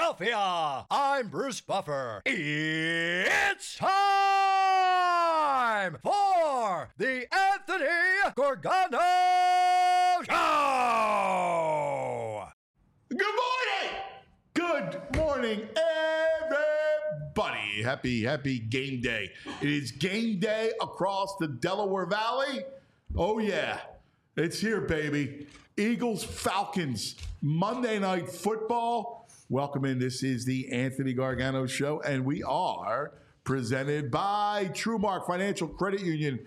Philadelphia. I'm Bruce Buffer. It's time for the Anthony Gargano Show. Good morning, everybody. Happy game day. It is game day across the Delaware Valley. Oh, yeah. It's here, baby. Eagles, Falcons, Monday Night Football. Welcome in. This is the Anthony Gargano Show, and we are presented by TrueMark Financial Credit Union.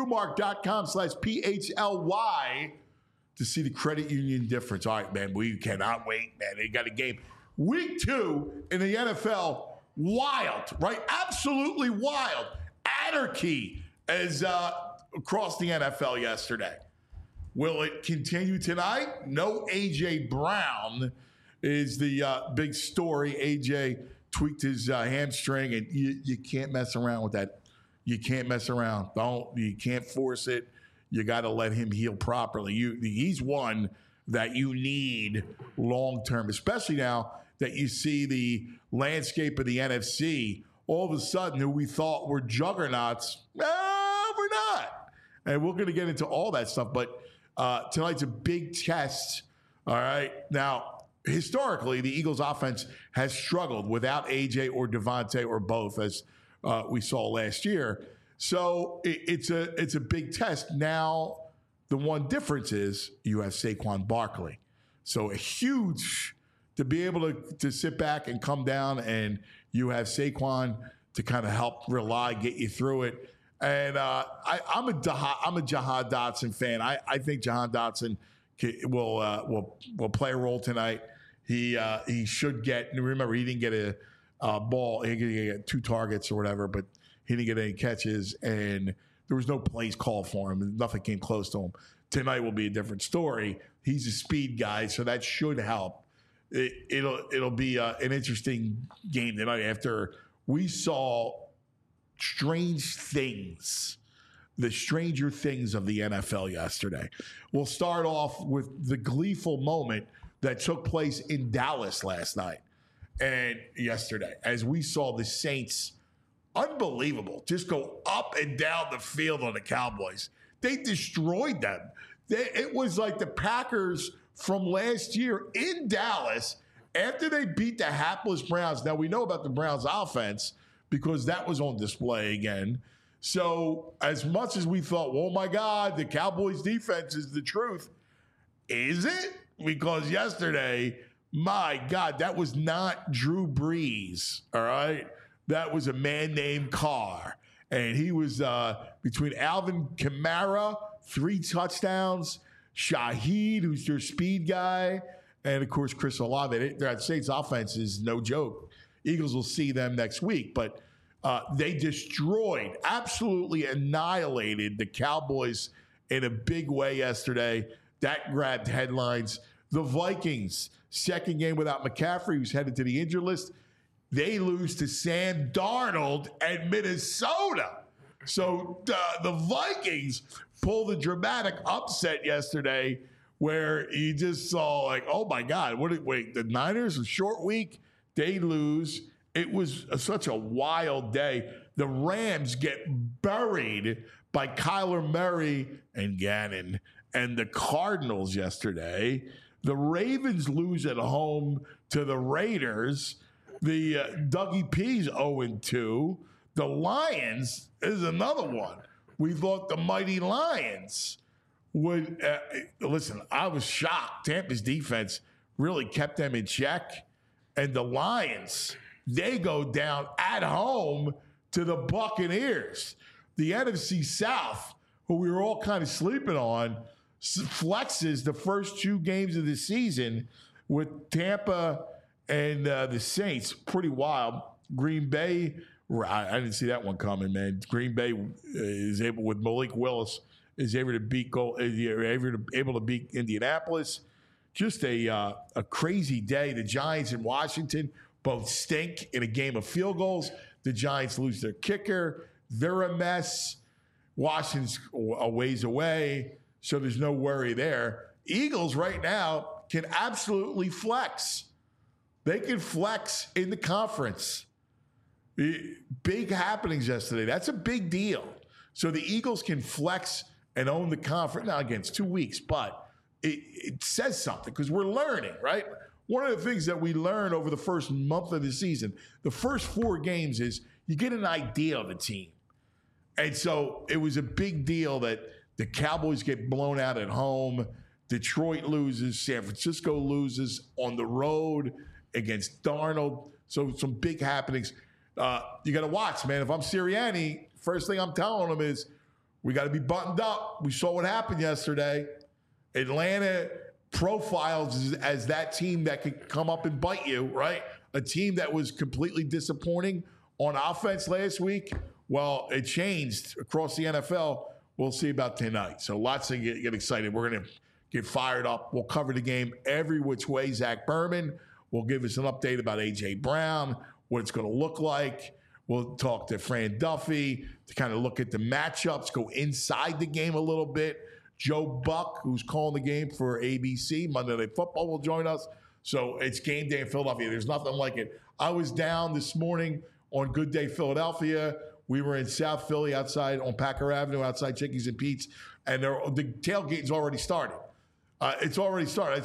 TrueMark.com/PHLY to see the credit union difference. All right, man, we cannot wait, man. They got a game. Week 2 in the NFL. Wild, right? Absolutely wild. Anarchy as across the NFL yesterday. Will it continue tonight? No A.J. Brown is the big story. A.J. tweaked his hamstring, and you can't mess around with that. You can't mess around. You can't force it. You got to let him heal properly. He's one that you need long-term, especially now that you see the landscape of the NFC. All of a sudden, who we thought were juggernauts, we're not. And we're going to get into all that stuff, but tonight's a big test. All right. Now, historically, the Eagles offense has struggled without AJ or Devontae or both, as we saw last year. So it's a big test. Now, the one difference is you have Saquon Barkley. So a huge to be able to sit back and come down, and you have Saquon to kind of help get you through it. And I'm a Jahan Dotson fan. I think Jahan Dotson will play a role tonight. He should get. Remember, he didn't get a ball. He didn't get 2 targets or whatever, but he didn't get any catches, and there was no plays called for him. Nothing came close to him. Tonight will be a different story. He's a speed guy, so that should help. It'll be an interesting game tonight after we saw strange things, the stranger things of the NFL yesterday. We'll start off with the gleeful moment that took place in Dallas last night and yesterday, as we saw the Saints, unbelievable, just go up and down the field on the Cowboys. They destroyed them. It was like the Packers from last year in Dallas after they beat the hapless Browns. Now, we know about the Browns offense because that was on display again. So as much as we thought, oh, my God, the Cowboys defense is the truth, is it? Because yesterday, my God, that was not Drew Brees, all right? That was a man named Carr. And he was between Alvin Kamara, 3 touchdowns, Shaheed, who's their speed guy, and, of course, Chris Olave. That Saints offense is no joke. Eagles will see them next week. But they destroyed, absolutely annihilated the Cowboys in a big way yesterday. That grabbed headlines. The Vikings, second game without McCaffrey, who's headed to the injured list. They lose to Sam Darnold at Minnesota. So the Vikings pulled a dramatic upset yesterday where you just saw like, oh, my God, wait, the Niners, a short week, they lose. It was such a wild day. The Rams get buried by Kyler Murray and Gannon. And the Cardinals yesterday, the Ravens lose at home to the Raiders. The Dougie P's 0-2. The Lions is another one. We thought the mighty Lions would listen. I was shocked. Tampa's defense really kept them in check, and the Lions, they go down at home to the Buccaneers. The NFC South, who we were all kind of sleeping on, flexes the first 2 games of the season with Tampa and the Saints. Pretty wild. Green Bay, I didn't see that one coming, man. Green Bay is able, with Malik Willis, is able to beat Indianapolis. Just a crazy day. The Giants in Washington both stink in a game of field goals. The Giants lose their kicker. They're a mess. Washington's a ways away, so there's no worry there. Eagles right now can absolutely flex. They can flex in the conference. Big happenings yesterday. That's a big deal. So the Eagles can flex and own the conference. Now, again, it's 2 weeks, but it says something because we're learning, right? One of the things that we learn over the first month of the season, the first 4 games, is you get an idea of a team. And so it was a big deal that the Cowboys get blown out at home. Detroit loses. San Francisco loses on the road against Darnold. So some big happenings. You got to watch, man. If I'm Sirianni, first thing I'm telling them is we got to be buttoned up. We saw what happened yesterday. Atlanta profiles as that team that could come up and bite you, right? A team that was completely disappointing on offense last week. Well, it changed across the NFL. We'll see about tonight. So lots to get excited. We're going to get fired up. We'll cover the game every which way. Zach Berman will give us an update about A.J. Brown, what it's going to look like. We'll talk to Fran Duffy to kind of look at the matchups, go inside the game a little bit. Joe Buck, who's calling the game for ABC, Monday Night Football, will join us. So it's game day in Philadelphia. There's nothing like it. I was down this morning on Good Day Philadelphia. We were in South Philly outside on Packer Avenue, outside Chickies and Pete's, and the tailgate's already started. It's already started.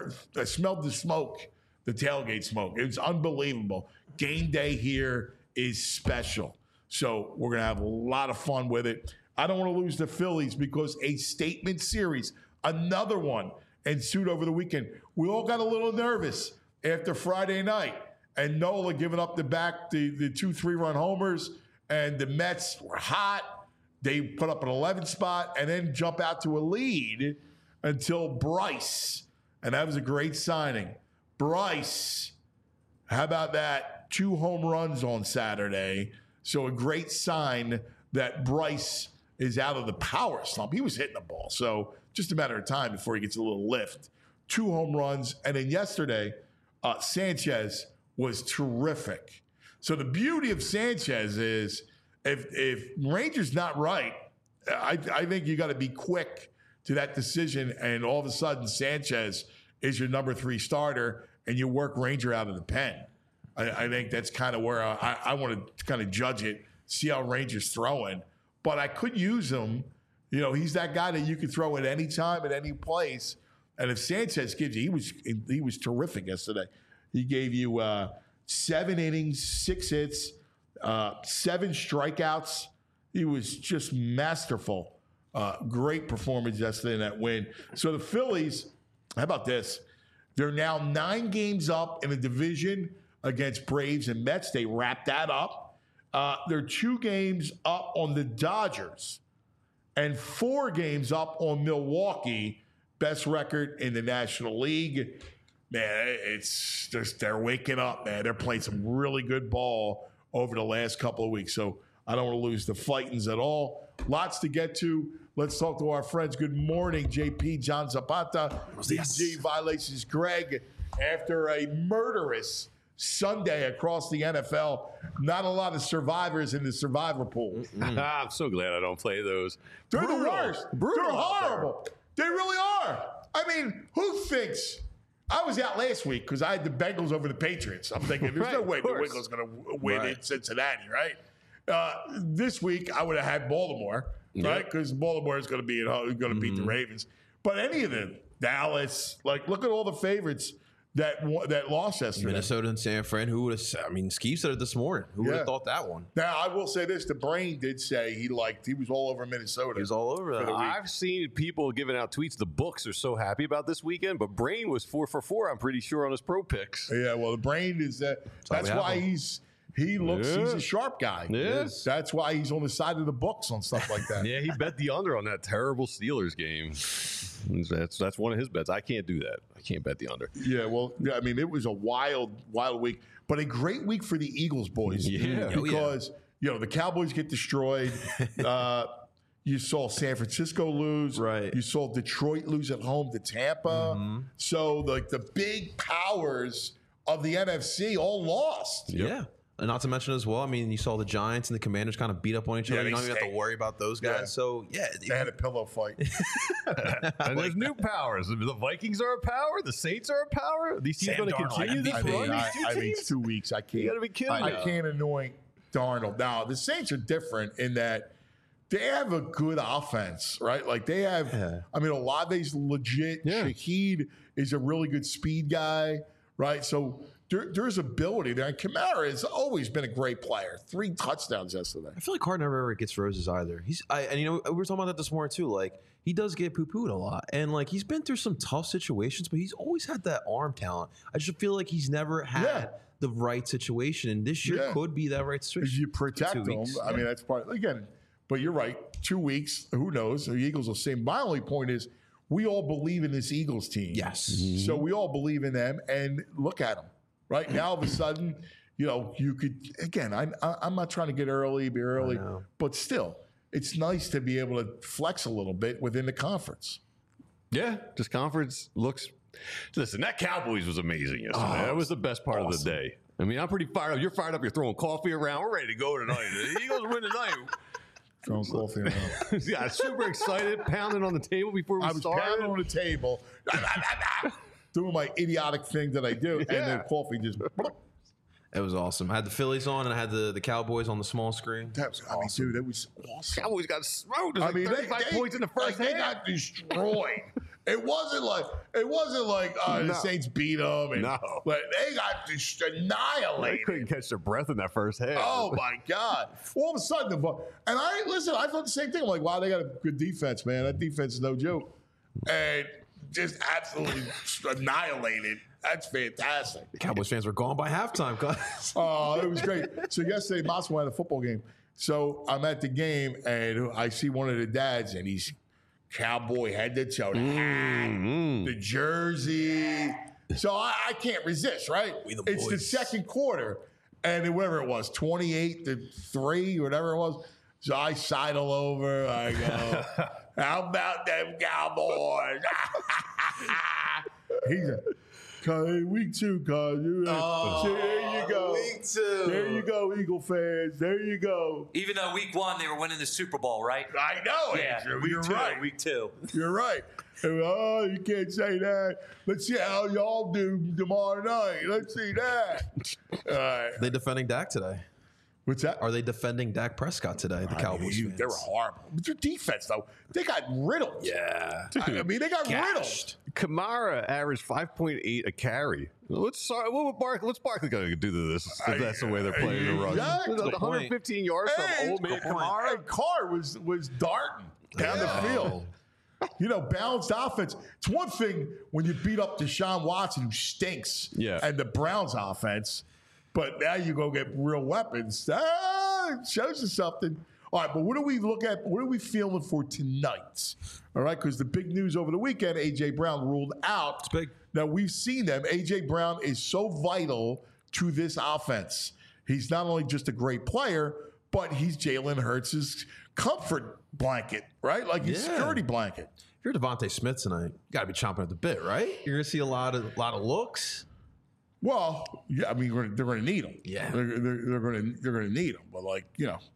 I smelled the smoke, the tailgate smoke. It's unbelievable. Game day here is special. So we're going to have a lot of fun with it. I don't want to lose the Phillies because a statement series, another one, ensued over the weekend. We all got a little nervous after Friday night. And Nola giving up the 2-3-run homers. And the Mets were hot. They put up an 11 spot and then jump out to a lead until Bryce. And that was a great signing. Bryce, how about that? 2 home runs on Saturday. So a great sign that Bryce is out of the power slump. He was hitting the ball. So just a matter of time before he gets a little lift. 2 home runs. And then yesterday, Sanchez was terrific. So the beauty of Sanchez is if Ranger's not right, I think you got to be quick to that decision. And all of a sudden, Sanchez is your number 3 starter and you work Ranger out of the pen. I think that's kind of where I want to kind of judge it, see how Ranger's throwing. But I could use him. You know, he's that guy that you could throw at any time, at any place. And if Sanchez gives you, he was terrific yesterday. He gave you 7 innings, 6 hits, 7 strikeouts. He was just masterful. Great performance yesterday in that win. So the Phillies, how about this? They're now 9 games up in the division against Braves and Mets. They wrapped that up. They're 2 games up on the Dodgers and 4 games up on Milwaukee, best record in the National League. Man, it's just they're waking up, man. They're playing some really good ball over the last couple of weeks. So I don't want to lose the Fightins at all. Lots to get to. Let's talk to our friends. Good morning, JP, John Zapata, DG Violations, Greg. After a murderous Sunday across the NFL, not a lot of survivors in the survivor pool. I'm so glad I don't play those. They're the worst. They're horrible. They really are. I mean, who thinks? I was out last week because I had the Bengals over the Patriots. I'm thinking there's no way New England's going to win in Cincinnati, right? This week I would have had Baltimore, right? Because Baltimore is going to be going to beat the Ravens. But any of them, Dallas, like look at all the favorites that lost yesterday. Minnesota and San Fran. Who would have? I mean, Skeeve said it this morning. Who would have thought that one? Now I will say this: the Brain did say he was all over Minnesota. He was all over that. I've seen people giving out tweets. The books are so happy about this weekend, but Brain was 4 for 4. I'm pretty sure on his pro picks. Yeah, well, the Brain is that. That's why he's a sharp guy. Yes. That's why he's on the side of the books on stuff like that. Yeah, he bet the under on that terrible Steelers game. That's one of his bets. I can't do that. I can't bet the under. Yeah, well, I mean, it was a wild week, but a great week for the Eagles, boys. Yeah. Because, the Cowboys get destroyed. You saw San Francisco lose. Right. You saw Detroit lose at home to Tampa. So, the big powers of the NFC all lost. Yeah. And not to mention as well, I mean, you saw the Giants and the Commanders kind of beat up on each other. they You don't even have to stayed. worry about those guys. Yeah. So, yeah. They had a pillow fight. And there's new powers. The Vikings are a power. The Saints are a power. These teams Sam going to Darnold, continue this MVP. run. I mean, it's 2 weeks. I can't. You gotta be kidding I me. can't anoint Darnold. Now, the Saints are different in that they have a good offense, right? Like they have, I mean, Olave's legit. Yeah. Shaheed is a really good speed guy, right? So there's ability there. And Kamara has always been a great player. 3 touchdowns yesterday. I feel like Carr never ever gets roses either. And you know, we were talking about that this morning too. Like he does get poo-pooed a lot, and like he's been through some tough situations, but he's always had that arm talent. I just feel like he's never had the right situation, and this year could be that right situation. You protect for 2 them. weeks. I mean, that's part again. But you're right. 2 weeks. Who knows? The Eagles will see. My only point is, we all believe in this Eagles team. Yes. So we all believe in them, and look at them. Right now, all of a sudden, you know, you could again. I'm not trying to be early, but still, it's nice to be able to flex a little bit within the conference. Yeah, this conference looks. Listen, that Cowboys was amazing yesterday. That was the best part of the day. I mean, I'm pretty fired up. You're fired up. You're throwing coffee around. We're ready to go tonight. The Eagles win tonight. Throwing coffee around. Yeah, super excited, pounding on the table before we I was started. pounding on the table, doing my idiotic thing that I do, and then coffee just. It was awesome. I had the Phillies on, and I had the Cowboys on the small screen. That was, I mean, dude, that was awesome. Cowboys got smoked. It was I mean, 35 points in the first they half. got destroyed. It wasn't like the Saints beat them, and but they got just They annihilated. couldn't catch their breath in that first half. Oh my God! All of a sudden, I thought the same thing. I'm like, wow, they got a good defense, man. That defense is no joke, and just absolutely annihilated. That's fantastic. Cowboys fans were gone by halftime. Guys. Oh, it was great. So yesterday, Mossimo had a football game. So I'm at the game, and I see one of the dads, and he's cowboy head to toe, the hat, the jersey. So I can't resist, right? It's the second quarter, and whatever it was, 28-3, whatever it was. So I sidle over. I go, how about them Cowboys? He's a week 2, cuz. So there you go. Week 2. There you go, Eagle fans. There you go. Even though week 1 they were winning the Super Bowl, right? I know, Andrew. You're right. Week 2. You're right. Oh, you can't say that. Let's see how y'all do tomorrow night. Let's see that. All right. They defending Dak today. What's that? Are they defending Dak Prescott today? The Cowboys fans. They were horrible. But their defense, though, they got riddled. Yeah. I mean, they got riddled. Kamara averaged 5.8 a carry. What's Barkley going to do to this if that's the way they're playing the run? Exactly. 115 yards from old man Kamara. And Carr was darting down the field. You know, balanced offense. It's one thing when you beat up Deshaun Watson, who stinks, and the Browns offense, but now you go get real weapons. It shows you something. All right, but what do we look at? What are we feeling for tonight? All right, because the big news over the weekend, A.J. Brown ruled out. It's big. Now, we've seen them. A.J. Brown is so vital to this offense. He's not only just a great player, but he's Jalen Hurts' comfort blanket, right? Like his security blanket. If you're Devontae Smith tonight, you got to be chomping at the bit, right? You're going to see a lot of looks. Well, yeah, I mean, they're going to need him. Yeah. They're going to need him. But, like, you know,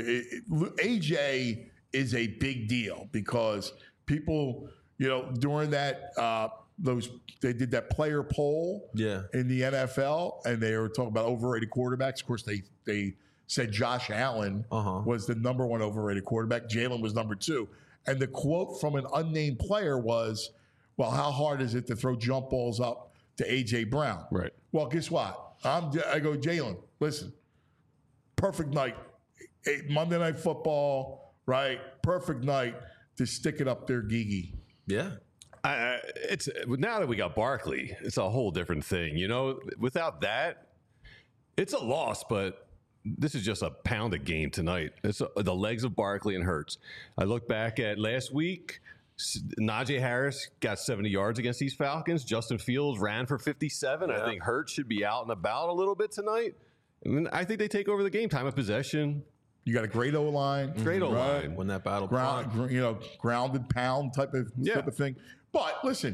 AJ is a big deal because people, you know, during that they did that player poll in the NFL, and they were talking about overrated quarterbacks. Of course, they said Josh Allen was the number 1 overrated quarterback. Jalen was number 2. And the quote from an unnamed player was, well, how hard is it to throw jump balls up to A.J. Brown? Right. Well, guess what? I go, Jalen, listen, perfect night. Monday Night Football, right? Perfect night to stick it up there, Gigi. Yeah. It's now that we got Barkley, it's a whole different thing. You know, without that, it's a loss, but this is just a pounded game tonight. It's the legs of Barkley and Hurts. I look back at last week. Najee Harris got 70 yards against these Falcons. Justin Fields ran for 57. I think Hurts should be out and about a little bit tonight. And I think they take over the game. Time of possession. You got a great O-line. Great O-line. Win that battle. Grounded pound type of thing. But listen,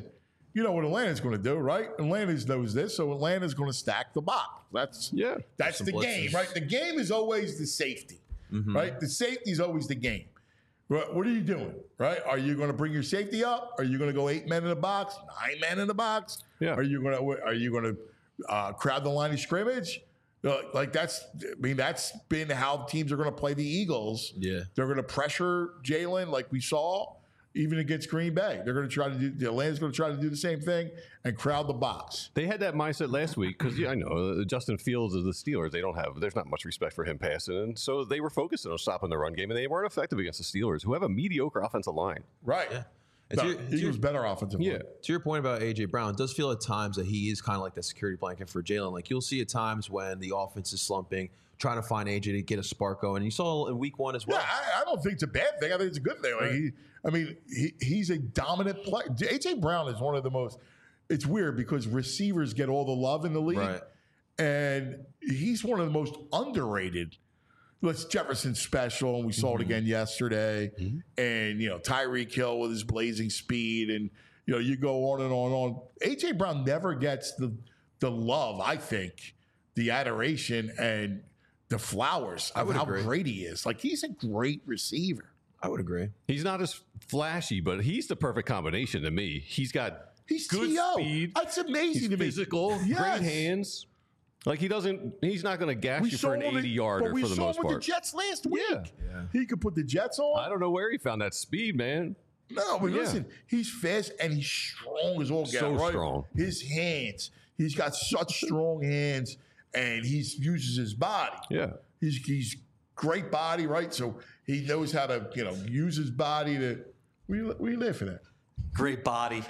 you know what Atlanta's going to do, right? Atlanta knows this, so Atlanta's going to stack the box. That's the game, right? The game is always the safety, right? The safety is always the game. What are you doing, right? Are you going to bring your safety up? Are you going to go 8 men in the box, 9 men in the box? Yeah. Are you going to crowd the line of scrimmage? That's been how teams are going to play the Eagles. Yeah. They're going to pressure Jalen like we saw even against Green Bay. They're going to try to do, the Atlanta's going to try to do the same thing and crowd the box. They had that mindset last week because, I know, Justin Fields of the Steelers, there's not much respect for him passing. And so they were focusing on stopping the run game, and they weren't effective against the Steelers, who have a mediocre offensive line. Right. Yeah. Eagles better offensive line. To your point about A.J. Brown, it does feel at times that he is kind of like the security blanket for Jalen. Like, you'll see at times when the offense is slumping, trying to find A.J. to get a spark going. And you saw in week 1 as well. Yeah, I don't think it's a bad thing. I think it's a good thing. Like he's a dominant player. A.J. Brown is one of the most – it's weird because receivers get all the love in the league. Right. And he's one of the most underrated. Let's Jefferson special, and we saw it again yesterday. And, Tyreek Hill with his blazing speed. And, you go on and on and on. A.J. Brown never gets the love, I think, the adoration and the flowers of how great he is. Like, he's a great receiver. I would agree. He's not as flashy, but he's the perfect combination to me. He's good T.O. speed. That's amazing to me. Physical, great hands. Like, he's not going to gash you for an 80-yarder for the most part. We saw him with the Jets last week. Yeah. He could put the Jets on. I don't know where he found that speed, man. No, but listen, he's fast and he's strong as all get out. So strong. His hands. He's got such strong hands, and he uses his body. Yeah. He's great body, right? So he knows how to, use his body to. We live for that. Great body.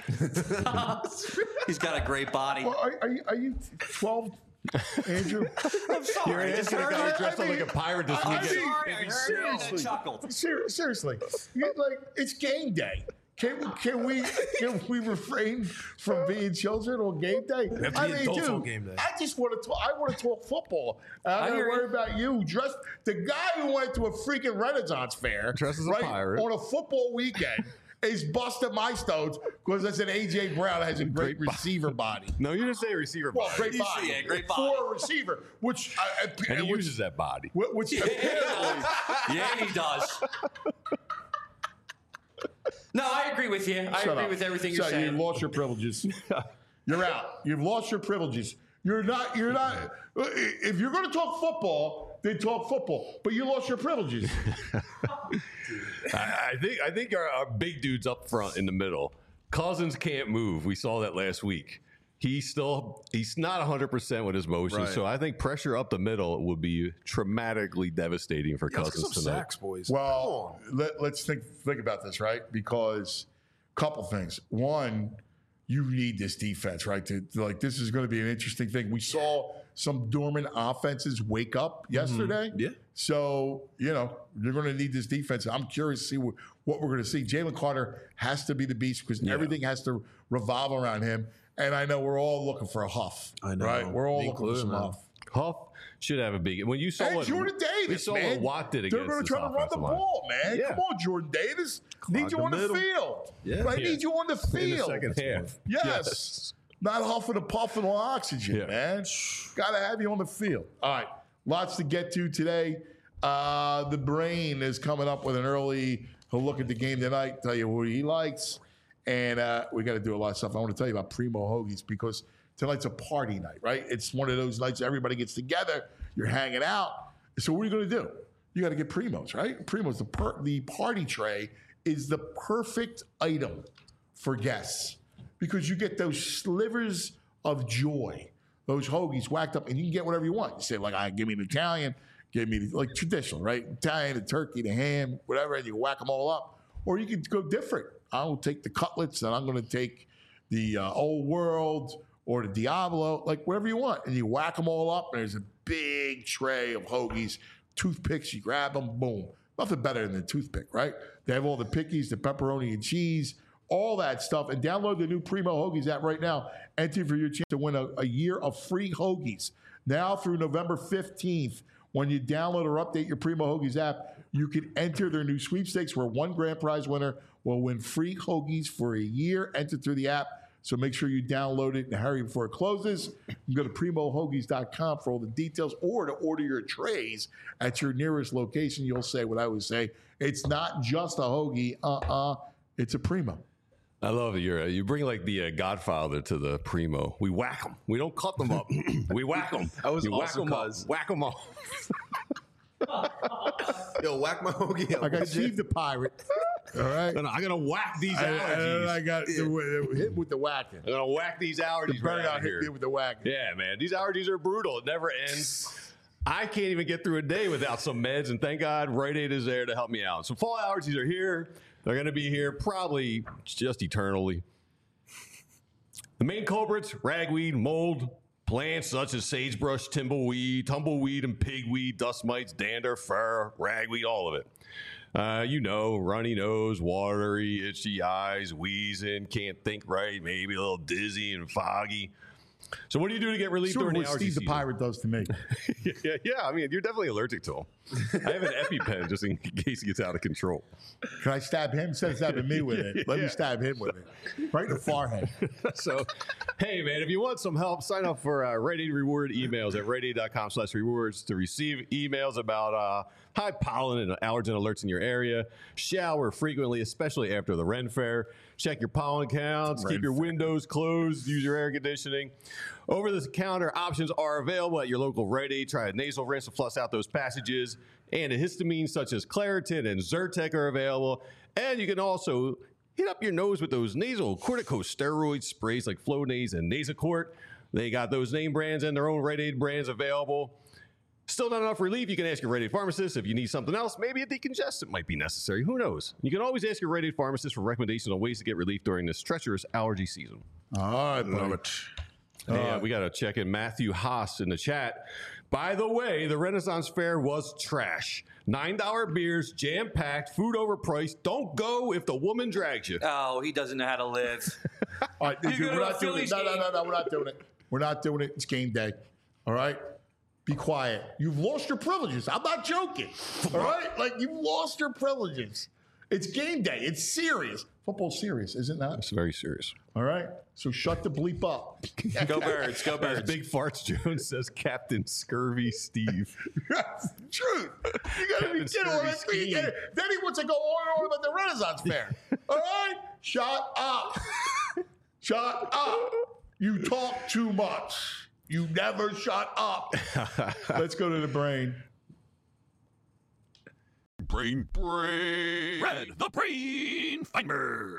He's got a great body. Well, are you 12? Andrew, I'm sorry. You're asking a guy dressed up like a pirate this weekend. Seriously, it's game day. Can we refrain from being children on game day? Game day. I just want to talk. I want to talk football. I don't worry about you. The guy who went to a freaking Renaissance fair, dressed as a pirate on a football weekend. Is busting my stones because I said A.J. Brown has a great receiver body. No, you didn't say receiver body. Well, great body. Yeah, great body. For a receiver, which and he uses that body. Which apparently, yeah, he does. No, I agree with you. I agree with everything you're saying. You've lost your privileges. You're out. You've lost your privileges. You're not. If you're going to talk football, then talk football. But you lost your privileges. I think our big dudes up front in the middle. Cousins can't move. We saw that last week. He's not 100% with his motion. Right. So I think pressure up the middle would be traumatically devastating for Cousins let's get some tonight. sacks, boys. Well, let's think about this, right? Because a couple things. One, you need this defense, right? This is going to be an interesting thing. We saw some dormant offenses wake up yesterday. Yeah. So, you're going to need this defense. I'm curious to see what we're going to see. Jalen Carter has to be the beast because everything has to revolve around him. And I know we're all looking for a Huff. I know. Right? We're all looking for some Huff. Huff should have a big. When you saw and what Jordan Davis, we saw man. what Watt did against They're going to try to run the ball, man. Yeah. Come on, Jordan Davis. Need you on the field. Yeah. Right? Need you on the field. In the second half. Yes. Not huffing and puffing on oxygen, man. Got to have you on the field. All right. Lots to get to today. The Brain is coming up with an early look at the game tonight, tell you what he likes. And we got to do a lot of stuff. I want to tell you about Primo Hoagies because tonight's a party night, right? It's one of those nights everybody gets together. You're hanging out. So what are you going to do? You got to get Primos, right? Primos, the party tray is the perfect item for guests because you get those slivers of joy, those hoagies whacked up, and you can get whatever you want. You say, give me an Italian, give me, traditional, right? Italian, the turkey, the ham, whatever, and you whack them all up. Or you could go different. I'll take the cutlets, and I'm going to take the Old World or the Diablo, whatever you want. And you whack them all up, and there's a big tray of hoagies, toothpicks. You grab them, boom. Nothing better than the toothpick, right? They have all the pickies, the pepperoni and cheese, all that stuff. And download the new Primo Hoagies app right now. Enter for your chance to win a year of free hoagies. Now through November 15th, when you download or update your Primo Hoagies app, you can enter their new sweepstakes where one grand prize winner will win free hoagies for a year. Enter through the app. So make sure you download it and hurry before it closes. You can go to primohoagies.com for all the details, or to order your trays at your nearest location. You'll say what I would say. It's not just a hoagie. It's a Primo. I love it. You bring like the Godfather to the Primo. We whack them. We don't cut them up. We whack them. That was you awesome, whack them cuz. up. Whack them up. Yo, whack my hoagie up. I got Steve the Pirate. All right. I'm gonna whack these And allergies. I got hit with the whacking. I'm gonna whack these allergies Burn right out out hit here. me with the whacking. Yeah, man. These allergies are brutal. It never ends. I can't even get through a day without some meds, and thank God Rite Aid is there to help me out. So fall allergies are here. They're going to be here probably just eternally. The main culprits, ragweed, mold, plants such as sagebrush, tumbleweed, and pigweed, dust mites, dander, fur, ragweed, all of it. Runny nose, watery, itchy eyes, wheezing, can't think right, maybe a little dizzy and foggy. So what do you do to get relief Sort of during what the allergy Steve the season? Pirate does to me. Yeah. I mean, you're definitely allergic to them. I have an EpiPen just in case he gets out of control. Can I stab him? Instead of stabbing me with it, let me stab him with it. Right in the forehead. So, hey, man, if you want some help, sign up for Rite Aid Reward emails at riteaid.com/rewards to receive emails about high pollen and allergen alerts in your area. Shower frequently, especially after the Ren Fair. Check your pollen counts. Keep your windows closed. Use your air conditioning. Over-the-counter options are available at your local Rite Aid. Try a nasal rinse to flush out those passages. Antihistamines such as Claritin and Zyrtec are available. And you can also hit up your nose with those nasal corticosteroid sprays like Flonase and Nasacort. They got those name brands and their own Rite Aid brands available. Still not enough relief? You can ask your Rite Aid pharmacist. If you need something else, maybe a decongestant might be necessary. Who knows? You can always ask your Rite Aid pharmacist for recommendations on ways to get relief during this treacherous allergy season. All right, buddy. Hey, we got to check in Matthew Haas in the chat. By the way, the Renaissance Fair was trash. $9 beers, jam-packed, food overpriced. Don't go if the woman drags you. Oh, he doesn't know how to live. All right, dude, go we're to a not doing it. Phillies No, game. we're not doing it. We're not doing it. It's game day. All right? Be quiet. You've lost your privileges. I'm not joking. All right? Like, you've lost your privileges. It's game day. It's serious. Football's serious, is it not? It's very serious. All right? So shut the bleep up. Go Birds. Go As Birds. Big Farts Jones says, Captain Scurvy Steve. That's the truth. You gotta be Captain kidding. All Scurvy that. Steve. Then he wants to go on about the Renaissance Fair. All right? Shut up. Shut up. You talk too much. You never shut up. Let's go to the brain. Brain. Red, the brain finder.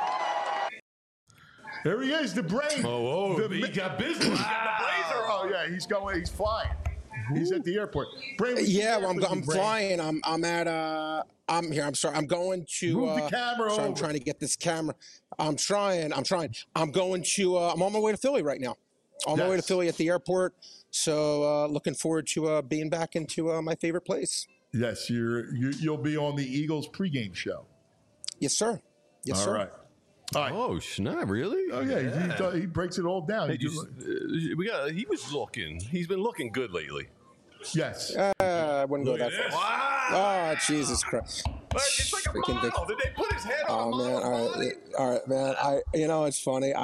There he is, the brain. He got business. He got the blazer on. Oh yeah, he's going. He's flying. He's at the airport. Brain, what's Yeah, the well, deal I'm with you, Brain? flying. I'm here. I'm sorry. I'm going to. Move the camera sorry, I'm over. trying to get this camera. I'm trying. I'm going to. I'm on my way to Philly right now. On my way to Yes. Philly at the airport. So looking forward to being back into my favorite place. Yes, you'll be on the Eagles pregame show. Yes, sir. Yes, All sir. right. All right. Oh, snap, really? Oh yeah, he breaks it all down. Hey, he was looking. He's been looking good lately. Yes. I wouldn't go that far. Wow. Oh, Jesus Christ. It's like a Freaking big- model. Did they put his head on Oh a man, model's body? all right, man. It's funny.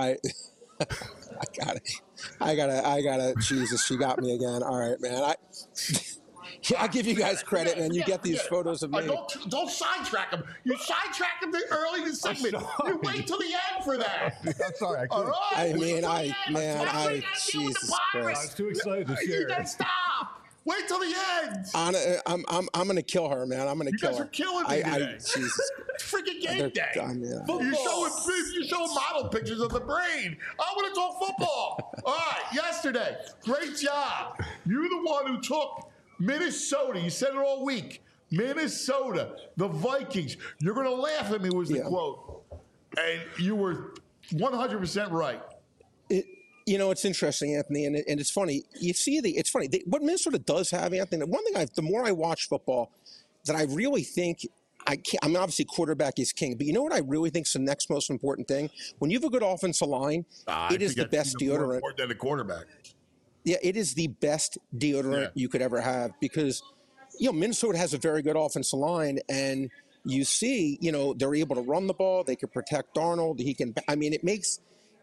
I gotta. Jesus, she got me again. All right, man. I give you guys credit, man. You get these photos of me. Don't sidetrack him. You sitrack him early in the segment. sorry. You wait till the end for that. I'm sorry. All right. I mean, Wait till the end. Jesus I was Christ. too excited to You share. gotta stop. Wait till the end. I'm gonna kill her, man. I'm gonna You kill guys her. are killing me today. Jesus. It's freaking game They're- day. I mean, You're showing model pictures of the brain. I want to talk football. All right, yesterday, great job. You're the one who took Minnesota. You said it all week. Minnesota, the Vikings. You're going to laugh at me was the Yeah. quote. And you were 100% right. It's interesting, Anthony, and it's funny. It's funny. What Minnesota does have, Anthony. One thing the more I watch football, that I really think I mean, obviously quarterback is king, but you know what I really think is the next most important thing? When you have a good offensive line, it is the best deodorant. More than a quarterback. Yeah, it is the best deodorant you could ever have because, Minnesota has a very good offensive line, and you see, they're able to run the ball. They can protect Darnold. It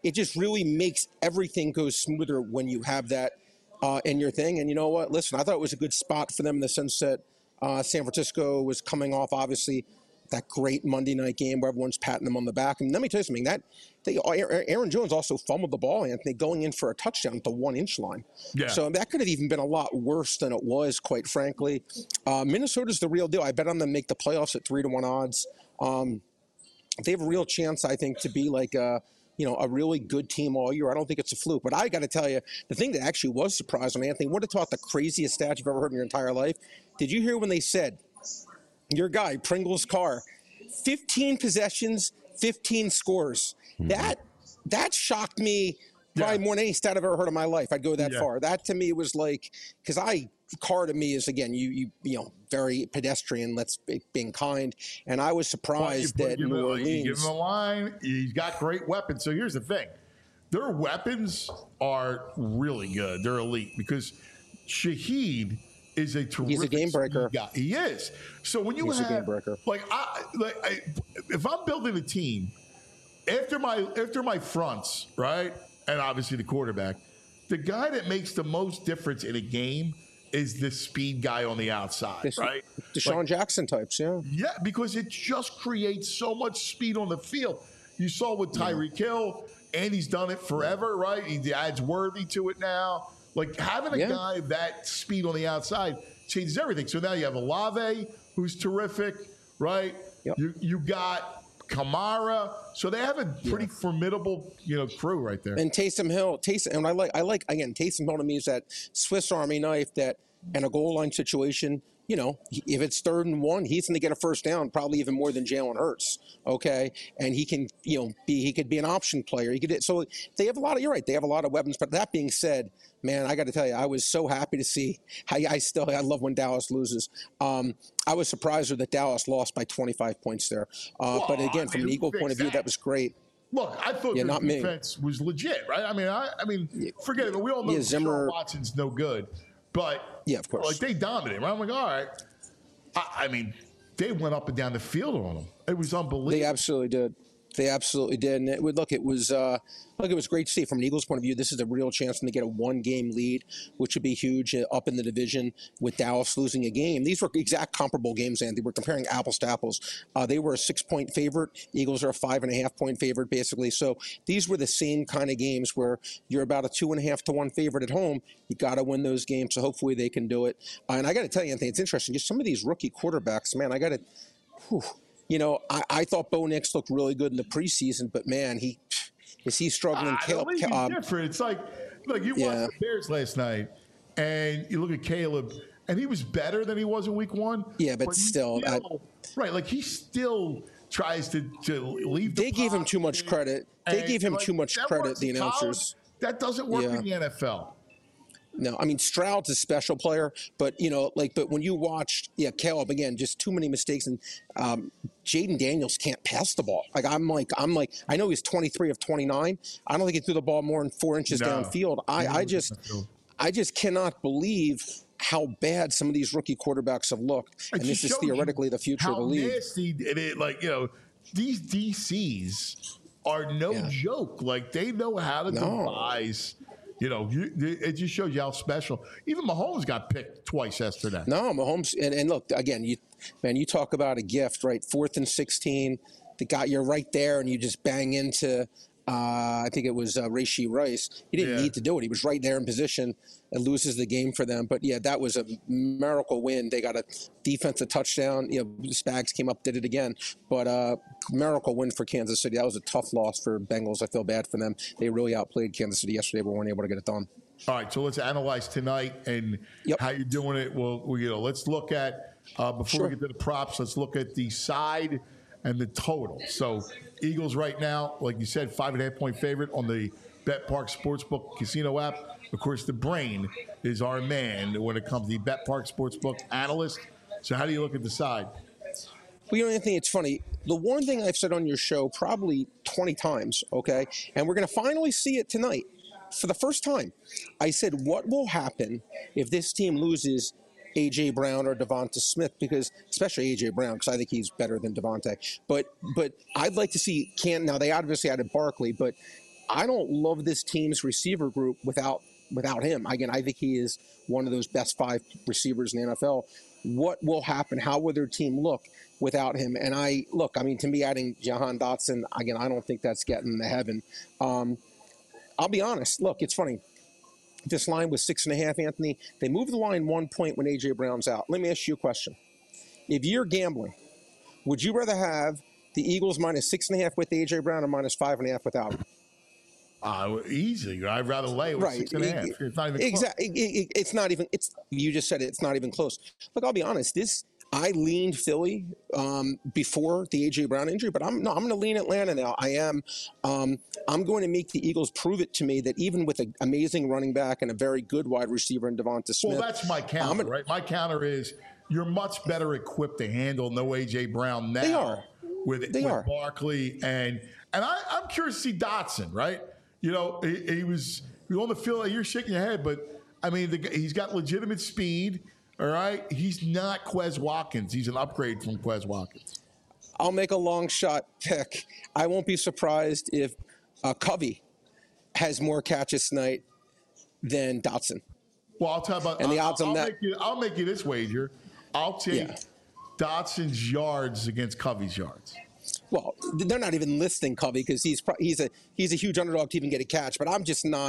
it just really makes everything go smoother when you have that in your thing. And you know what? Listen, I thought it was a good spot for them in the sense that San Francisco was coming off, obviously, that great Monday night game where everyone's patting them on the back. And let me tell you something, Aaron Jones also fumbled the ball, Anthony, going in for a touchdown at the 1-inch line. Yeah. So that could have even been a lot worse than it was, quite frankly. Minnesota's the real deal. I bet on them to make the playoffs at 3-1 odds. They have a real chance, I think, to be like a really good team all year. I don't think it's a fluke. But I got to tell you, the thing that actually was surprising, Anthony, would have thought the craziest stat you've ever heard in your entire life. Did you hear when they said, your guy, Pringles Carr, 15 possessions, 15 scores? Mm-hmm. That shocked me probably more than any stat I've ever heard in my life. I'd go that far. That to me was like, because Carr to me is, again, you very pedestrian, being kind. And I was surprised that New Orleans. You give him a line, he's got great weapons. So here's the thing. Their weapons are really good. They're elite because Shaheed is a terrific. He's a game breaker. Guy. He is. So when he's a game breaker. If I'm building a team, after my fronts, right, and obviously the quarterback, the guy that makes the most difference in a game is the speed guy on the outside, right? Deshaun Jackson types, yeah. Yeah, because it just creates so much speed on the field. You saw with Tyreek Hill, and he's done it forever, right? He adds Worthy to it now. Like, having a guy that speed on the outside changes everything. So now you have Olave, who's terrific, right? Yep. You got Kamara. So they have a pretty formidable, crew right there. And Taysom Hill. And I like again, Taysom Hill to me is that Swiss Army knife that in a goal line situation, if it's 3rd and 1, he's going to get a first down, probably even more than Jalen Hurts. Okay, and he can, he could be an option player. So they have a lot of. You're right. They have a lot of weapons. But that being said, man, I got to tell you, I was so happy to see. I love when Dallas loses. I was surprised that Dallas lost by 25 points there. But again, from an Eagle point of view, that was great. Look, I thought their defense was legit, right? I mean, forget it. We all know Deshaun Watson's no good. But of course, like they dominated. Right? I'm like, all right. I mean, they went up and down the field on them. It was unbelievable. They absolutely did. And it was great to see from an Eagles point of view. This is a real chance to get a 1-game lead, which would be huge up in the division with Dallas losing a game. These were exact comparable games, Andy. We're comparing apples to apples. They were a 6-point favorite. Eagles are a 5.5-point favorite, basically. So these were the same kind of games where you're about a 2.5 to 1 favorite at home. You got to win those games. So hopefully they can do it. And I got to tell you, Anthony, it's interesting. Just some of these rookie quarterbacks, man, I thought Bo Nix looked really good in the preseason, but man, is he struggling? Caleb, he's different. It's like you watched the Bears last night, and you look at Caleb, and he was better than he was in Week 1. Yeah, but still, right? Like he still tries to leave. They gave him too much credit. They gave him too much credit. The announcers. That doesn't work in the NFL. No, I mean Stroud's a special player, but but when you watched, Caleb again, just too many mistakes, and Jaden Daniels can't pass the ball. I'm like, I know he's 23 of 29. I don't think he threw the ball more than 4 inches downfield. I just cannot believe how bad some of these rookie quarterbacks have looked, and this is theoretically the future of the league. Nasty these DCs are no joke. Like they know how to devise. It just shows you how special. Even Mahomes got picked twice yesterday. No, Mahomes, and look again. You talk about a gift, right? 4th and 16, you're right there, and you just bang into. I think it was Rashee Rice. He didn't need to do it. He was right there in position and loses the game for them. But that was a miracle win. They got a defensive touchdown. Spags came up, did it again. But miracle win for Kansas City. That was a tough loss for Bengals. I feel bad for them. They really outplayed Kansas City yesterday, but weren't able to get it done. All right, so let's analyze tonight and how you're doing it. Well, let's look at before we get to the props. Let's look at the side and the total. So Eagles right now, like you said, 5.5-point favorite on the BetPark Sportsbook Casino app. Of course, the brain is our man when it comes to the BetPark Sportsbook analyst. So how do you look at the side? Well, Anthony, it's funny. The one thing I've said on your show probably 20 times, okay, and we're going to finally see it tonight for the first time. I said, what will happen if this team loses A.J. Brown or Devonta Smith, because especially A.J. Brown, because I think he's better than Devonta. But I'd like to see Now, they obviously added Barkley, but I don't love this team's receiver group without him. Again, I think he is one of those best 5 receivers in the NFL. What will happen? How will their team look without him? And to me, adding Jahan Dotson, again, I don't think that's getting to heaven. I'll be honest. Look, it's funny. This line was 6.5, Anthony. They moved the line 1 point when A.J. Brown's out. Let me ask you a question. If you're gambling, would you rather have the Eagles minus 6.5 with A.J. Brown or minus 5.5 without him? Easily. I'd rather lay with 6.5. It's not even exactly. It's not even. It's you just said it. It's not even close. Look, I'll be honest. I leaned Philly before the A.J. Brown injury, but I'm going to lean Atlanta now. I am. I'm going to make the Eagles prove it to me that even with an amazing running back and a very good wide receiver in Devonta Smith. Well, that's my counter, right? My counter is you're much better equipped to handle no A.J. Brown now. They are. With Barkley and I'm curious to see Dotson, right? You know, he was on the field. Like, you're shaking your head, but I mean, he's got legitimate speed. All right, he's not Quez Watkins. He's an upgrade from Quez Watkins. I'll make a long shot pick. I won't be surprised if Covey has more catches tonight than Dotson. Well, I'll tell you about. And the odds on that. I'll make you this wager. I'll take Dotson's yards against Covey's yards. Well, they're not even listing Covey because he's a huge underdog to even get a catch. But I'm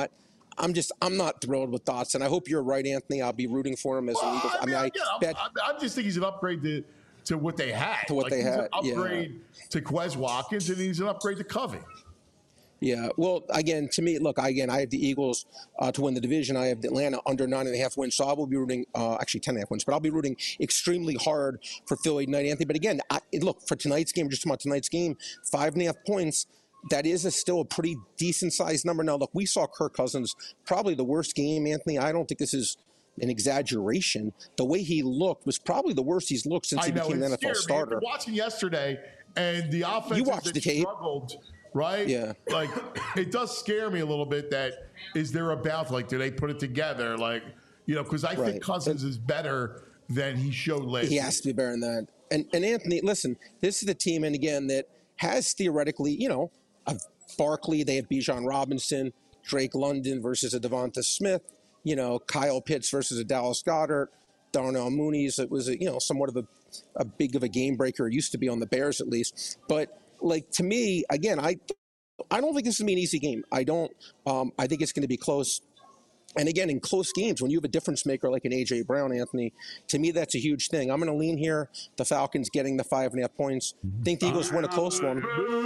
not thrilled with Dotson. I hope you're right, Anthony. I'll be rooting for him as an Eagles. I just think he's an upgrade to what they had. To what they had. He's an upgrade to Quez Watkins, and he's an upgrade to Covey. Yeah. Well, again, to me, look, I have the Eagles to win the division. I have Atlanta under 9.5 wins. So I will be rooting, actually 10.5 wins, but I'll be rooting extremely hard for Philly tonight, Anthony. But again, look, for tonight's game, just about tonight's game, 5.5 points. That is still a pretty decent-sized number. Now, look, we saw Kirk Cousins, probably the worst game, Anthony. I don't think this is an exaggeration. The way he looked was probably the worst he's looked since he became an NFL starter. I was watching yesterday, and the offense struggled, right? Yeah. Like, it does scare me a little bit that is there a bounce? Like, do they put it together? Like, you know, because I think Cousins is better than he showed last year. He has to be better than that. And Anthony, listen, this is the team, and again, that has theoretically, you know, of Barkley, they have Bijan Robinson, Drake London versus a Devonta Smith, you know, Kyle Pitts versus a Dallas Goedert, Darnell Mooney's. It was, somewhat of a big of a game breaker. It used to be on the Bears at least. But, like, to me, again, I don't think this is going to be an easy game. I don't. I think it's going to be close. And again, in close games, when you have a difference maker like an A.J. Brown, Anthony, to me, that's a huge thing. I'm going to lean here. The Falcons getting the 5.5 points. Think the Eagles win a close one.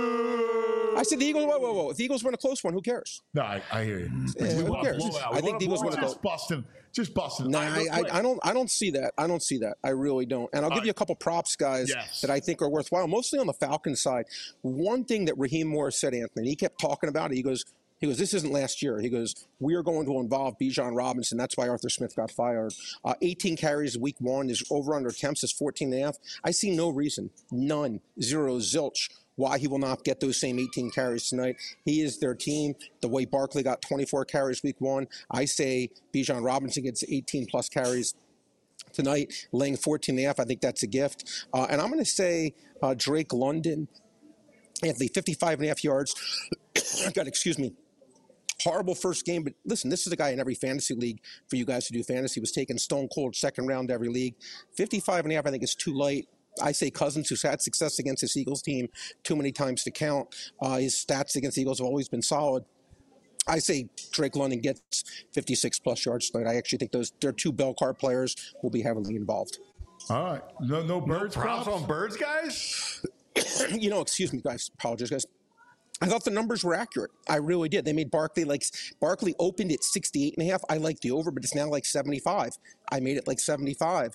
I said the Eagles. Whoa! If the Eagles win a close one, who cares? No, I hear you. Who cares? I think the Eagles win a close. Just busting. No, I don't see that. I don't see that. I really don't. And I'll give you a couple props, guys, that I think are worthwhile. Mostly on the Falcons side. One thing that Raheem Morris said, Anthony, he kept talking about it. He goes, this isn't last year. He goes, we are going to involve Bijan Robinson. That's why Arthur Smith got fired. 18 carries week one. His over-under attempts is 14.5. I see no reason, none, zero, zilch, why he will not get those same 18 carries tonight. He is their team. The way Barkley got 24 carries week one, I say Bijan Robinson gets 18-plus carries tonight, laying 14.5. I think that's a gift. And I'm going to say Drake London, Anthony, 55.5 yards. God, excuse me. Horrible first game, but listen, this is a guy in every fantasy league for you guys to do fantasy. Was taken stone cold second round every league. 55.5, I think, is too light. I say Cousins, who's had success against his Eagles team too many times to count. His stats against the Eagles have always been solid. I say Drake London gets 56-plus yards tonight. I actually think they're two bell card players will be heavily involved. All right. No birds props on birds, guys? Excuse me, guys. Apologize, guys. I thought the numbers were accurate. I really did. They made Barkley opened at 68.5. I like the over, but it's now like 75. I made it like 75.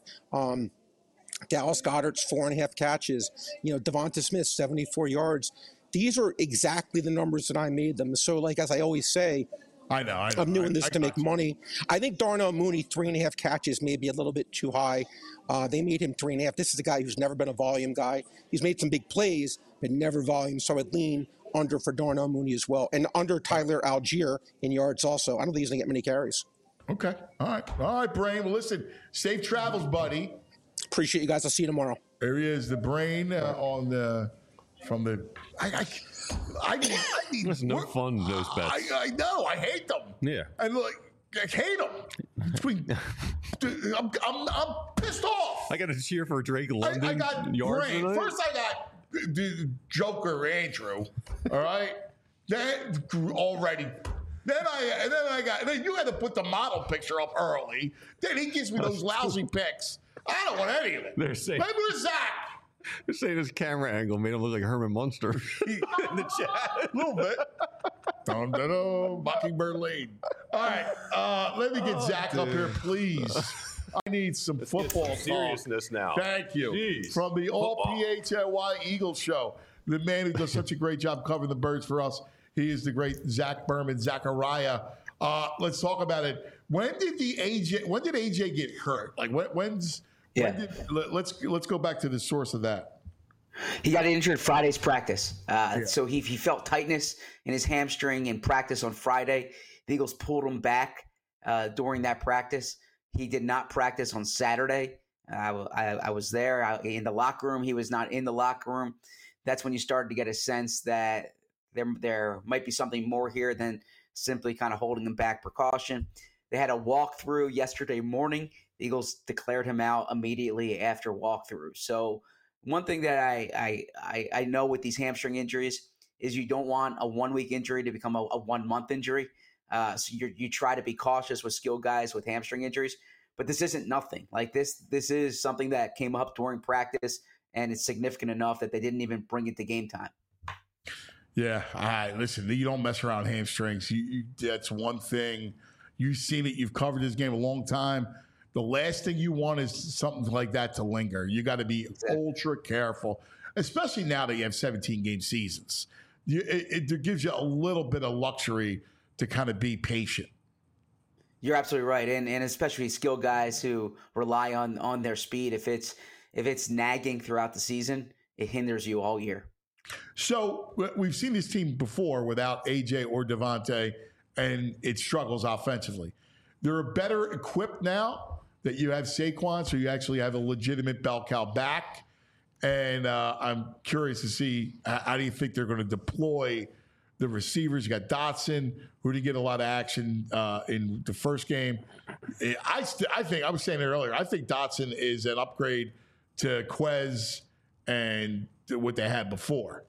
Dallas Goedert's 4.5 catches. Devonta Smith, 74 yards. These are exactly the numbers that I made them. So, like, as I always say, I know. I'm doing this to make money. I think Darnell Mooney, 3.5 catches, may be a little bit too high. They made him 3.5. This is a guy who's never been a volume guy. He's made some big plays, but never volume. So I'd lean under for Darnell Mooney as well. And under Tyler Algier in yards also. I don't think he's going to get many carries. Okay. All right, Brain. Well, listen, safe travels, buddy. Appreciate you guys. I'll see you tomorrow. There he is, the Brain on the from the. I need. There's no fun in those bets. I know. I hate them. Yeah. And I hate them. I'm pissed off. I got to cheer for Drake London. I got yards Brain. tonight. First, I got the Joker Andrew. All right, then already. Then you had to put the model picture up early. Then he gives me those lousy picks. I don't want any of it. They're saying- Maybe it's Zach. They're saying his camera angle made him look like Herman Munster in the chat. A little bit. Dun, dun, dun, Mockingbird Lane. All right, let me get Zach up here, please. I need some football talk. seriousness now. Thank you. Jeez. From the All Football. PHLY Eagles show, the man who does such a great job covering the Birds for us. He is the great Zach Berman, Zachariah. Let's talk about it. When did AJ get hurt? Like let's go back to the source of that. He got injured Friday's practice. So he felt tightness in his hamstring in practice on Friday. The Eagles pulled him back during that practice. He did not practice on Saturday. I was there in the locker room. He was not in the locker room. That's when you started to get a sense that there might be something more here than simply kind of holding him back precaution. They had a walkthrough yesterday morning. The Eagles declared him out immediately after walkthrough. So one thing that I know with these hamstring injuries is you don't want a 1 week injury to become a 1 month injury. So you try to be cautious with skilled guys with hamstring injuries, but this isn't nothing. Like this is something that came up during practice, and it's significant enough that they didn't even bring it to game time. Yeah, listen, you don't mess around hamstrings. That's one thing. You've seen it. You've covered this game a long time. The last thing you want is something like that to linger. You got to be ultra careful, especially now that you have 17-game seasons. It gives you a little bit of luxury to kind of be patient. You're absolutely right, and especially skilled guys who rely on their speed. If it's nagging throughout the season, it hinders you all year. So we've seen this team before without AJ or Devontae, and it struggles offensively. They're better equipped now that you have Saquon, so you actually have a legitimate bell cow back. And I'm curious to see how do you think they're going to deploy the receivers. You got Dotson, who did get a lot of action in the first game. I think I was saying it earlier. I think Dotson is an upgrade to Quez and what they had before.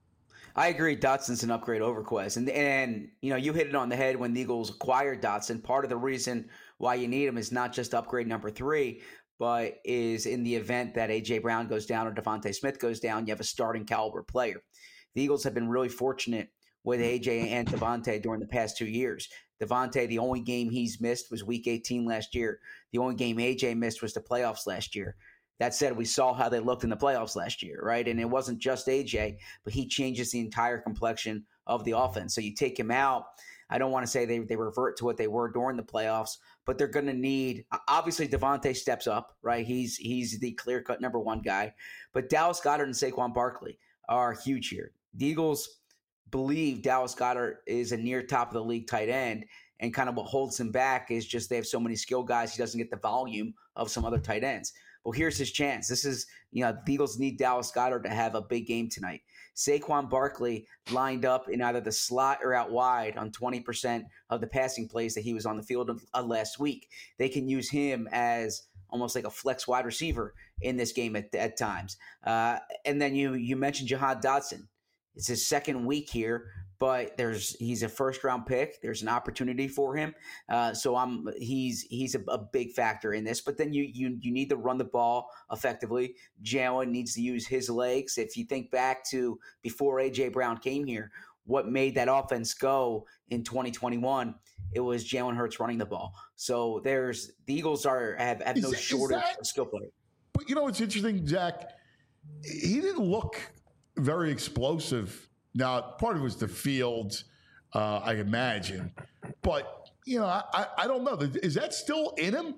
I agree. Dotson's an upgrade over Quez, and you hit it on the head when the Eagles acquired Dotson. Part of the reason why you need him is not just upgrade number 3, but is in the event that A.J. Brown goes down or Devontae Smith goes down, you have a starting caliber player. The Eagles have been really fortunate with A.J. and Devontae during the past 2 years. Devontae, the only game he's missed was Week 18 last year. The only game A.J. missed was the playoffs last year. That said, we saw how they looked in the playoffs last year, right? And it wasn't just A.J., but he changes the entire complexion of the offense. So you take him out. I don't want to say they revert to what they were during the playoffs, but they're going to need – obviously, Devontae steps up, right? He's the clear-cut number 1 guy. But Dallas Goedert and Saquon Barkley are huge here. The Eagles believe Dallas Goedert is a near top of the league tight end, and kind of what holds him back is just they have so many skill guys, he doesn't get the volume of some other tight ends. Well, here's his chance. This is, the Eagles need Dallas Goedert to have a big game tonight. Saquon Barkley lined up in either the slot or out wide on 20% of the passing plays that he was on the field last week. They can use him as almost like a flex wide receiver in this game at times. And then you mentioned Jahan Dotson. It's his second week here, but he's a first-round pick. There's an opportunity for him, so he's a big factor in this. But then you need to run the ball effectively. Jalen needs to use his legs. If you think back to before A.J. Brown came here, what made that offense go in 2021? It was Jalen Hurts running the ball. So the Eagles have no shortage of skill players. But what's interesting, Zach? He didn't look very explosive. Now, part of it was the field, I imagine. But, I don't know. Is that still in him?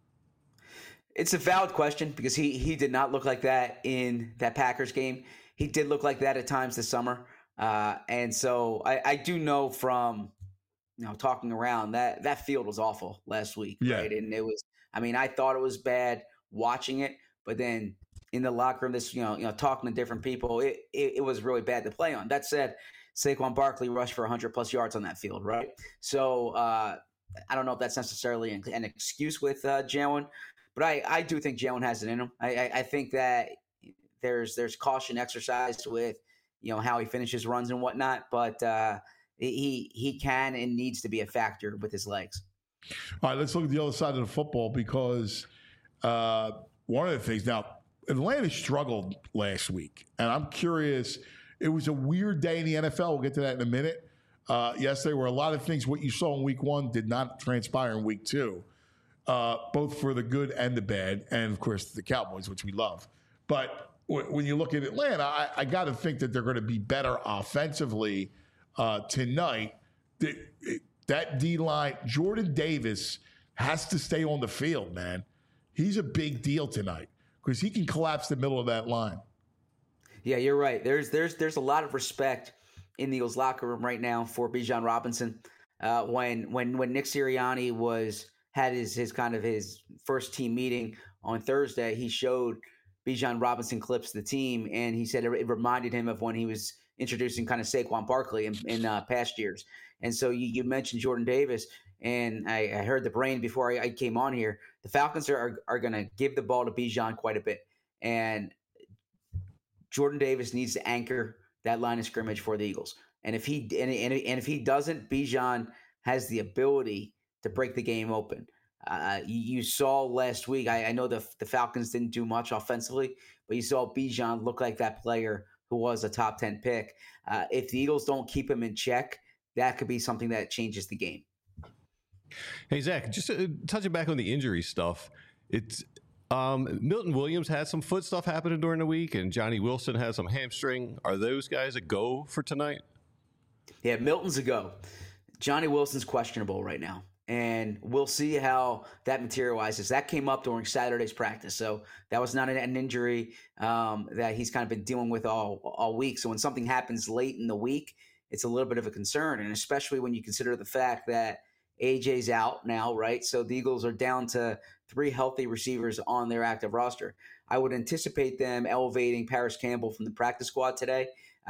It's a valid question because he did not look like that in that Packers game. He did look like that at times this summer. And so I do know from, talking around that field was awful last week. Yeah. Right. And it was, I thought it was bad watching it, but then in the locker room, this talking to different people, it was really bad to play on. That said, Saquon Barkley rushed for 100+ yards on that field, right? So I don't know if that's necessarily an excuse with Jalen, but I do think Jalen has it in him. I think that there's caution exercised with how he finishes runs and whatnot, but he can and needs to be a factor with his legs. All right, let's look at the other side of the football, because one of the things now, Atlanta struggled last week, and I'm curious. It was a weird day in the NFL. We'll get to that in a minute. Yes, there were a lot of things. What you saw in week 1 did not transpire in week 2, both for the good and the bad, and of course the Cowboys, which we love. But when you look at Atlanta, I got to think that they're going to be better offensively tonight. That D-line, Jordan Davis has to stay on the field, man. He's a big deal tonight because he can collapse the middle of that line. Yeah, you're right. There's a lot of respect in the Eagles locker room right now for Bijan Robinson. When Nick Sirianni had his first team meeting on Thursday, he showed Bijan Robinson clips of the team, and he said it reminded him of when he was introducing kind of Saquon Barkley in past years. And so you mentioned Jordan Davis, and I heard the brain before I came on here. The Falcons are going to give the ball to Bijan quite a bit, and Jordan Davis needs to anchor that line of scrimmage for the Eagles. And if he if he doesn't, Bijan has the ability to break the game open. You saw last week, I know the Falcons didn't do much offensively, but you saw Bijan look like that player who was a top 10 pick. If the Eagles don't keep him in check, that could be something that changes the game. Hey, Zach, just touching back on the injury stuff, it's Milton Williams had some foot stuff happening during the week, and Johnny Wilson has some hamstring. Are those guys a go for tonight? Yeah, Milton's a go. Johnny Wilson's questionable right now, and we'll see how that materializes. That came up during Saturday's practice, so that was not an injury that he's kind of been dealing with all week. So when something happens late in the week, it's a little bit of a concern, and especially when you consider the fact that AJ's out now, right? So the Eagles are down to 3 healthy receivers on their active roster. I would anticipate them elevating Paris Campbell from the practice squad today.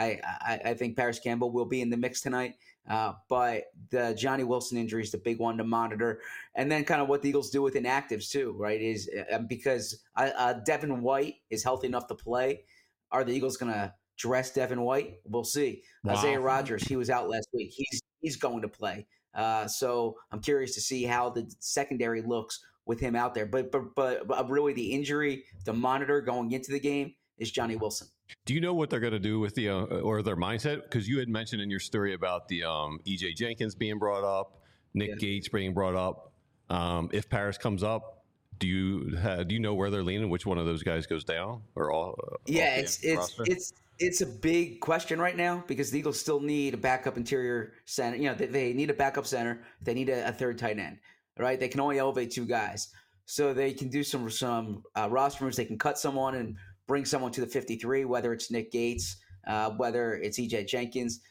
I think Paris Campbell will be in the mix tonight, but the Johnny Wilson injury is the big one to monitor. And then kind of what the Eagles do with inactives too, right, is because Devin White is healthy enough to play. Are the Eagles going to dress Devin White? We'll see. Wow. Isaiah Rodgers, he was out last week. He's going to play. So I'm curious to see how the secondary looks with him out there. But really the injury to monitor going into the game is Johnny Wilson. Do you know what they're going to do with the or their mindset? Because you had mentioned in your story about the E.J. Jenkins being brought up, Nick Gates being brought up. If Paris comes up, do you know where they're leaning? Which one of those guys goes down? Or all? Yeah, it's a big question right now because the Eagles still need a backup interior center. You know, they need a backup center. They need a third tight end, right? They can only elevate 2 guys. So they can do some roster moves. They can cut someone and bring someone to the 53, whether it's Nick Gates, whether it's E.J. Jenkins,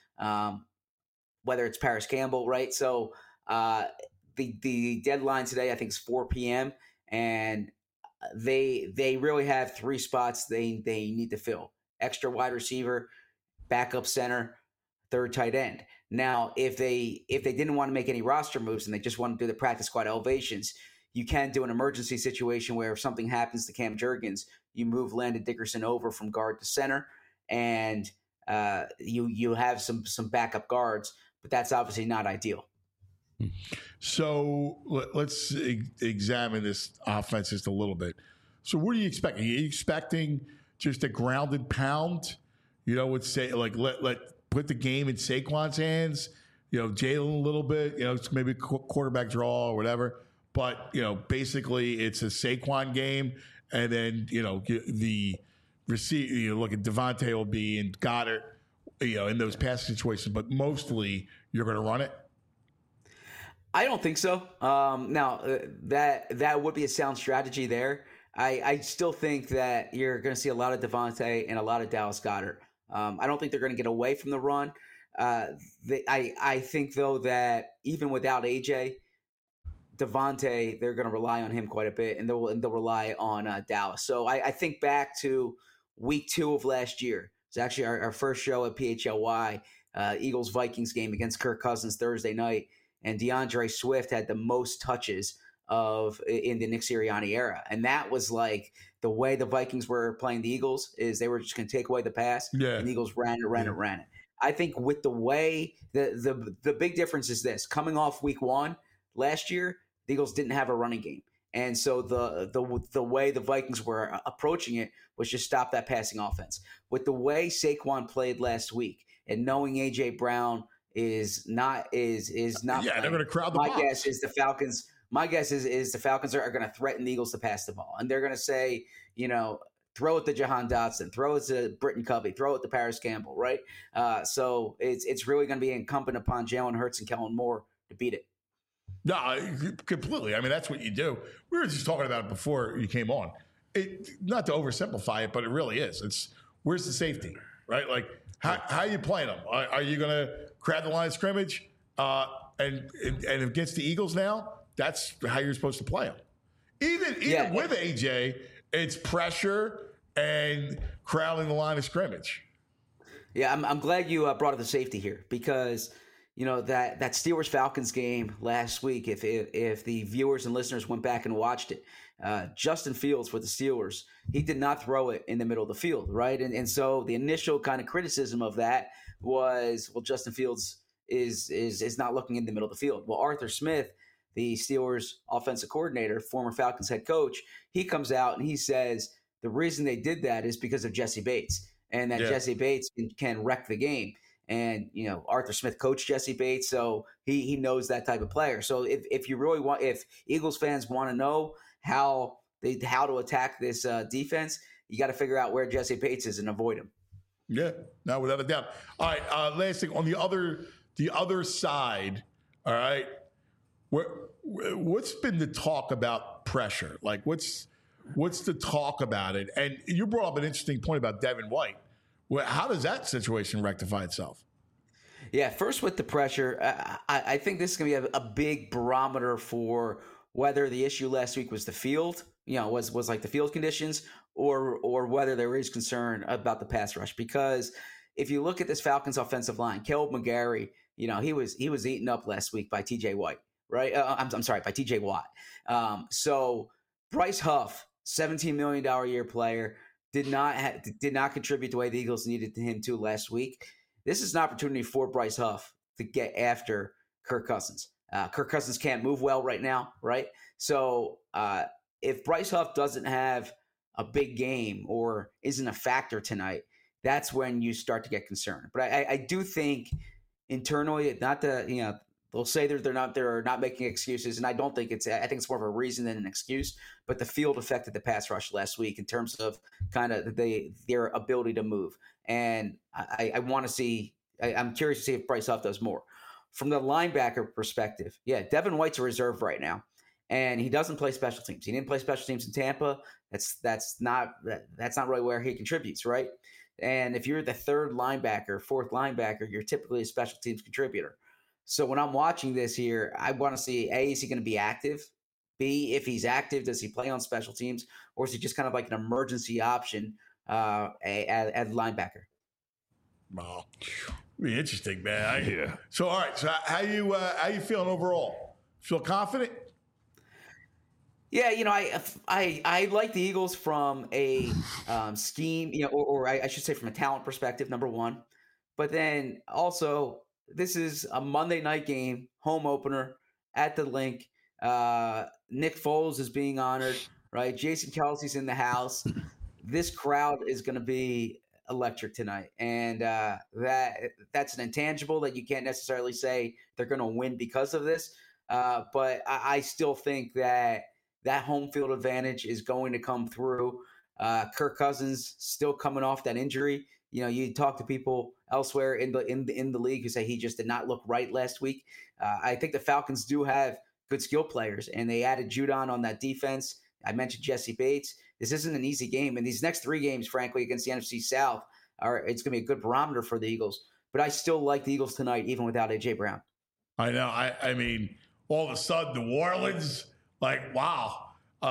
whether it's Paris Campbell, right? So the deadline today, I think, is 4 p.m., and they really have 3 spots they need to fill. Extra wide receiver, backup center, third tight end. Now, if they didn't want to make any roster moves and they just want to do the practice squad elevations, you can do an emergency situation where if something happens to Cam Jurgens, you move Landon Dickerson over from guard to center, and you have some backup guards, but that's obviously not ideal. So let's examine this offense just a little bit. So what are you expecting? Are you expecting just a grounded pound? You know, would say like let put the game in Saquon's hands. You know, Jalen a little bit. You know, it's maybe quarterback draw or whatever. But you know, basically it's a Saquon game, and then you know the receiver. You know, look at Devontae will be and Goddard. You know, in those passing situations, but mostly you're going to run it. I don't think so. Now that would be a sound strategy there. I still think that you're going to see a lot of Devontae and a lot of Dallas Goedert. I don't think they're going to get away from the run. I think, though, that even without AJ, Devontae, they're going to rely on him quite a bit, and they'll rely on Dallas. So I think back to week 2 of last year. It's actually our first show at PHLY, Eagles-Vikings game against Kirk Cousins Thursday night, and DeAndre Swift had the most touches in the Nick Sirianni era. And that was like the way the Vikings were playing the Eagles is they were just going to take away the pass, and the Eagles ran it. I think with the way the big difference is this: coming off week 1 last year, the Eagles didn't have a running game. And so the way the Vikings were approaching it was just stop that passing offense. With the way Saquon played last week and knowing AJ Brown is not they're going to crowd the box. My guess is the Falcons are going to threaten the Eagles to pass the ball, and they're going to say, throw it to Jahan Dotson, throw it to Britton Covey, throw it to Paris Campbell, right? So it's really going to be incumbent upon Jalen Hurts and Kellen Moore to beat it. No, completely. I mean, that's what you do. We were just talking about it before you came on. Not to oversimplify it, but it really is. It's where's the safety, right? Like, how are you playing them? Are you going to crowd the line of scrimmage? And against the Eagles now, that's how you're supposed to play them. Even with AJ, it's pressure and crowding the line of scrimmage. Yeah, I'm glad you brought up the safety here because – that Steelers-Falcons game last week, if the viewers and listeners went back and watched it, Justin Fields for the Steelers, he did not throw it in the middle of the field, right? And so the initial kind of criticism of that was, well, Justin Fields is not looking in the middle of the field. Well, Arthur Smith, the Steelers offensive coordinator, former Falcons head coach, he comes out and he says the reason they did that is because of Jesse Bates and that Jesse Bates can wreck the game. And, Arthur Smith coached Jesse Bates, so he knows that type of player. So if Eagles fans want to know how to attack this defense, you got to figure out where Jesse Bates is and avoid him. Yeah, no, without a doubt. All right, last thing on the other side. All right, what's been the talk about pressure? Like, what's the talk about it? And you brought up an interesting point about Devin White. Well, how does that situation rectify itself? Yeah, first with the pressure, I think this is going to be a big barometer for whether the issue last week was the field, was like the field conditions, or whether there is concern about the pass rush. Because if you look at this Falcons offensive line, Caleb McGarry, he was eaten up last week by T.J. White, right? I'm sorry, by T.J. Watt. So Bryce Huff, $17 million a year player, did not contribute the way the Eagles needed him to last week. This is an opportunity for Bryce Huff to get after Kirk Cousins. Kirk Cousins can't move well right now, right? So if Bryce Huff doesn't have a big game or isn't a factor tonight, that's when you start to get concerned. But I do think internally, not the they'll say they're not making excuses, and I don't think I think it's more of a reason than an excuse. But the field affected the pass rush last week in terms of kind of their ability to move, and I want to see. I'm curious to see if Bryce Huff does more. From the linebacker perspective, Devin White's a reserve right now, and he doesn't play special teams. He didn't play special teams in Tampa. That's not really where he contributes, right? And if you're the fourth linebacker, you're typically a special teams contributor. So when I'm watching this here, I want to see, A, is he going to be active? B, if he's active, does he play on special teams? Or is he just kind of like an emergency option at linebacker? Wow. Be interesting, man. So, all right. So how you feeling overall? Feel confident? Yeah, I like the Eagles from a scheme, or I should say from a talent perspective, number one. But then also, this is a Monday night game, home opener at the Link. Nick Foles is being honored, right? Jason Kelce's in the house. This crowd is going to be electric tonight, and that's an intangible that you can't necessarily say they're going to win because of this. But I still think that home field advantage is going to come through. Kirk Cousins still coming off that injury. You talk to people elsewhere in the league who say he just did not look right last week. I think the Falcons do have good skill players, and they added Judon on that defense. I mentioned Jesse Bates. This isn't an easy game, and these next three games, frankly, against the NFC South, it's going to be a good barometer for the Eagles. But I still like the Eagles tonight, even without A.J. Brown. I know. I mean, all of a sudden New Orleans, like, wow.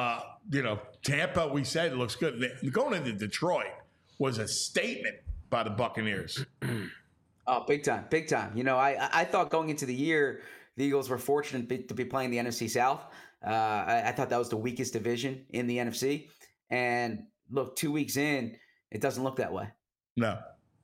Tampa, we said it looks good. Going into Detroit was a statement by the Buccaneers. Oh, big time, big time. I thought going into the year, the Eagles were fortunate to be playing the NFC South. I thought that was the weakest division in the NFC. And look, 2 weeks in, it doesn't look that way. No.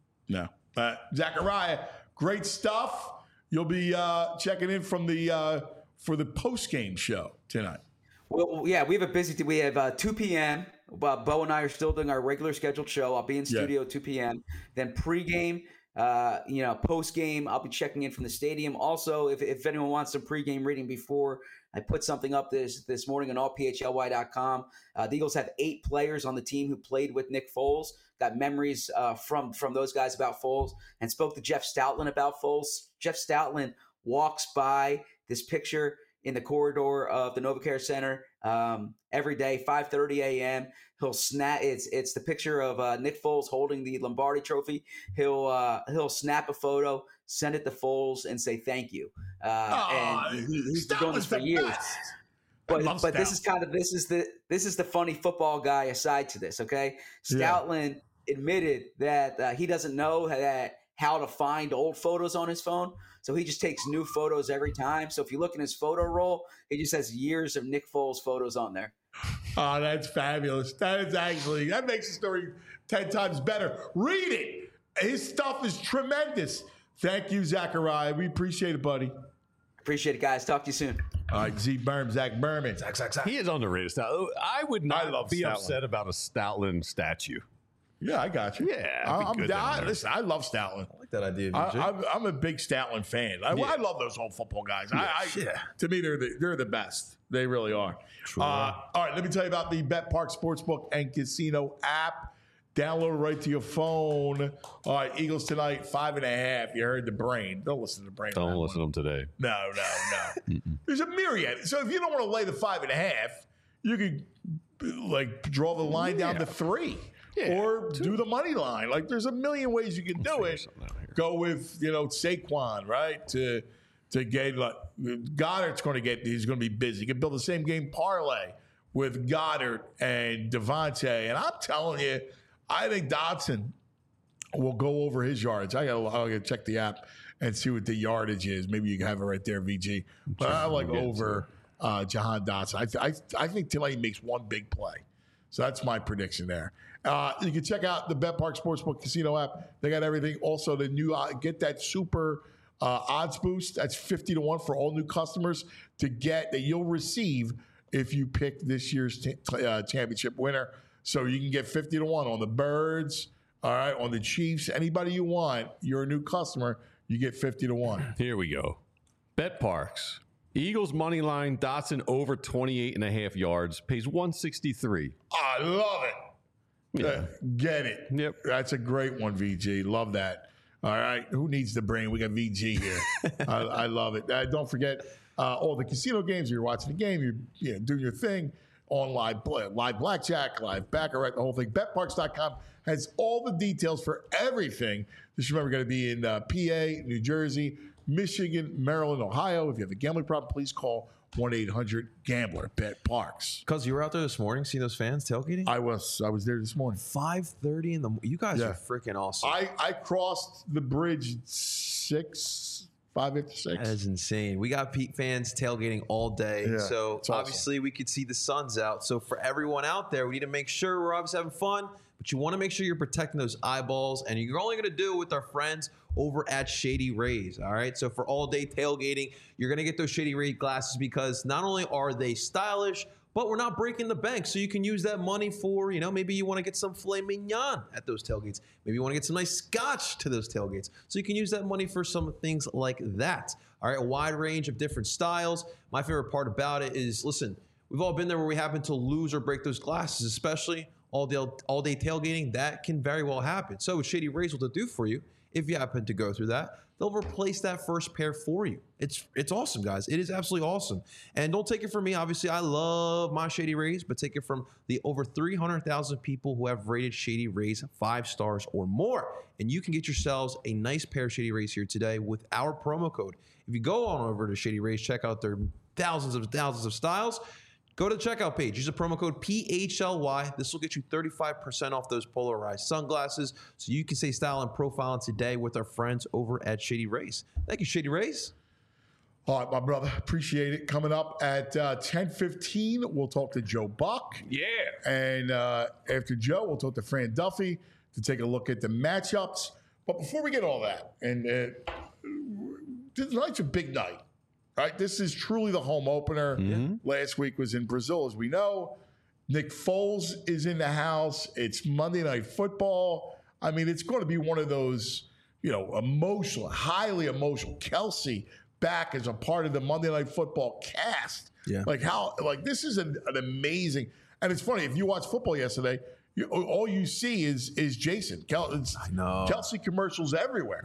Zachariah, great stuff. You'll be checking in from for the post-game show tonight. Well, yeah, we have a busy. We have 2 p.m. Bo and I are still doing our regular scheduled show. I'll be in studio 2 p.m. Then pregame, postgame, I'll be checking in from the stadium. Also, if anyone wants some pregame reading before I put something up this morning on allphly.com, the Eagles have 8 players on the team who played with Nick Foles. Got memories from those guys about Foles, and spoke to Jeff Stoutland about Foles. Jeff Stoutland walks by this picture in the corridor of the NovaCare Center every day, 5:30 a.m. He'll snap. It's the picture of Nick Foles holding the Lombardi Trophy. He'll snap a photo, send it to Foles, and say thank you. And he's been doing this for years. But this is the funny football guy aside to this. Okay, Stoutland admitted that he doesn't know how to find old photos on his phone. So he just takes new photos every time. So if you look in his photo roll, he just has years of Nick Foles photos on there. Oh, that's fabulous. That makes the story 10 times better. Read it. His stuff is tremendous. Thank you, Zachariah. We appreciate it, buddy. Appreciate it, guys. Talk to you soon. All right, Zach Berman. Zach. He is underrated. I would not be upset about a Stoutland statue. Yeah, I got you. Yeah, listen, I love Stoutland. I like that idea. I'm a big Stoutland fan. I love those old football guys. To me, they're the best. They really are. All right, let me tell you about the BetPark Sportsbook and Casino app. Download it right to your phone. All right, Eagles tonight, 5.5. You heard the brain. Don't listen to the brain. Don't listen to them today. No. There's a myriad. So if you don't want to lay the 5.5, you could draw the line down to 3. Yeah, or do the money line. There's a million ways you can do it. Go with, Saquon, right? To get Goddard's he's going to be busy. You can build the same game parlay with Goddard and Devontae. And I'm telling you, I think Dotson will go over his yards. I gotta check the app and see what the yardage is. Maybe you can have it right there, VG. But I like over Jahan Dotson. I think tonight he makes one big play. So that's my prediction there. You can check out the BetPark Sportsbook Casino app. They got everything. Also, the new get that super odds boost. That's 50-1 for all new customers to get that you'll receive if you pick this year's championship winner. So you can get 50-1 on the Birds, all right, on the Chiefs. Anybody you want, you're a new customer, you get 50-1. Here we go. BetParks. Eagles money line, Dotson over 28.5 yards, pays 163. I love it. Yeah. Get it. Yep. That's a great one, VG. Love that. All right. Who needs the brain? We got VG here. I love it. Don't forget all the casino games. You're watching the game. You're doing your thing on live blackjack, live baccarat, the whole thing. BetParks.com has all the details for everything. Just remember, going to be in PA, New Jersey, Michigan, Maryland, Ohio. If you have a gambling problem, please call 1-800-GAMBLER. BetParks. Because you were out there this morning seeing those fans tailgating? I was there this morning. 5:30 in the morning. You guys are freaking awesome. I crossed the bridge 5 after 6. That is insane. We got Pete fans tailgating all day. Yeah, so awesome. Obviously we could see the sun's out. So for everyone out there, we need to make sure we're obviously having fun, but you want to make sure you're protecting those eyeballs, and you're only going to do it with our friends over at Shady Rays. All right. So for all day tailgating, you're going to get those Shady Rays glasses because not only are they stylish, but we're not breaking the bank. So you can use that money for, maybe you want to get some filet mignon at those tailgates. Maybe you want to get some nice scotch to those tailgates. So you can use that money for some things like that. All right. A wide range of different styles. My favorite part about it is, listen, we've all been there where we happen to lose or break those glasses, especially all day tailgating. That can very well happen. So with Shady Rays, what they'll do for you, if you happen to go through that, they'll replace that first pair for you. It's awesome, guys. It is absolutely awesome. And don't take it from me. Obviously, I love my Shady Rays, but take it from the over 300,000 people who have rated Shady Rays 5 stars or more. And you can get yourselves a nice pair of Shady Rays here today with our promo code. If you go on over to Shady Rays, check out their thousands of styles. Go to the checkout page. Use the promo code PHLY. This will get you 35% off those polarized sunglasses so you can stay style and profile today with our friends over at Shady Rays. Thank you, Shady Rays. All right, my brother. Appreciate it. Coming up at 10:15, we'll talk to Joe Buck. Yeah. And after Joe, we'll talk to Fran Duffy to take a look at the matchups. But before we get all that, and tonight's a big night. Right, this is truly the home opener. Last week was in Brazil, as we know. Nick Foles is in the house. It's Monday Night Football. I mean, it's going to be one of those, emotional, highly emotional. Kelsey back as a part of the Monday Night Football cast. Yeah, this is an amazing. And it's funny, if you watched football yesterday, all you see is Jason. I know Kelsey commercials everywhere.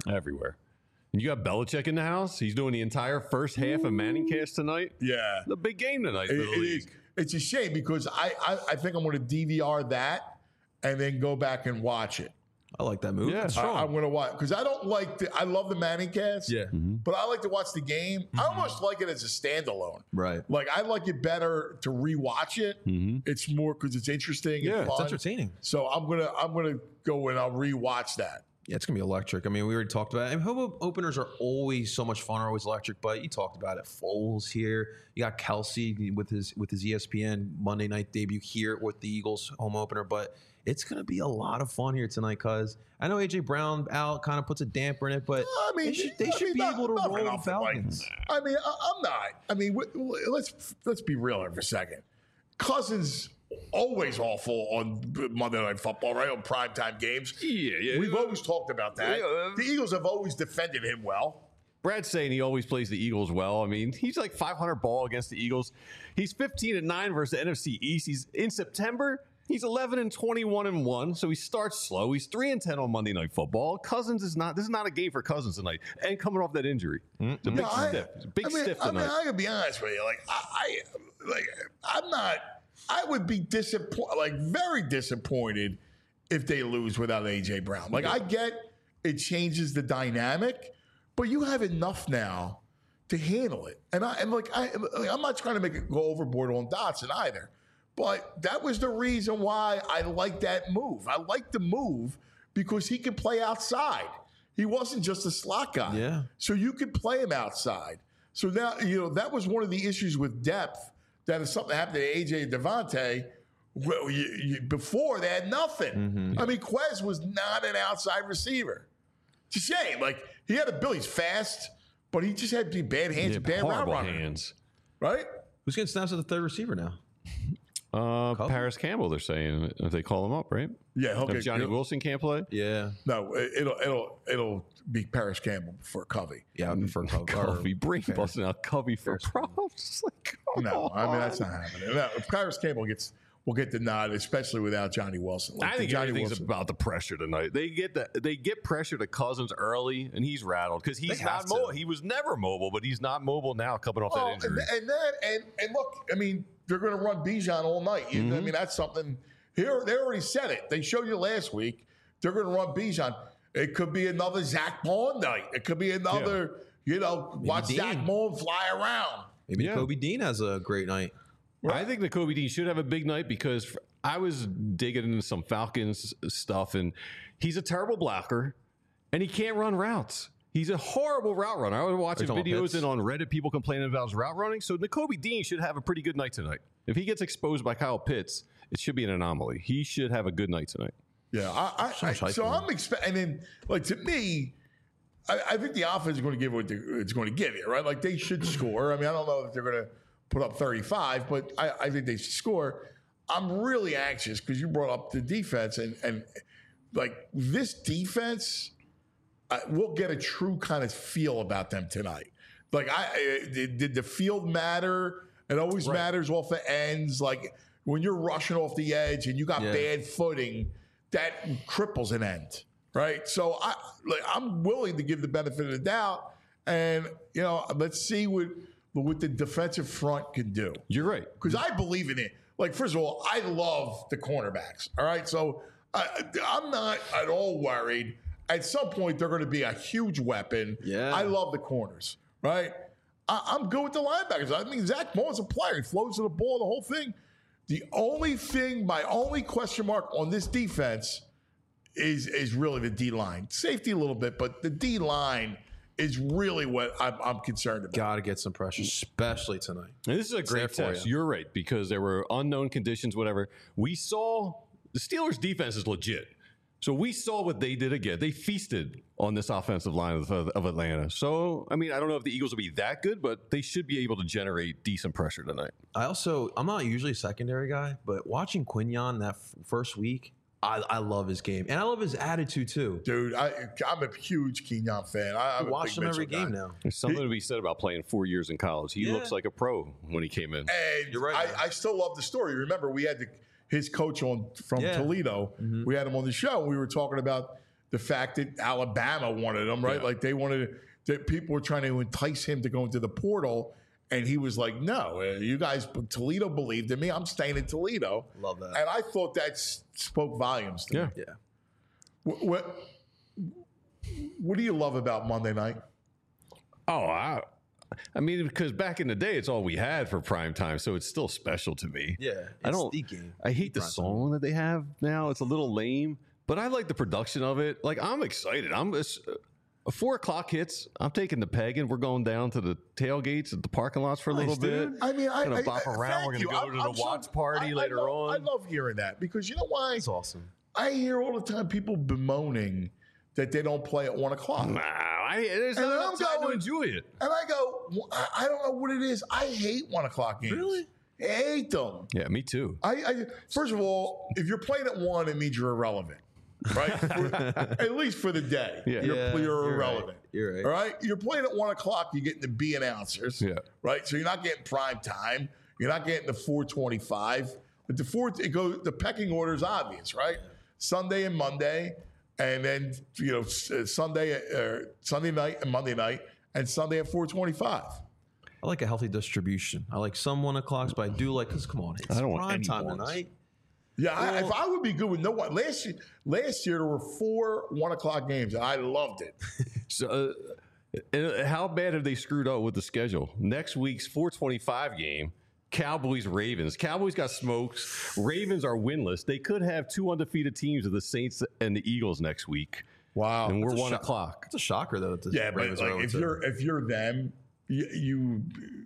And you got Belichick in the house. He's doing the entire first half of Manningcast tonight. Yeah. The big game tonight for the league. It's a shame because I think I'm going to DVR that and then go back and watch it. I like that move. Yeah, I'm going to watch because I don't like I love the Manningcast. Yeah. But I like to watch the game. I almost like it as a standalone. Right. Like I like it better to rewatch it. It's more because it's interesting. Yeah, and fun. it's entertaining. So I'm gonna go and I'll rewatch that. Yeah, it's going to be electric. I mean, we already talked about it. And home openers are always so much fun, are always electric. But you talked about it. Foles here. You got Kelsey with his ESPN Monday night debut here with the Eagles home opener. But it's going to be a lot of fun here tonight because I know A.J. Brown out kind of puts a damper in it. But they should be able to roll the Falcons. I mean, I'm not. I mean, let's be real here for a second. Cousins always awful on Monday Night Football, right? On primetime games. Yeah. We've always talked about that. Yeah. The Eagles have always defended him well. Brad's saying he always plays the Eagles well. I mean, he's like 500 ball against the Eagles. He's 15-9 versus the NFC East. He's in September. He's 11-21-1, so he starts slow. He's 3-10 on Monday Night Football. Cousins is not. This is not a game for Cousins tonight, and coming off that injury, it's a big stiff. It's a big stiff tonight. I mean, I gotta be honest with you. I'm not. I would be very disappointed if they lose without A.J. Brown. I get it changes the dynamic, but you have enough now to handle it. And I'm not trying to go overboard on Dotson either, but that was the reason why I like that move. I like the move because he can play outside. He wasn't just a slot guy. Yeah. So you could play him outside. So now, that was one of the issues with depth. That if something happened to AJ and Devontae, before they had nothing. I mean, Quez was not an outside receiver. It's a shame. He had ability. He's fast, but he just had bad hands and bad route running. Hands. Right? Who's getting snaps at the third receiver now? Paris Campbell, they're saying, if they call him up, right? Yeah, If Johnny Wilson can't play. Yeah. No, it'll be Paris Campbell for Covey. Yeah, for Covey, brain busting out Covey for props. No, I mean that's not happening. No, if Paris Campbell will get the nod, especially without Johnny Wilson. I think everything's about the pressure tonight. They get pressure to Cousins early, and he's rattled because he's not mobile. He was never mobile, but he's not mobile now, coming off that injury. And look, I mean, they're going to run Bijan all night. I mean, that's something. Here, they already said it. They showed you last week. They're going to run Bijan. It could be another Zach Bond night. It could be another, watch Zach Bond fly around. Maybe Kobe Dean has a great night. Right. I think that Kobe Dean should have a big night because I was digging into some Falcons stuff, and he's a terrible blocker, and he can't run routes. He's a horrible route runner. I was watching videos and on Reddit, people complaining about his route running. So Nakobe Dean should have a pretty good night tonight. If he gets exposed by Kyle Pitts, it should be an anomaly. He should have a good night tonight. Yeah, I'm expecting. And then, to me, I think the offense is going to give what it's going to give you, right? They should score. I mean, I don't know if they're going to put up 35, but I think they should score. I'm really anxious because you brought up the defense, and this defense. We'll get a true kind of feel about them tonight. Did the field matter? It always matters off the ends. When you're rushing off the edge and you got bad footing, that cripples an end, right? So I'm willing to give the benefit of the doubt, and let's see what the defensive front can do. You're right, because I believe in it. First of all, I love the cornerbacks. All right, so I'm not at all worried. At some point, they're going to be a huge weapon. Yeah. I love the corners, right? I'm good with the linebackers. I mean, Zach Moss is a player. He flows to the ball, the whole thing. My only question mark on this defense is really the D-line. Safety a little bit, but the D-line is really what I'm concerned about. Got to get some pressure, especially tonight. And this is a great test. You're right, because there were unknown conditions, whatever. We saw the Steelers' defense is legit. So we saw what they did again. They feasted on this offensive line of Atlanta. So, I mean, I don't know if the Eagles will be that good, but they should be able to generate decent pressure tonight. I'm not usually a secondary guy, but watching Quinyon that first week, I love his game. And I love his attitude, too. Dude, I'm a huge Kenyon fan. I watch him every game now. There's something to be said about playing 4 years in college. He looks like a pro when he came in. And you're right. I still love the story. Remember, we had his coach from Toledo. Mm-hmm. We had him on the show. We were talking about the fact that Alabama wanted him, right? Yeah. Like they wanted that people were trying to entice him to go into the portal. And he was like, no, you guys, Toledo believed in me. I'm staying in Toledo. Love that. And I thought that spoke volumes to me. Yeah. What do you love about Monday night? Oh, I mean, because back in the day, it's all we had for prime time, so it's still special to me. Yeah, I hate the song that they have now. It's a little lame, but I like the production of it. Like, I'm excited. 4 o'clock hits. I'm taking the peg and we're going down to the tailgates at the parking lots for a little bit. I mean, I'm gonna bop around. We're gonna go to the watch party later on. I love hearing that because you know why? It's awesome. I hear all the time people bemoaning that they don't play at 1 o'clock. There's no time to enjoy it. And I go, I don't know what it is. I hate 1 o'clock games. Really? I hate them. Yeah, me too. First of all, if you're playing at 1, it means you're irrelevant. Right? At least for the day. Yeah. You're irrelevant. Right. You're right. All right? You're playing at 1 o'clock, you're getting the B announcers. Yeah. Right? So you're not getting prime time. You're not getting the 4:25. But the pecking order is obvious, right? Yeah. Sunday and Monday, and then Sunday night and Monday night, and Sunday at 4:25. I like a healthy distribution. I like some 1 o'clocks, but I do like, because come on, it's prime time tonight. Yeah, if I would be good with no one. Last year there were 4 1 o'clock games, and I loved it. So, how bad have they screwed up with the schedule? Next week's 4:25 game, Cowboys-Ravens. Cowboys got smokes. Ravens are winless. They could have 2 undefeated teams of the Saints and the Eagles next week. Wow, and we're 1 o'clock. It's a shocker though. But like, if you're them, you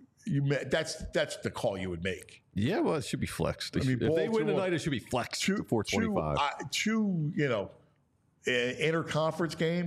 that's the call you would make. Yeah, well, it should be flexed. If they win tonight, it should be flexed to 4:25. Two interconference game,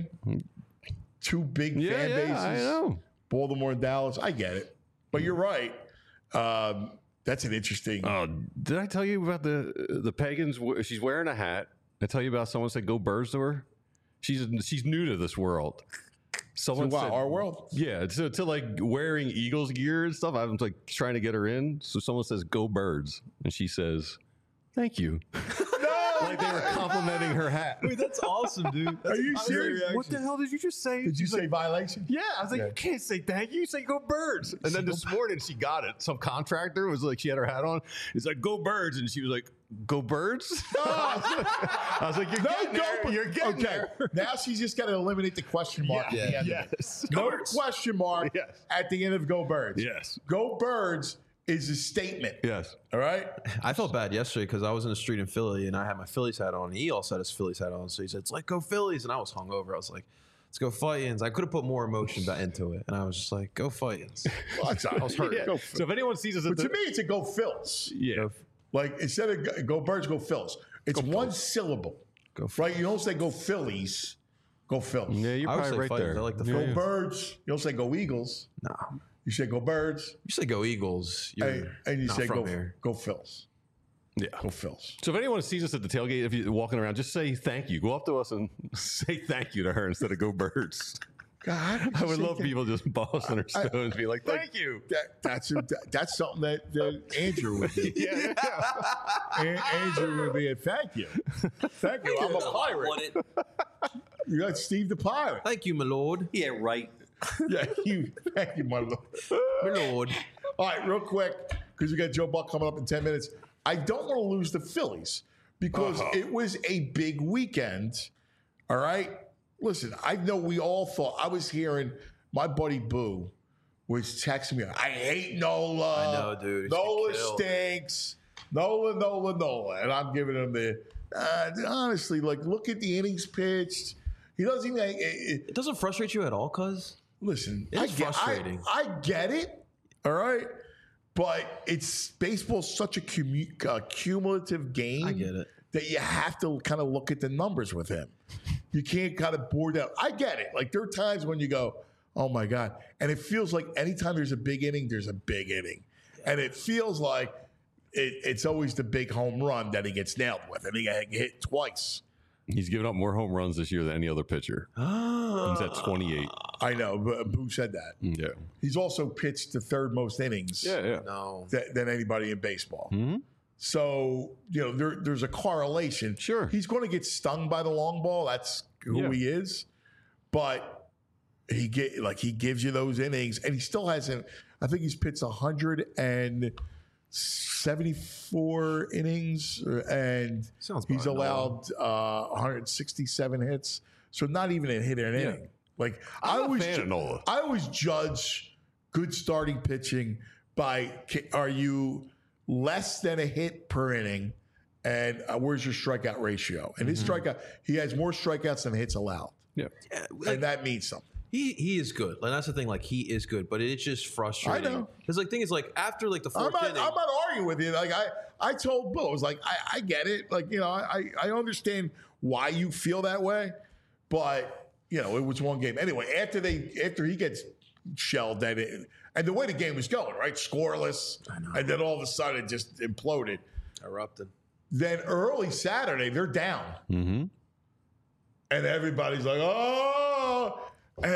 2 big fan bases. I know. Baltimore and Dallas. I get it, but you're right. That's an interesting. Did I tell you about the Pagans? She's wearing a hat. I tell you about someone said go Birds to her. She's new to this world. Someone said, our world? Yeah, to like wearing Eagles gear and stuff. I was like trying to get her in. So someone says, "Go Birds," and she says, "Thank you." Like they were complimenting her hat. Wait, that's awesome, dude. Are you serious? What the hell did you just say? Did you say violation? Yeah, I was like, you can't say thank you. You say go Birds. And then this morning she got it. Some contractor was like, she had her hat on. It's like, go Birds. And she was like, go Birds? I was like, you're getting there. Now she's just got to eliminate the question mark at the end of it. No question mark at the end of go Birds. Yes. Go Birds is a statement. Yes. All right? I felt bad yesterday because I was in the street in Philly and I had my Phillies hat on. And he also had his Phillies hat on. So he said, it's like, go Phillies. And I was hungover. I was like, let's go Fightins. I could have put more emotion back into it. And I was just like, go Fightins. Well, I was hurt. Yeah. So if anyone sees us but to me, it's a go Phils. Yeah. Like instead of go Birds, go Phils. It's one syllable. Go Phils. Right? You don't say go Phillies. Go Phils. Yeah, you're probably right there. I like the Go Birds. You don't say go Eagles. No. You say go Birds. You say go Eagles. And you say go Phils. Yeah. Go Phils. So if anyone sees us at the tailgate, if you're walking around, just say thank you. Go up to us and say thank you to her instead of go Birds. God, I would love people just bossing her stones, be like, thank you. That's something that Andrew would do. Yeah. Andrew would be a thank you. Thank you. I'm a pirate. You got Steve the Pirate. Thank you, my lord. Yeah, right. Yeah, thank you, my lord. My lord. All right, real quick, because we got Joe Buck coming up in 10 minutes. I don't want to lose the Phillies because it was a big weekend. All right? Listen, I know we all thought, I was hearing my buddy Boo was texting me, I hate Nola. I know, dude. He's Nola getting killed. stinks. Nola. And I'm giving him the, honestly, like, look at the innings pitched. He doesn't even, It doesn't frustrate you at all, cuz? listen, It's frustrating. I get it, all right? But it's baseball's such a cumulative game. I get it. That you have to kind of look at the numbers with him. You can't kind of bore down. I get it. Like, there are times when you go, oh my God. And it feels like anytime there's a big inning, there's a big inning. And it feels like it's always the big home run that he gets nailed with. And he got hit twice. He's given up more home runs this year than any other pitcher. He's at 28. I know, but who said that? Yeah. He's also pitched the third most innings Yeah. No. than anybody in baseball. Mm-hmm. So, there's a correlation. Sure. He's going to get stung by the long ball. That's who he is. But he gives you those innings, and he still hasn't. I think he's pitched 174 innings, and Sounds he's about allowed 167 hits. So not even a hit in an inning. Like, I'm a fan of Nola. I always judge good starting pitching by, are you less than a hit per inning, and where's your strikeout ratio? And his strikeout, he has more strikeouts than hits allowed, Yeah. and that means something. He is good. Like, that's the thing. Like, he is good, but it's just frustrating. I know. Because thing is, like, after like the I'm fourth not inning, arguing with you. Like, I told Bill, I was like, I get it. Like, I understand why you feel that way, but it was one game anyway. After he gets shelled, and the way the game was going, right, scoreless, and then all of a sudden it just imploded. erupted. Then early Saturday, they're down. Mm-hmm. And everybody's like, oh. And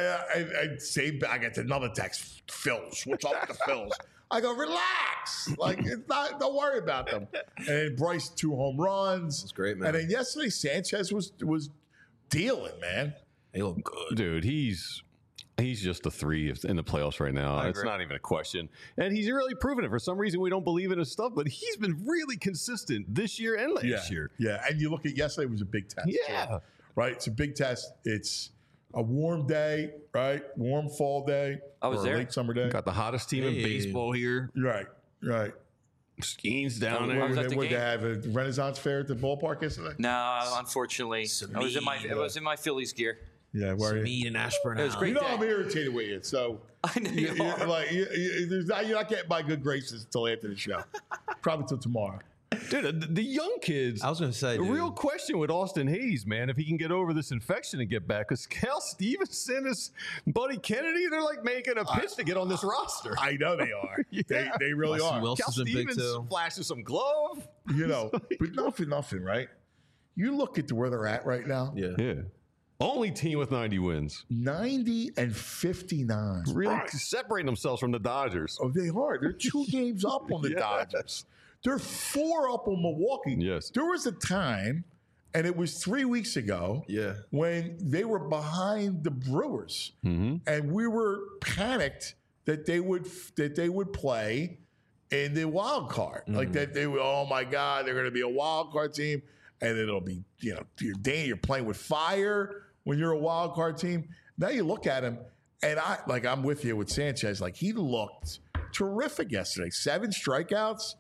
I get another text, Phils. What's up with the Phils? I go, relax. Like, it's not, don't worry about them. And then Bryce, 2 home runs. That's great, man. And then yesterday, Sanchez was dealing, man. They look good. Dude, he's just a 3 in the playoffs right now. I It's agree. not even a question. And he's really proven it. For some reason, we don't believe in his stuff, but he's been really consistent this year and last year. Yeah. And you look at yesterday, it was a big test. Yeah. too, right? It's a big test. It's a warm day, right? Warm fall day. I was or there. a late summer day. Got the hottest team in Hey. baseball here. Right. Skiing's down I there. was at the Would they game. have a Renaissance fair at the ballpark yesterday? No, unfortunately, I was in my Phillies gear. Yeah, where are you? Mead and Ashburn. It was great. You know I'm irritated with you, so I know you are. you're not getting my good graces until after the show. Probably till tomorrow. Dude, the young kids. I was going to say, The dude, real question with Austin Hayes, man, if he can get over this infection and get back, because Cal Stevenson is Buddy Kennedy, they're like making a pitch to get on this roster. I know they are. Yeah. They really Russell are. Wilson. Cal This is big, Stevens too. flashes some glove. But not for nothing, right? You look at where they're at right now. yeah. Yeah. Only team with 90 wins. 90 and 59. Really separating themselves from the Dodgers. Oh, they are. They're 2 games up on the Yes. Dodgers. They're 4 up on Milwaukee. Yes. There was a time, and it was 3 weeks ago, Yeah. when they were behind the Brewers, and we were panicked that they would play in the wild card, like that they would. Oh my God, they're going to be a wild card team, and it'll be you're playing with fire when you're a wild card team. Now you look at him, and I'm with you with Sanchez. Like, he looked terrific yesterday. 7 strikeouts.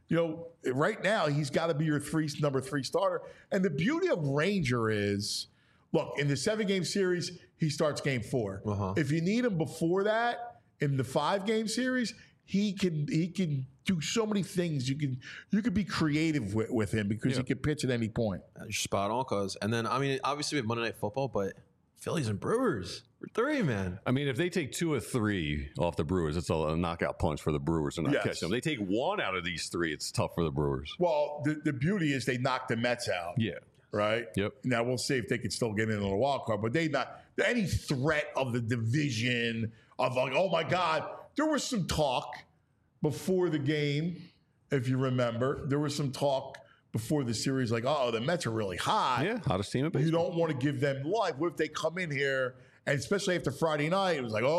Right now he's got to be your number 3 starter. And the beauty of Ranger is, look, in the 7-game series, he starts game 4. Uh-huh. If you need him before that in the 5-game series, he can do so many things. You could be creative with him because he can pitch at any point. You're spot on, cuz. And then, I mean, obviously we have Monday Night Football, but Phillies and Brewers. We're 3, man. I mean, if they take 2 of 3 off the Brewers, it's a knockout punch for the Brewers to not Yes. catch them. They take 1 out of these 3, it's tough for the Brewers. Well, the beauty is they knocked the Mets out. Yeah. Right? Yep. Now we'll see if they can still get in on the wild card, but any threat of the division of like, oh my God, there was some talk before the game, if you remember. There was some talk before the series, like, oh, the Mets are really hot. Yeah, hottest team in baseball. You don't want to give them life. What if they come in here, and especially after Friday night, it was like,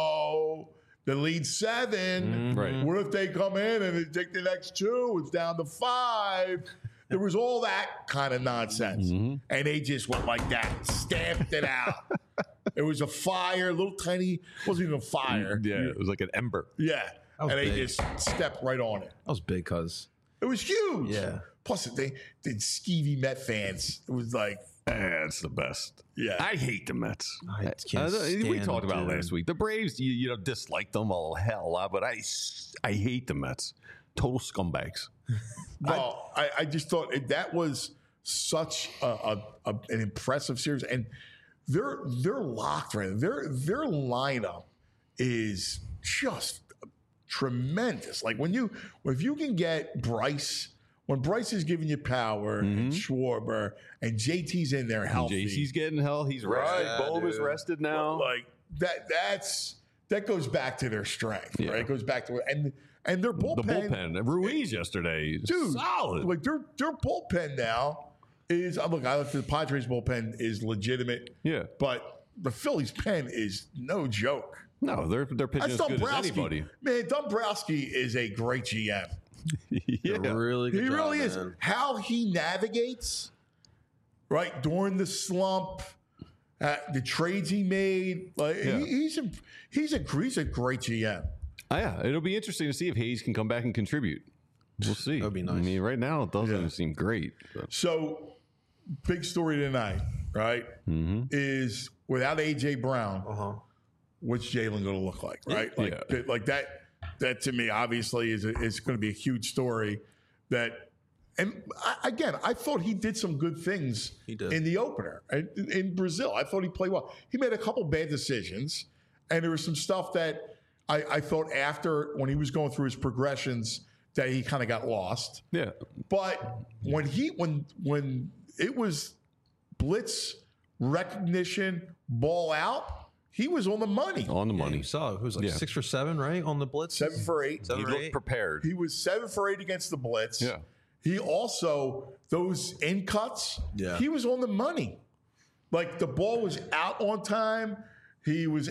the lead's 7. Right. What if they come in and they take the next 2? It's down to 5. There was all that kind of nonsense. And they just went like that, stamped it out. It was a fire, little tiny, wasn't even a fire. Yeah, it was like an ember. Yeah. was And they big. just stepped right on it. That was big, cuz. It was huge. Yeah. Plus, they did skeevy Met fans. It was like, It's the best. yeah. I hate the Mets. I can't We stand talked about them, it dude. last week. The Braves, you know, dislike them a hell lot, but I hate the Mets. Total scumbags. Well, I just thought that was such an impressive series, and they're locked right now. Their lineup is just tremendous. Like if you can get Bryce, when Bryce is giving you power, and Schwarber, and JT's in there healthy, JC's getting hell. He's rested. Right, Bohm is dude. rested now. like that goes back to their strength, right? It goes back to and their The bullpen. Ruiz yesterday, dude, solid. Like their bullpen now is look. I look at the Padres bullpen is legitimate. Yeah. but the Phillies pen is no joke. No, they're pitching as good as anybody. Man, Dombrowski is a great GM. Yeah. Really good He job, really is. man. How he navigates, right during the slump, the trades he made. Like Yeah. he's a great GM. Oh, yeah, it'll be interesting to see if Hayes can come back and contribute. We'll see. That'd be I nice. mean, right now it doesn't Yeah. seem great. But So, big story tonight, right? Is without AJ Brown, what's Jalen going to look like, right? Like that. That to me, obviously, is going to be a huge story. I thought he did some good things He did. in the opener in Brazil. I thought he played well. He made a couple bad decisions, and there was some stuff that I thought after when he was going through his progressions that he kind of got lost. yeah, But when it was blitz recognition, ball out, he was on the money. on the Yeah, money. you saw it. Who was like Yeah. 6 for 7, right? On the blitz? 7 for 8. He 7 or looked 8. prepared. He was 7 for 8 against the blitz. Yeah. He also, those in cuts, Yeah. he was on the money. Like the ball was out on time. He was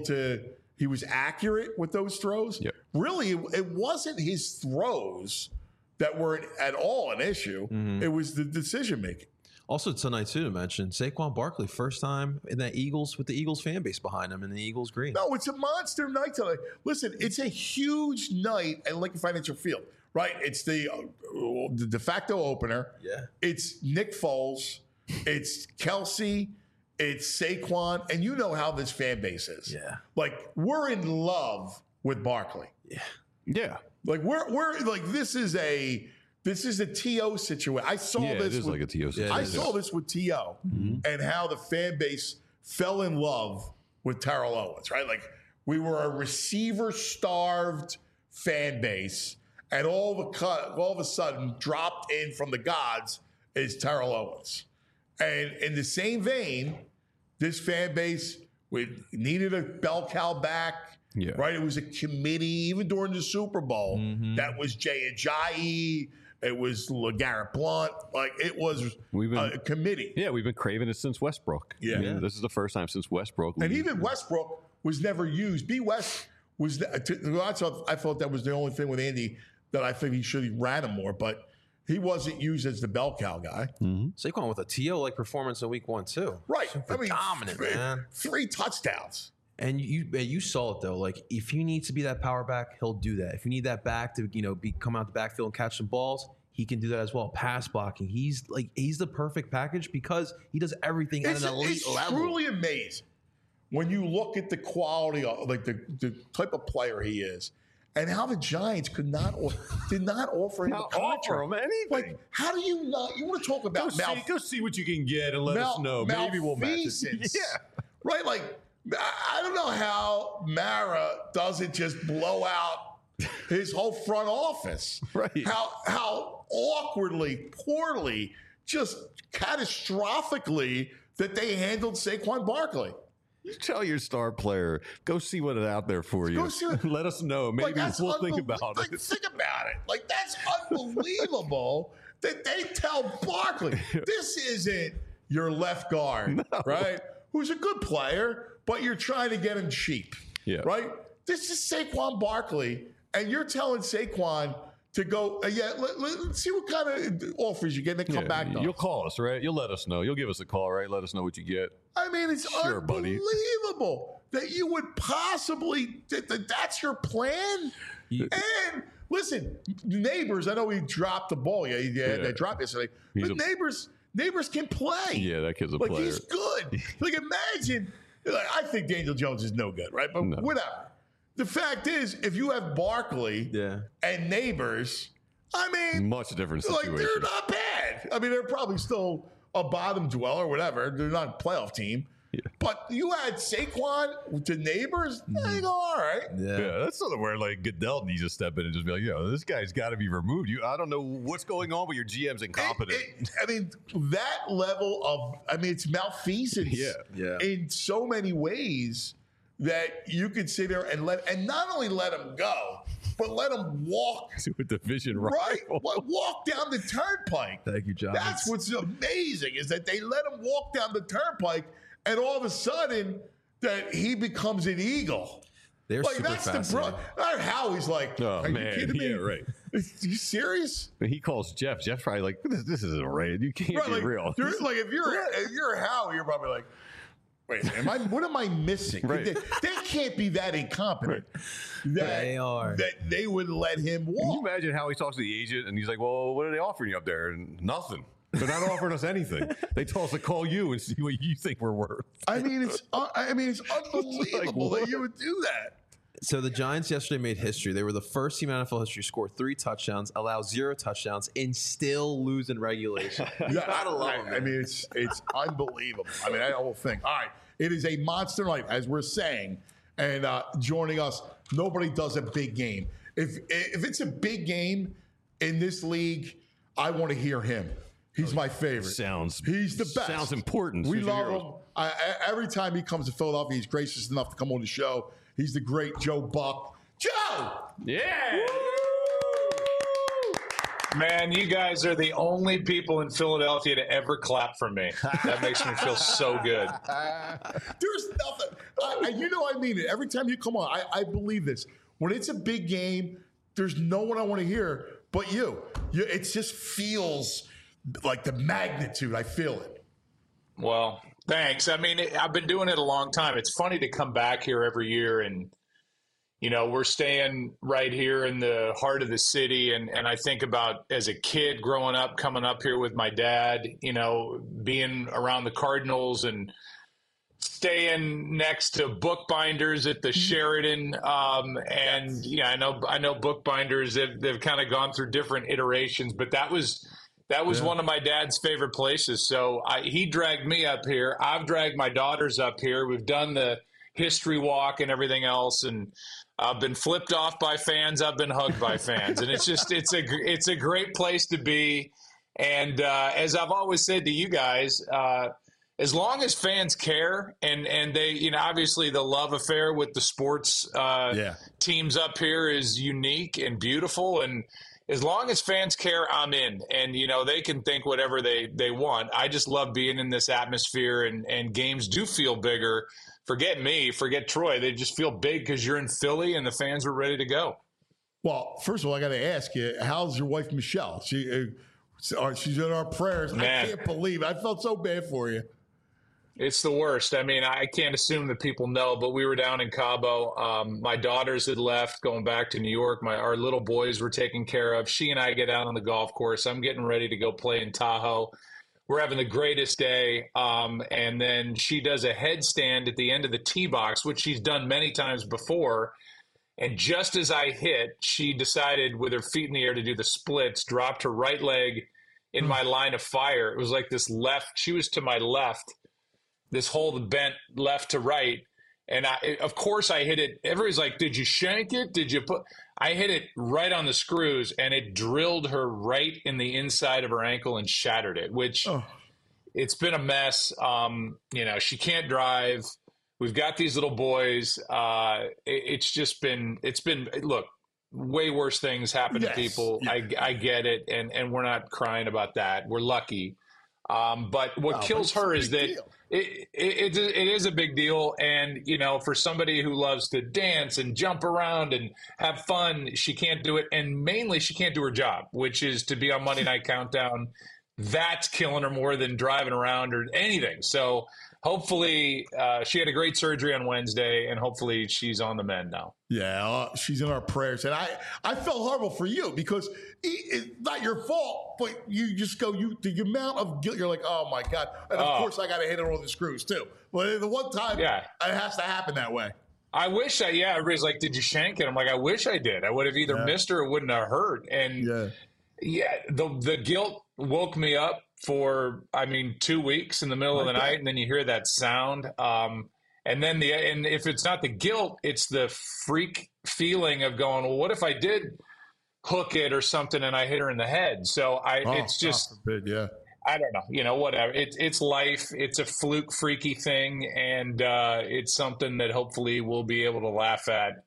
accurate with those throws. Yep. Really, it wasn't his throws that were at all an issue. It was the decision making. Also tonight, too, to mention, Saquon Barkley, first time in that Eagles with the Eagles fan base behind him in the Eagles green. No, it's a monster night tonight. Listen, it's a huge night at Lincoln Financial Field, right? It's the de facto opener. Yeah. It's Nick Foles. It's Kelsey. It's Saquon. And you know how this fan base is. Yeah. Like, we're in love with Barkley. Yeah. Like, we're like, this is a T.O. situation. I saw Yeah, this. it is like a T.O. situation. I saw this with T.O. and how the fan base fell in love with Terrell Owens, right? Like we were a receiver-starved fan base, and all of a sudden, dropped in from the gods is Terrell Owens. And in the same vein, this fan base needed a bell cow back. Yeah. Right? It was a committee, even during the Super Bowl, that was Jay Ajayi. It was LeGarrette Blount. Like, it was a committee. Yeah, we've been craving it since Westbrook. Yeah. I mean, this is the first time since Westbrook. And even Westbrook was never used. B. West was, I thought that was the only thing with Andy that I think he should have ran him more, but he wasn't used as the bell cow guy. Saquon with a TO-like performance in week 1, too. Right. Super dominant, man. 3 touchdowns. And you saw it, though. Like, if he needs to be that power back, he'll do that. If you need that back to, come out the backfield and catch some balls, he can do that as well. Pass blocking. He's the perfect package because he does everything at an elite level. It's truly amazing when you look at the quality of, like, the type of player he is and how the Giants did not offer him a contract. offer him anything. Like, how do you not? You want to talk about Go see what you can get and let us know. Maybe we'll match it. malfeasance. Yeah. Right? Like, I don't know how Mara doesn't just blow out his whole front office. Right. How awkwardly, poorly, just catastrophically that they handled Saquon Barkley. You tell your star player, go see what is out there for you. Go see what- Let us know. Maybe that's we'll think about like, it. Think about it. Like, that's unbelievable that they tell Barkley, this isn't your left guard, right? Who's a good player, but you're trying to get him cheap, Yeah. right? This is Saquon Barkley, and you're telling Saquon to go. Let's see what kind of offers you get and then come back to You'll us. call us, right? You'll let us know. You'll give us a call, right? Let us know what you get. I mean, it's Sure, buddy. unbelievable that you would possibly that's your plan. And listen, Neighbors. I know he dropped the ball. Yeah. They dropped yesterday. But Neighbors can play. Yeah, that kid's a like player. he's good. Like imagine. Like, I think Daniel Jones is no good, right? But whatever. The fact is, if you have Barkley and Neighbors, I mean, much different like situation. they're not bad. I mean, they're probably still a bottom dweller, whatever. They're not a playoff team. Yeah. But you add Saquon to Neighbors, they go all right. Yeah, that's something where like Goodell needs to step in and just be like, this guy's got to be removed. I don't know what's going on, but your GM's incompetent. I mean, that level of, it's malfeasance. In so many ways that you could sit there and not only let him go, but let him walk to a division right, walk down the turnpike. Thank you, John. That's what's amazing is that they let him walk down the turnpike. And all of a sudden, that he becomes an Eagle. They're like super that's fascinating. Howie's like, oh are man, you kidding me? Yeah, right. Are you serious? And he calls Jeff. Jeff's probably like, this isn't right. You can't be real. Like if you're Howie, you're probably like, wait, what am I missing? Right. They can't be that incompetent. That they would let him walk. Can you imagine how he talks to the agent and he's like, well, what are they offering you up there? And nothing. They're not offering us anything. They told us to call you and see what you think we're worth. It's unbelievable that you would do that. So the Giants yesterday made history. They were the first team in NFL history to score 3 touchdowns, allow 0 touchdowns, and still lose in regulation. Gotta love it. It's unbelievable. That whole thing. All right, it is a monster night, as we're saying, and joining us, nobody does a big game. If it's a big game in this league, I want to hear him. He's my favorite. He's the best. Sounds important. We love him. Every time he comes to Philadelphia, he's gracious enough to come on the show. He's the great Joe Buck. Joe! Yeah! Man, you guys are the only people in Philadelphia to ever clap for me. That makes me feel so good. There's nothing. I mean it. Every time you come on, I believe this. When it's a big game, there's no one I want to hear but you. It just feels like the magnitude. I feel it. Well, thanks. I've been doing it a long time. It's funny to come back here every year and, we're staying right here in the heart of the city. And I think about as a kid growing up, coming up here with my dad, being around the Cardinals and staying next to bookbinders at the Sheridan. I know bookbinders, they've kind of gone through different iterations, but that was one of my dad's favorite places. So he dragged me up here. I've dragged my daughters up here. We've done the history walk and everything else. And I've been flipped off by fans. I've been hugged by fans. And it's a great place to be. And as I've always said to you guys, as long as fans care and they, obviously the love affair with the sports teams up here is unique and beautiful. And as long as fans care, I'm in. And, they can think whatever they want. I just love being in this atmosphere, and games do feel bigger. Forget me, forget Troy. They just feel big because you're in Philly and the fans are ready to go. Well, first of all, I got to ask you, how's your wife, Michelle? She's in our prayers. Man. I can't believe it. I felt so bad for you. It's the worst. I can't assume that people know, but we were down in Cabo. My daughters had left, going back to New York. Our little boys were taken care of. She and I get out on the golf course. I'm getting ready to go play in Tahoe. We're having the greatest day. And then she does a headstand at the end of the tee box, which she's done many times before. And just as I hit, she decided with her feet in the air to do the splits, dropped her right leg in my line of fire. It was like this left. She was to my left. This whole bent left to right. And of course I hit it. Everybody's like, did you shank it? Did you put, I hit it right on the screws and it drilled her right in the inside of her ankle and shattered it, which it's been a mess. She can't drive. We've got these little boys. It's been, look, way worse things happen to people. Yeah. I get it. And we're not crying about that. We're lucky. But what kills her is that it is a big deal. And, you know, for somebody who loves to dance and jump around and have fun, she can't do it. And mainly she can't do her job, which is to be on Monday Night Countdown. That's killing her more than driving around or anything. So hopefully she had a great surgery on Wednesday, and hopefully she's on the mend now. Yeah, she's in our prayers. And I felt horrible for you because it's not your fault, but you just go, the amount of guilt, you're like, oh my God. And of course I got to hit it on the screws too. But the one time it has to happen that way. I wish everybody's like, did you shank it? I'm like, I wish I did. I would have either missed her or it wouldn't have hurt. And the guilt woke me up for, 2 weeks in the middle of the night. And then you hear that sound. And then and if it's not the guilt, it's the freak feeling of going, well, what if I did hook it or something and I hit her in the head? So it's just, I don't know, you know, whatever. It's life. It's a fluke, freaky thing. And it's something that hopefully we'll be able to laugh at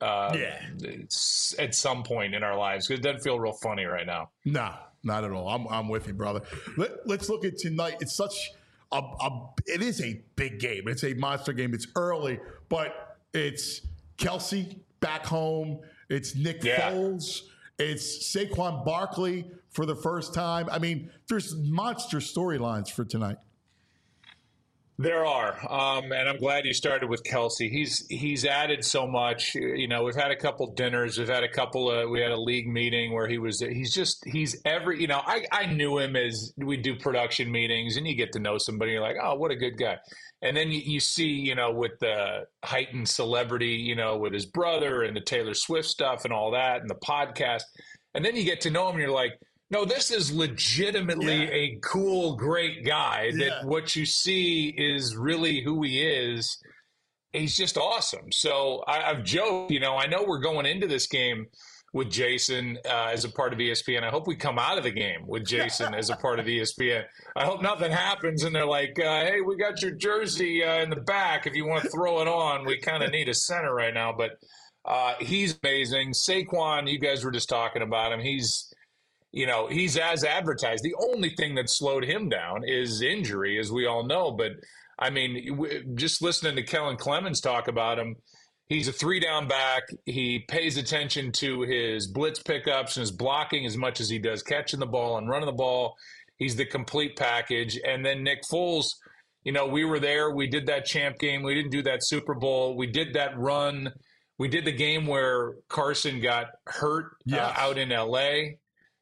at some point in our lives. Because it doesn't feel real funny right now. No, not at all. I'm with you, brother. Let's look at tonight. It's such it is a big game. It's a monster game. It's early, but it's Kelce back home. It's Nick Foles. It's Saquon Barkley for the first time. I mean, there's monster storylines for tonight. There are, and I'm glad you started with Kelce. He's added so much. You know, we've had a couple dinners. We've had we had a league meeting where he's every. You know, I knew him as we do production meetings, and you get to know somebody. You're like, oh, what a good guy. And then you see, you know, with the heightened celebrity, you know, with his brother and the Taylor Swift stuff and all that, and the podcast, and then you get to know him, and you're like, no, this is legitimately a cool, great guy that what you see is really who he is. He's just awesome. So I've joked, you know, I know we're going into this game with Jason as a part of ESPN. I hope we come out of the game with Jason as a part of ESPN. I hope nothing happens and they're like, hey, we got your jersey in the back. If you want to throw it on, we kind of need a center right now. But he's amazing. Saquon, you guys were just talking about him. He's as advertised. The only thing that slowed him down is injury, as we all know. But, I mean, just listening to Kellen Clemens talk about him, he's a 3-down back. He pays attention to his blitz pickups and his blocking as much as he does catching the ball and running the ball. He's the complete package. And then Nick Foles, you know, we were there. We did that champ game. We didn't do that Super Bowl. We did that run. We did the game where Carson got hurt out in L.A.,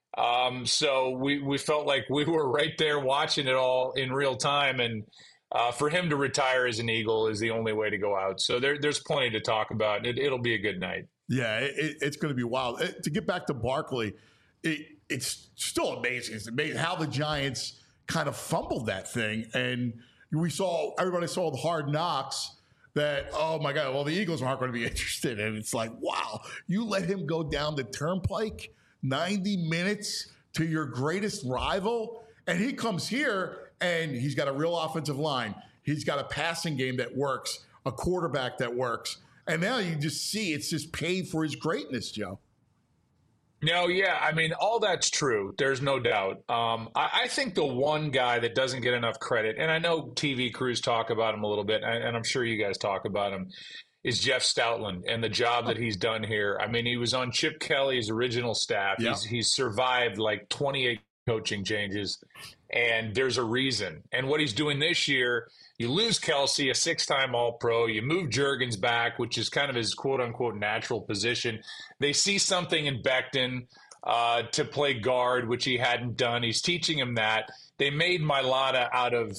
so we felt like we were right there watching it all in real time. And for him to retire as an Eagle is the only way to go out. So there's plenty to talk about. It'll be a good night. Yeah, it's going to be wild. To get back to Barkley, it's still amazing. It's amazing how the Giants kind of fumbled that thing. And everybody saw the Hard Knocks that, oh my God, well, the Eagles aren't going to be interested. And it's like, wow, you let him go down the turnpike 90 minutes to your greatest rival, and he comes here and he's got a real offensive line. He's got a passing game that works, a quarterback that works. And now you just see it's just paid for his greatness, Joe. No, yeah. I mean, all that's true. There's no doubt. I think the one guy that doesn't get enough credit, and I know TV crews talk about him a little bit, and I'm sure you guys talk about him, is Jeff Stoutland and the job that he's done here. I mean, he was on Chip Kelly's original staff. Yeah. He's survived like 28 coaching changes, and there's a reason. And what he's doing this year, you lose Kelce, a 6-time All-Pro. You move Juergens back, which is kind of his quote-unquote natural position. They see something in Becton to play guard, which he hadn't done. He's teaching him that. They made Mailata out of,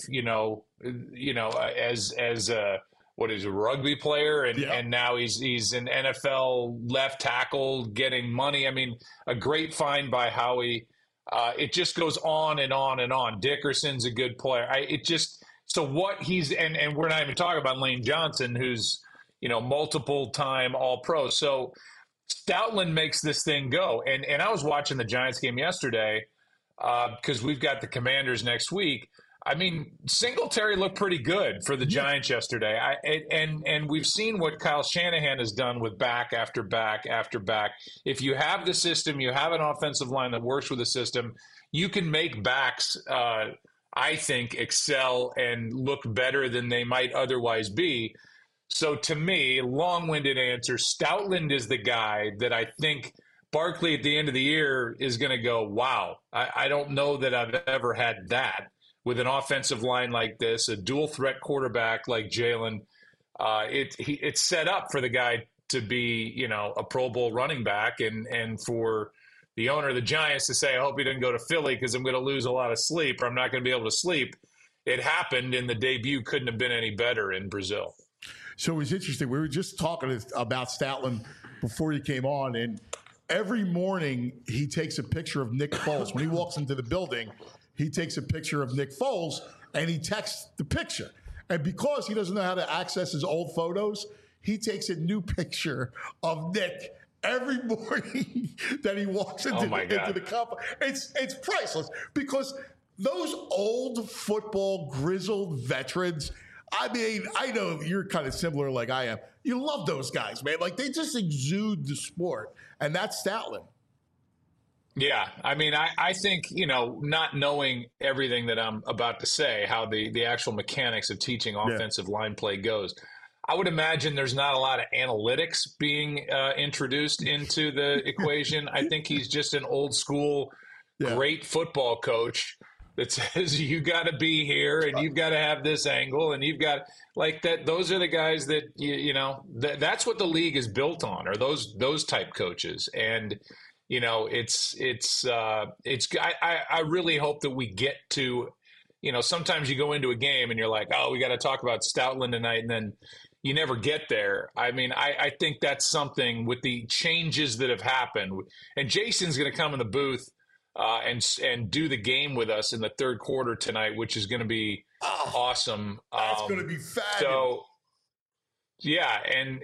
as a rugby player, and now he's an NFL left tackle getting money. I mean, a great find by Howie. It just goes on and on and on. Dickerson's a good player. So what he's and we're not even talking about Lane Johnson, who's multiple time All-Pro. So Stoutland makes this thing go. And I was watching the Giants game yesterday because we've got the Commanders next week. I mean, Singletary looked pretty good for the Giants yesterday. And we've seen what Kyle Shanahan has done with back after back after back. If you have the system, you have an offensive line that works with the system, you can make backs I think, excel and look better than they might otherwise be. So to me, long-winded answer, Stoutland is the guy that I think Barkley at the end of the year is going to go, wow, I don't know that I've ever had that with an offensive line like this, a dual threat quarterback like Jalen. It's set up for the guy to be, a Pro Bowl running back and for the owner of the Giants to say, I hope he didn't go to Philly because I'm going to lose a lot of sleep or I'm not going to be able to sleep. It happened, and the debut couldn't have been any better in Brazil. So it was interesting. We were just talking about Stoutland before you came on, and every morning he takes a picture of Nick Foles. When he walks into the building, he takes a picture of Nick Foles, and he texts the picture. And because he doesn't know how to access his old photos, he takes a new picture of Nick every morning that he walks into the complex. It's priceless because those old football grizzled veterans, I mean, I know you're kind of similar like I am. You love those guys, man. Like, they just exude the sport, and that's Stoutland. Yeah, I mean, I think, not knowing everything that I'm about to say, how the actual mechanics of teaching offensive line play goes, I would imagine there's not a lot of analytics being introduced into the equation. I think he's just an old school, great football coach that says you got to be here and you've got to have this angle and you've got like that. Those are the guys that that's what the league is built on, are those type coaches. And I really hope that we get to, sometimes you go into a game and you're like, oh, we got to talk about Stoutland tonight, and then you never get there. I mean, I think that's something with the changes that have happened. And Jason's going to come in the booth and do the game with us in the third quarter tonight, which is going to be awesome. That's going to be fabulous. So, yeah, and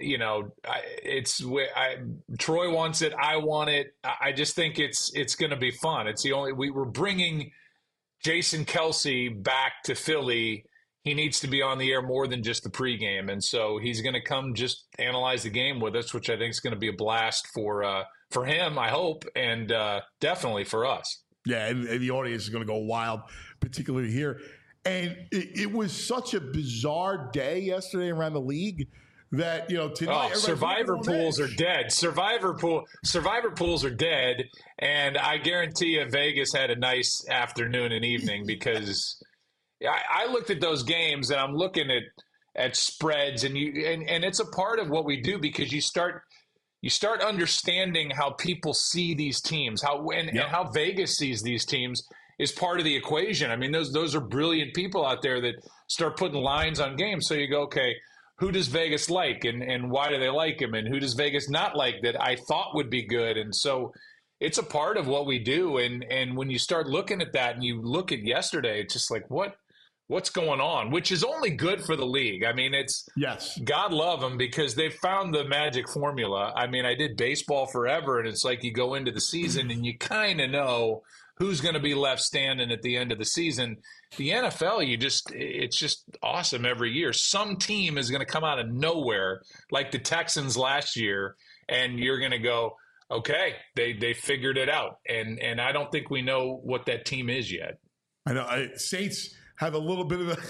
Troy wants it. I want it. I just think it's going to be fun. It's the only we're bringing Jason Kelce back to Philly. He needs to be on the air more than just the pregame, and so he's going to come just analyze the game with us, which I think is going to be a blast for him, I hope, and definitely for us. Yeah, and the audience is going to go wild, particularly here. And it was such a bizarre day yesterday around the league that, tonight survivor pools are dead. Survivor pools are dead, and I guarantee you Vegas had a nice afternoon and evening because I looked at those games and I'm looking at spreads and it's a part of what we do because you start understanding how people see these teams, and how Vegas sees these teams is part of the equation. I mean, those are brilliant people out there that start putting lines on games. So you go, okay, who does Vegas like and why do they like him? And who does Vegas not like that I thought would be good? And so it's a part of what we do. And when you start looking at that and you look at yesterday, it's just like, what's going on, which is only good for the league. I mean, God love them because they've found the magic formula. I mean, I did baseball forever, and it's like you go into the season and you kind of know who's going to be left standing at the end of the season. The NFL, it's just awesome every year. Some team is going to come out of nowhere, like the Texans last year, and you're going to go, okay, they figured it out. And I don't think we know what that team is yet. I know. Saints have a little bit of a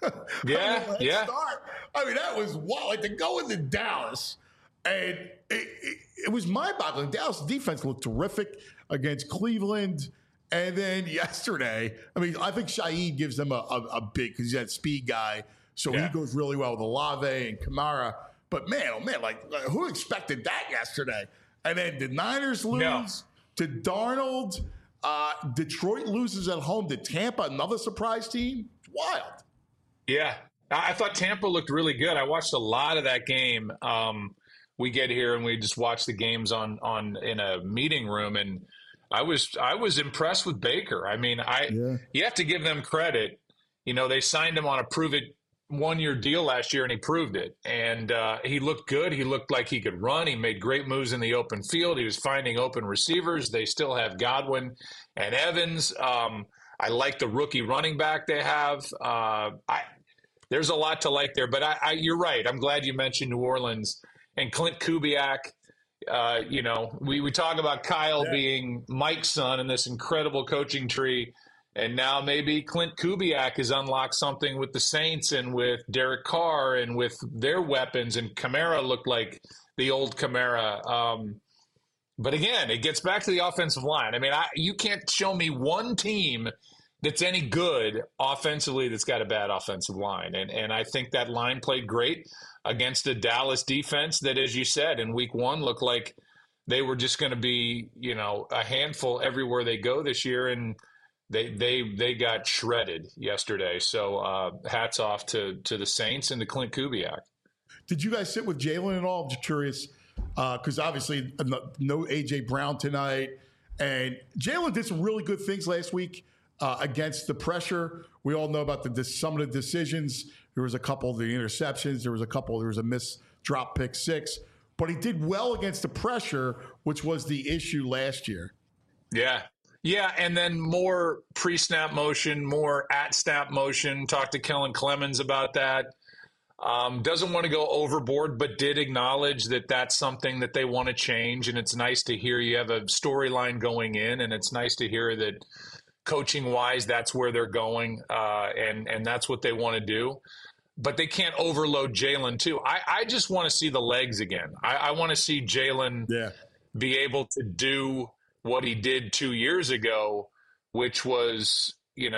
start. I mean, that was wild. Like, to go into Dallas, and it was mind-boggling. Dallas defense looked terrific against Cleveland. And then yesterday, I mean, I think Shaheed gives them a big, because he's that speed guy. So he goes really well with Olave and Kamara. But man, oh man, like who expected that yesterday? And then the Niners lose to Darnold. Detroit loses at home to Tampa, another surprise team. It's wild. Yeah. I thought Tampa looked really good. I watched a lot of that game. We get here and we just watch the games in a meeting room, and I was impressed with Baker. I mean, you have to give them credit. They signed him on a prove-it one-year deal last year, and he proved it. And he looked good. He looked like he could run. He made great moves in the open field. He was finding open receivers. They still have Godwin and Evans. I like the rookie running back they have. There's a lot to like there. But you're right. I'm glad you mentioned New Orleans and Clint Kubiak. We talk about Kyle being Mike's son in this incredible coaching tree. And now maybe Clint Kubiak has unlocked something with the Saints and with Derek Carr and with their weapons. And Kamara looked like the old Kamara. But again, it gets back to the offensive line. I mean, you can't show me one team that's any good offensively that's got a bad offensive line. And I think that line played great against a Dallas defense that, as you said, in week one looked like they were just going to be, a handful everywhere they go this year. And they got shredded yesterday. So hats off to the Saints and to Clint Kubiak. Did you guys sit with Jalen at all? I'm just curious because obviously no A.J. Brown tonight. And Jalen did some really good things last week against the pressure. We all know about some of the decisions. There was a couple of the interceptions. There was a missed drop pick 6. But he did well against the pressure, which was the issue last year. Yeah. Yeah, and then more pre-snap motion, more at-snap motion. Talked to Kellen Clemens about that. Doesn't want to go overboard, but did acknowledge that that's something that they want to change. And it's nice to hear you have a storyline going in, and it's nice to hear that coaching-wise that's where they're going, and that's what they want to do. But they can't overload Jalen, too. I just want to see the legs again. I want to see Jalen be able to do what he did 2 years ago, which was,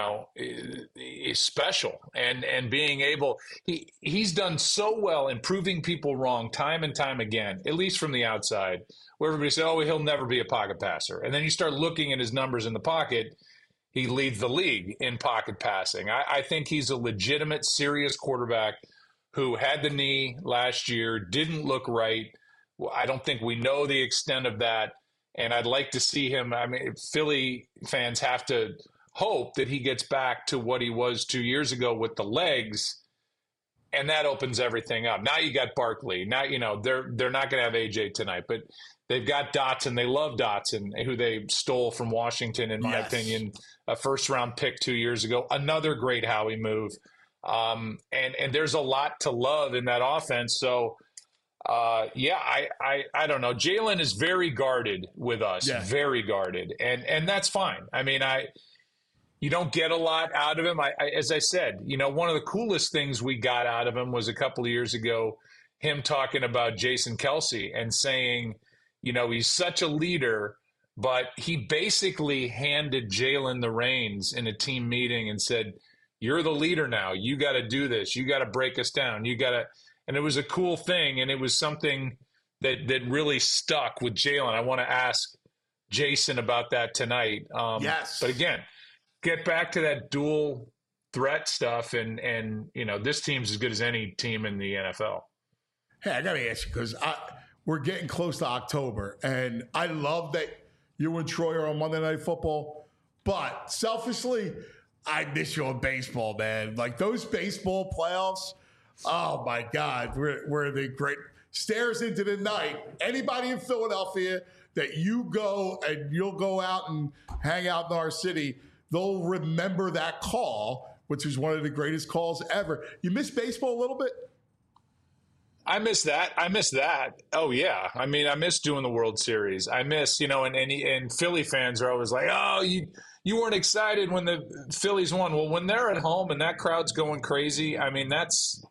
is special. And being able, he's done so well in proving people wrong time and time again, at least from the outside, where everybody said, oh, he'll never be a pocket passer. And then you start looking at his numbers in the pocket, he leads the league in pocket passing. I think he's a legitimate, serious quarterback who had the knee last year, didn't look right. I don't think we know the extent of that. And I'd like to see him. I mean, Philly fans have to hope that he gets back to what he was 2 years ago with the legs, and that opens everything up. Now you got Barkley. Now, they're not going to have AJ tonight, but they've got Dotson. They love Dotson, who they stole from Washington, in my opinion, a first-round pick 2 years ago. Another great Howie move. And there's a lot to love in that offense. So, I don't know. Jalen is very guarded with us, very guarded, and that's fine. I mean, you don't get a lot out of him. As I said, one of the coolest things we got out of him was a couple of years ago, him talking about Jason Kelce and saying, he's such a leader, but he basically handed Jalen the reins in a team meeting and said, "You're the leader now. You got to do this. You got to break us down. You got to." And it was a cool thing, and it was something that really stuck with Jalen. I want to ask Jason about that tonight. Yes. But again, get back to that dual threat stuff, and this team's as good as any team in the NFL. Hey, I got to ask you, because we're getting close to October, and I love that you and Troy are on Monday Night Football, but selfishly, I miss you on baseball, man. Like those baseball playoffs, oh my God, we're the great stares into the night. Anybody in Philadelphia that you'll go out and hang out in our city, they'll remember that call, which was one of the greatest calls ever. You miss baseball a little bit? I miss that. Oh yeah. I mean, I miss doing the World Series. I miss, and Philly fans are always like, oh, you weren't excited when the Phillies won. Well, when they're at home and that crowd's going crazy, I mean,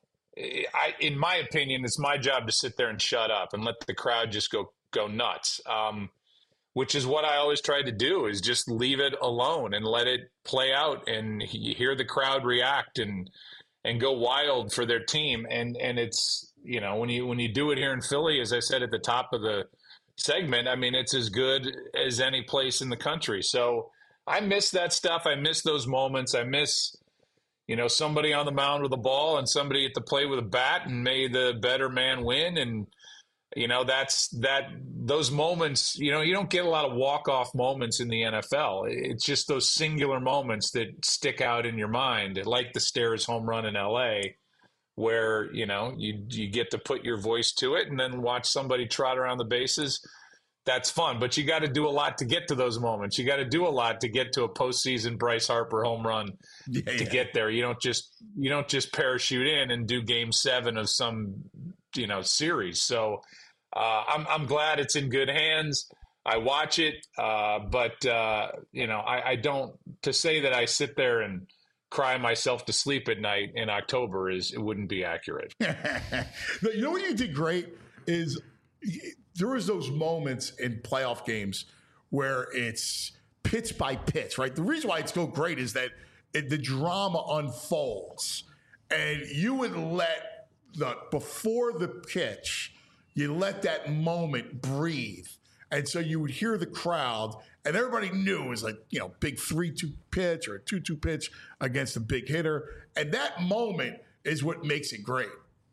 in my opinion, it's my job to sit there and shut up and let the crowd just go nuts. Which is what I always tried to do, is just leave it alone and let it play out and hear the crowd react and go wild for their team. And it's, when you do it here in Philly, as I said at the top of the segment, I mean, it's as good as any place in the country. So I miss that stuff. I miss those moments. I miss, somebody on the mound with a ball and somebody at the plate with a bat, and may the better man win. And, those moments, you don't get a lot of walk-off moments in the NFL. It's just those singular moments that stick out in your mind, like the Stairs home run in LA, where, you get to put your voice to it and then watch somebody trot around the bases. That's fun, but you got to do a lot to get to those moments. You got to do a lot to get to a postseason Bryce Harper home run get there. You don't just parachute in and do Game 7 of some, series. So I'm glad it's in good hands. I watch it, but I don't. To say that I sit there and cry myself to sleep at night in October it wouldn't be accurate. You know what you did great is there was those moments in playoff games where it's pitch by pitch, right? The reason why it's so great is that the drama unfolds, and you would let before the pitch, you let that moment breathe. And so you would hear the crowd, and everybody knew it was like, big 3-2 pitch or a 2-2 pitch against a big hitter. And that moment is what makes it great.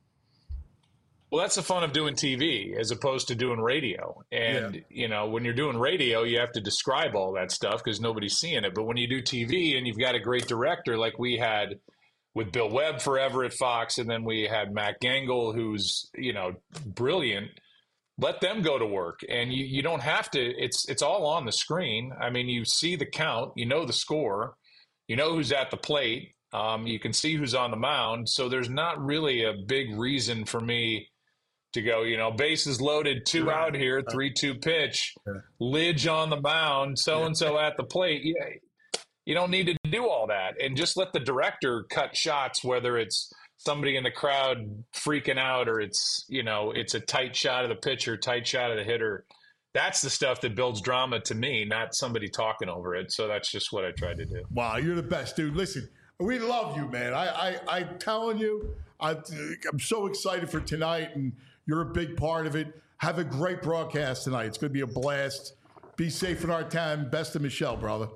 Well, that's the fun of doing TV as opposed to doing radio. And, when you're doing radio, you have to describe all that stuff because nobody's seeing it. But when you do TV and you've got a great director like we had with Bill Webb forever at Fox, and then we had Matt Gangle, who's, brilliant, let them go to work. And you don't have to, it's all on the screen. I mean, you see the count, you know the score, you know who's at the plate, you can see who's on the mound. So there's not really a big reason for me to go, bases loaded, 2 out here, 3-2 pitch, Lidge on the mound, so-and-so at the plate. You don't need to do all that. And just let the director cut shots, whether it's somebody in the crowd freaking out or it's a tight shot of the pitcher, tight shot of the hitter. That's the stuff that builds drama to me, not somebody talking over it. So that's just what I tried to do. Wow, you're the best, dude. Listen, we love you, man. I'm telling you, I'm so excited for tonight, and you're a big part of it. Have a great broadcast tonight. It's going to be a blast. Be safe in our time. Best of Michelle, brother.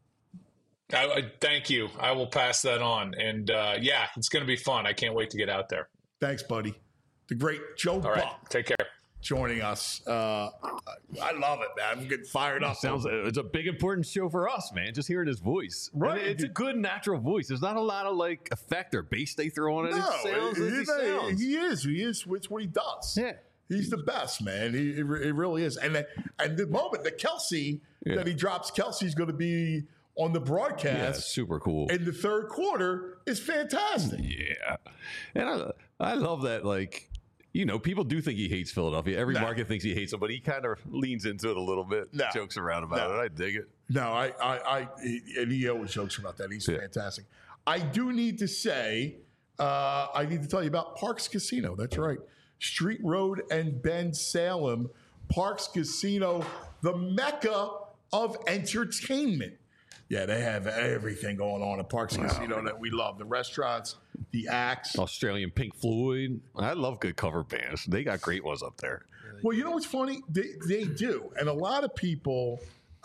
Thank you. I will pass that on. And it's going to be fun. I can't wait to get out there. Thanks, buddy. The great Joe Buck. Right, take care. Joining us. I love it, man. I'm getting fired up. It's a big, important show for us, man. Just hearing his voice. Right. And it's a good, natural voice. There's not a lot of effect or bass they throw on it. No, it sounds as he sounds. He is. It's what he does. Yeah. He's the best, man. He really is. And the moment that Kelsey, that he drops, Kelsey's going to be on the broadcast. Yeah, super cool. In the third quarter is fantastic. Yeah. And I love that, people do think he hates Philadelphia. Every market thinks he hates them, but he kind of leans into it a little bit, jokes around about it. I dig it. No, and he always jokes about that. He's fantastic. I do need to say, I need to tell you about Parks Casino. That's right. Street Road and Bend, Salem. Parks Casino, the mecca of entertainment. Yeah, they have everything going on at Parks Casino that we love. The restaurants, the acts. Australian Pink Floyd. I love good cover bands. They got great ones up there. Well, you know what's funny? They do. And a lot of people,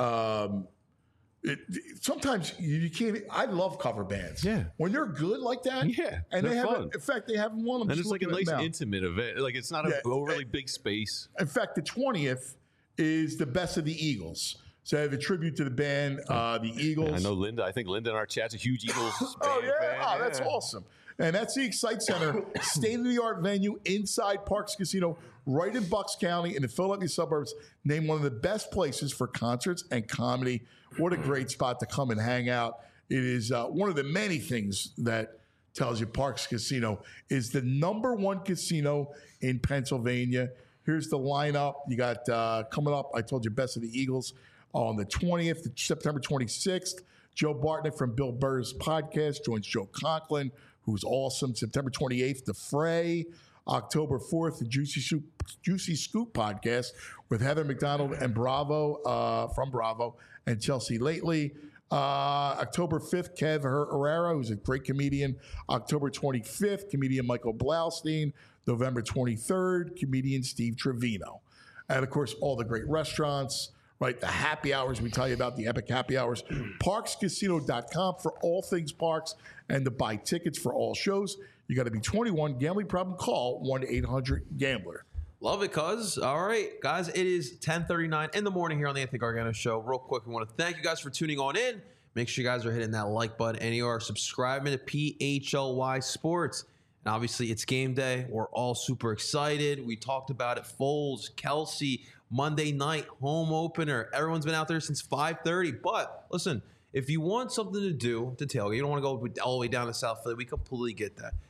sometimes you can't. I love cover bands. Yeah. When they're good like that. Yeah. And they have, fun. in fact, they have one of them. And it's like a nice intimate event. It's not an overly big space. In fact, the 20th is the Best of the Eagles. So I have a tribute to the band, the Eagles. I know Linda. I think Linda in our chat's a huge Eagles fan. Oh, that's awesome. And that's the Excite Center, state-of-the-art venue inside Parks Casino, right in Bucks County in the Philadelphia suburbs, named one of the best places for concerts and comedy. What a great spot to come and hang out. It is one of the many things that tells you Parks Casino is the #1 casino in Pennsylvania. Here's the lineup. You got coming up, I told you, Best of the Eagles on the 20th, September 26th. Joe Bartnick from Bill Burr's podcast joins Joe Conklin, who's awesome. September 28th, The Fray. October 4th, the Juicy Scoop podcast with Heather McDonald and Bravo from Bravo and Chelsea Lately. October 5th, Kev Herrera, who's a great comedian. October 25th, comedian Michael Blaustein. November 23rd, comedian Steve Trevino. And, of course, all the great restaurants. Right, the happy hours we tell you about, the epic happy hours. ParksCasino.com for all things Parks and to buy tickets for all shows. You got to be 21. Gambling problem? Call 1-800-GAMBLER. Love it, cuz. All right, guys, it is 10:39 in the morning here on the Anthony Gargano Show. Real quick, we want to thank you guys for tuning on in. Make sure you guys are hitting that like button and you are subscribing to PHLY Sports. And obviously, it's game day. We're all super excited. We talked about it. Foles, Kelsey, Monday night home opener. Everyone's been out there since 5:30. But listen, if you want something to do to tailgate, you don't want to go all the way down to South Philly, we completely get that.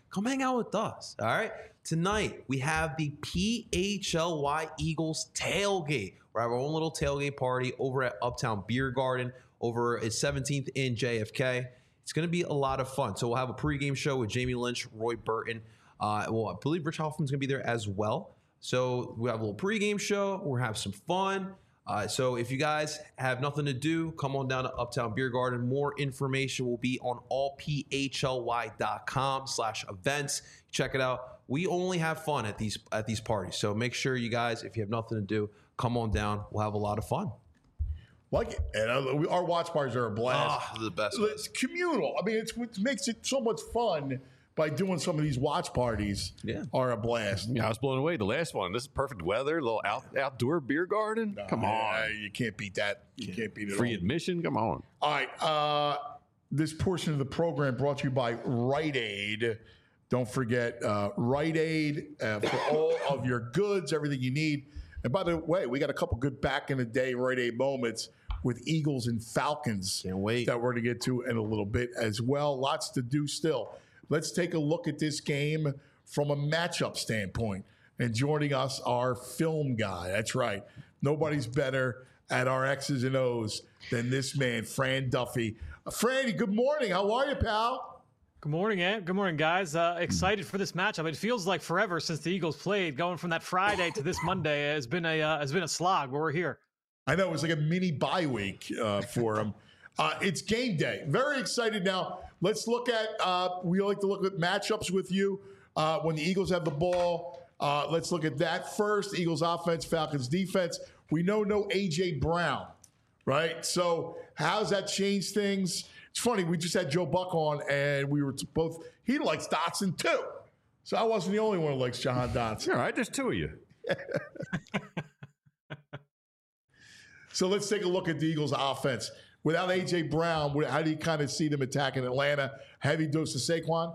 come hang out with us. All right. Tonight, we have the PHLY Eagles tailgate. We're having our own little tailgate party over at Uptown Beer Garden over at 17th in JFK. It's going to be a lot of fun. So we'll have a pregame show with Jamie Lynch, Roy Burton. I believe Rich Hoffman's going to be there as well. So we have a little pregame show. We'll have some fun. So if you guys have nothing to do, come on down to Uptown Beer Garden. More information will be on allphly.com/events. Check it out. We only have fun at these parties. So make sure you guys, if you have nothing to do, come on down. We'll have a lot of fun. Like it. And our watch parties are a blast. The best. It's communal. I mean, it makes it so much fun by doing some of these watch parties. Are a blast. Yeah, I was blown away. The last one. This is perfect weather. A little outdoor beer garden. Come on. You can't beat that. You can't beat it. Free admission. Come on. All right. This portion of the program brought to you by Rite Aid. Don't forget Rite Aid for all of your goods, everything you need. And by the way, we got a couple good back in the day Rite Aid moments with Eagles and Falcons. Can't wait. That we're going to get to in a little bit as well. Lots to do still. Let's take a look at this game from a matchup standpoint. And joining us, our film guy. That's right. Nobody's better at our X's and O's than this man, Fran Duffy. Franny, good morning. How are you, pal? Good morning, Ant. Good morning, guys. Excited for this matchup. It feels like forever since the Eagles played. Going from that Friday to this Monday has been a slog, but we're here. I know. It was like a mini bye week for them. It's game day. Very excited now. Let's look at we like to look at matchups with you when the Eagles have the ball. Let's look at that first. Eagles offense, Falcons defense. We know no A.J. Brown, right? So how's that change things? It's funny. We just had Joe Buck on, and we were both. He likes Dotson too, so I wasn't the only one who likes Jahan Dotson. All right, there's two of you. So let's take a look at the Eagles' offense. Without A.J. Brown, how do you kind of see them attacking Atlanta? Heavy dose of Saquon?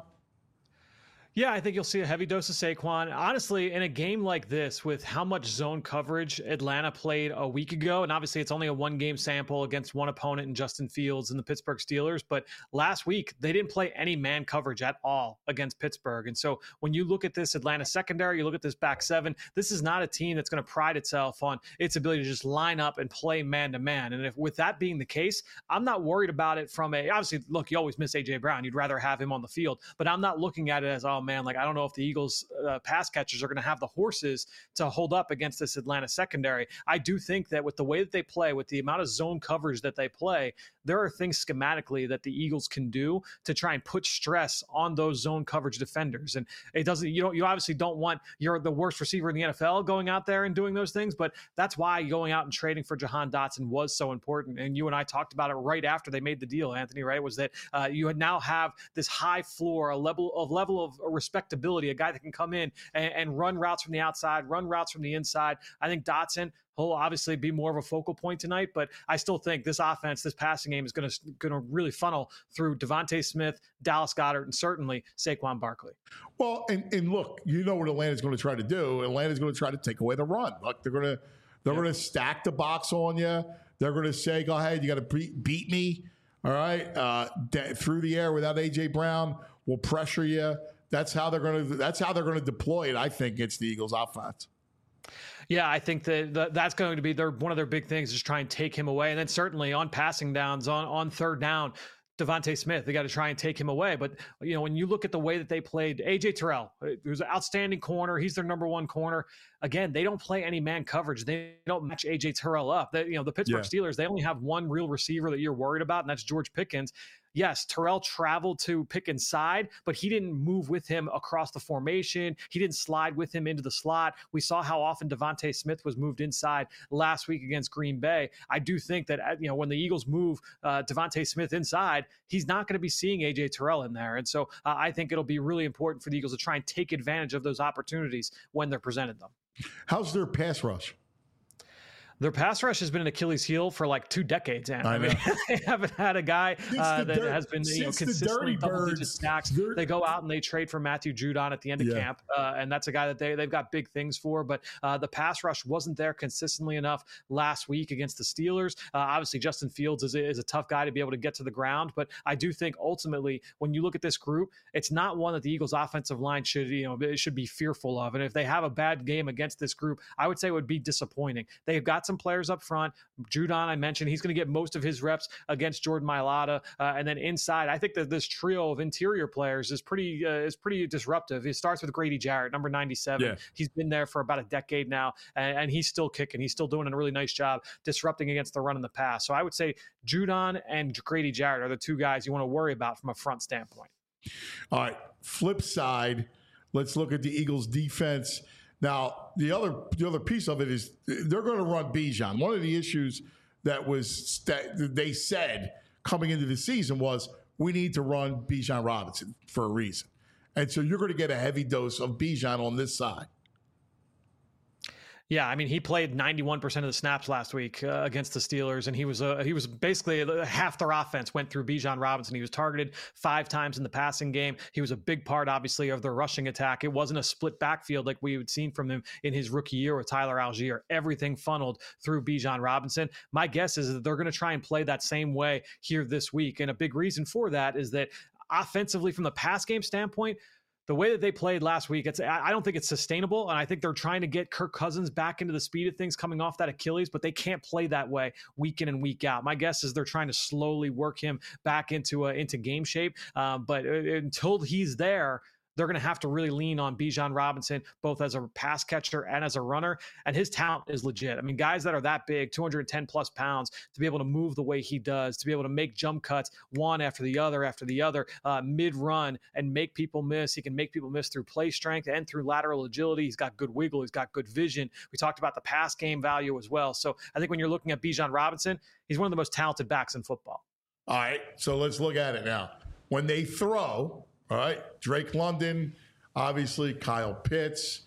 Yeah, I think you'll see a heavy dose of Saquon. Honestly, in a game like this, with how much zone coverage Atlanta played a week ago, and obviously it's only a one-game sample against one opponent in Justin Fields and the Pittsburgh Steelers, but last week they didn't play any man coverage at all against Pittsburgh. And so when you look at this Atlanta secondary, you look at this back seven, this is not a team that's going to pride itself on its ability to just line up and play man-to-man. And if with that being the case, I'm not worried about it from obviously, look, you always miss A.J. Brown. You'd rather have him on the field, but I'm not looking at it as, oh, man, like I don't know if the Eagles pass catchers are going to have the horses to hold up against this Atlanta secondary. I do think that with the way that they play, with the amount of zone coverage that they play, there are things schematically that the Eagles can do to try and put stress on those zone coverage defenders. And it doesn't, you obviously don't want the worst receiver in the NFL going out there and doing those things, but that's why going out and trading for Jahan Dotson was so important. And you and I talked about it right after they made the deal, Anthony, right? Was that you now have this high floor, a level of respectability, a guy that can come in and run routes from the outside, run routes from the inside. I think Dotson, he'll obviously be more of a focal point tonight, but I still think this offense, this passing game is going to really funnel through Devontae Smith, Dallas Goedert, and certainly Saquon Barkley. Well, and look, you know what Atlanta's going to try to do. Atlanta's going to try to take away the run. Look, they're going to stack the box on you. They're going to say, "Go ahead, you got to beat me." All right, through the air without A.J. Brown, we'll pressure you. That's how they're going to deploy it. I think against the Eagles' offense. Yeah, I think that's going to be one of their big things, is try and take him away. And then certainly on passing downs, on third down, Devontae Smith, they got to try and take him away. But, when you look at the way that they played, A.J. Terrell, who's an outstanding corner, he's their number one corner. Again, they don't play any man coverage. They don't match A.J. Terrell up. The Pittsburgh Steelers, they only have one real receiver that you're worried about, and that's George Pickens. Yes, Terrell traveled to Pickens' side, but he didn't move with him across the formation. He didn't slide with him into the slot. We saw how often Devontae Smith was moved inside last week against Green Bay. I do think that when the Eagles move Devontae Smith inside, he's not going to be seeing A.J. Terrell in there. And so I think it'll be really important for the Eagles to try and take advantage of those opportunities when they're presented them. How's their pass rush? Their pass rush has been an Achilles heel for like 2 decades. And I mean, they haven't had a guy that has been consistently double-digit sacks. They go out and they trade for Matthew Judon at the end of camp, and that's a guy that they've got big things for. But the pass rush wasn't there consistently enough last week against the Steelers. Obviously, Justin Fields is a tough guy to be able to get to the ground, but I do think ultimately, when you look at this group, it's not one that the Eagles' offensive line should be fearful of. And if they have a bad game against this group, I would say it would be disappointing. They've got some players up front. Judon, I mentioned, he's going to get most of his reps against Jordan Mailata, and then inside, I think that this trio of interior players is pretty disruptive. It starts with Grady Jarrett, number 97. Yeah. He's been there for about a decade now, and he's still kicking. He's still doing a really nice job disrupting against the run in the pass. So I would say Judon and Grady Jarrett are the 2 guys you want to worry about from a front standpoint. All right, flip side, let's look at the Eagles' defense. Now, the other piece of it is they're going to run Bijan. One of the issues that they said coming into the season was we need to run Bijan Robinson for a reason. And so you're going to get a heavy dose of Bijan on this side. Yeah, I mean, he played 91% of the snaps last week against the Steelers, and he was basically half their offense went through Bijan Robinson. He was targeted 5 times in the passing game. He was a big part, obviously, of their rushing attack. It wasn't a split backfield like we had seen from him in his rookie year with Tyler Algier. Everything funneled through Bijan Robinson. My guess is that they're going to try and play that same way here this week, and a big reason for that is that offensively, from the pass game standpoint, the way that they played last week, I don't think it's sustainable, and I think they're trying to get Kirk Cousins back into the speed of things coming off that Achilles, but they can't play that way week in and week out. My guess is they're trying to slowly work him back into game shape, but until he's there, they're going to have to really lean on Bijan Robinson, both as a pass catcher and as a runner. And his talent is legit. I mean, guys that are that big, 210 plus pounds, to be able to move the way he does, to be able to make jump cuts one after the other, mid-run and make people miss. He can make people miss through play strength and through lateral agility. He's got good wiggle. He's got good vision. We talked about the pass game value as well. So I think when you're looking at Bijan Robinson, he's one of the most talented backs in football. All right, so let's look at it now. When they throw... All right, Drake London, obviously Kyle Pitts.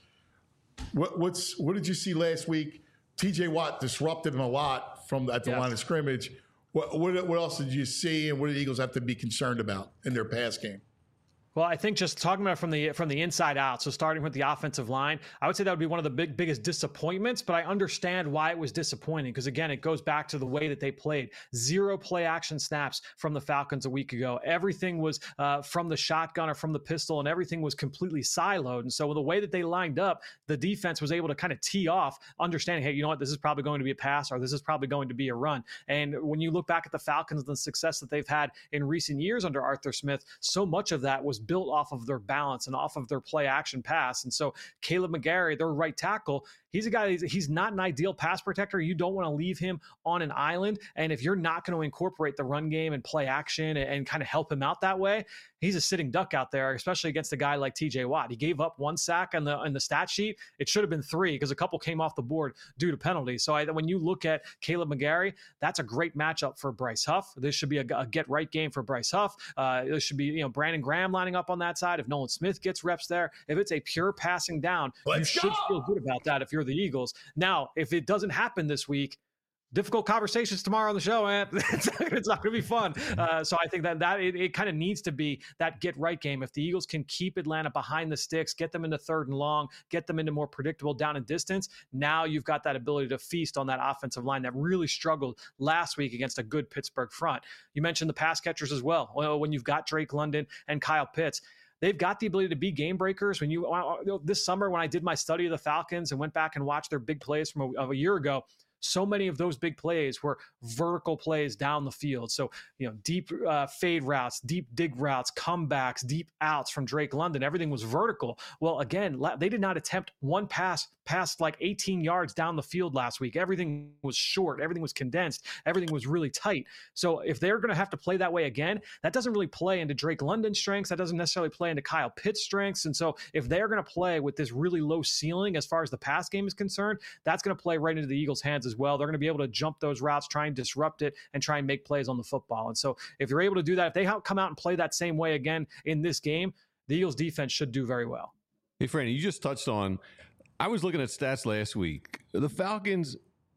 What did you see last week? T.J. Watt disrupted him a lot at the line of scrimmage. What else did you see, and what do the Eagles have to be concerned about in their pass game? Well, I think just talking about from the inside out, so starting with the offensive line, I would say that would be one of the biggest disappointments, but I understand why it was disappointing because, again, it goes back to the way that they played. 0 play action snaps from the Falcons a week ago. Everything was from the shotgun or from the pistol, and everything was completely siloed. And so with the way that they lined up, the defense was able to kind of tee off, understanding, hey, you know what, this is probably going to be a pass or this is probably going to be a run. And when you look back at the Falcons and the success that they've had in recent years under Arthur Smith, so much of that was built off of their balance and off of their play action pass. And so Caleb McGarry, their right tackle, he's a guy, he's not an ideal pass protector. You don't want to leave him on an island. And if you're not going to incorporate the run game and play action and kind of help him out that way, he's a sitting duck out there, especially against a guy like TJ Watt. He gave up 1 sack on the stat sheet. It should have been 3 because a couple came off the board due to penalties. So when you look at Caleb McGarry, that's a great matchup for Bryce Huff. This should be a get right game for Bryce Huff. This should be Brandon Graham lining up on that side. If Nolan Smith gets reps there, if it's a pure passing down, you should feel good about that if you're the Eagles. Now, if it doesn't happen this week, difficult conversations tomorrow on the show, man. It's not going to be fun. So I think that it kind of needs to be that get right game. If the Eagles can keep Atlanta behind the sticks, get them into 3rd and long, get them into more predictable down and distance, now you've got that ability to feast on that offensive line that really struggled last week against a good Pittsburgh front. You mentioned the pass catchers as well. When you've got Drake London and Kyle Pitts, they've got the ability to be game breakers. When this summer, when I did my study of the Falcons and went back and watched their big plays from a year ago, so many of those big plays were vertical plays down the field. So, deep fade routes, deep dig routes, comebacks, deep outs from Drake London. Everything was vertical. Well, again, they did not attempt one pass past like 18 yards down the field last week. Everything was short. Everything was condensed. Everything was really tight. So if they're going to have to play that way again, that doesn't really play into Drake London's strengths. That doesn't necessarily play into Kyle Pitts' strengths. And so if they're going to play with this really low ceiling as far as the pass game is concerned, that's going to play right into the Eagles' hands as well. They're going to be able to jump those routes, try and disrupt it, and try and make plays on the football. And so if you're able to do that, if they come out and play that same way again in this game, the Eagles' defense should do very well. Hey, Franny, you just touched on, I was looking at stats last week. The Falcons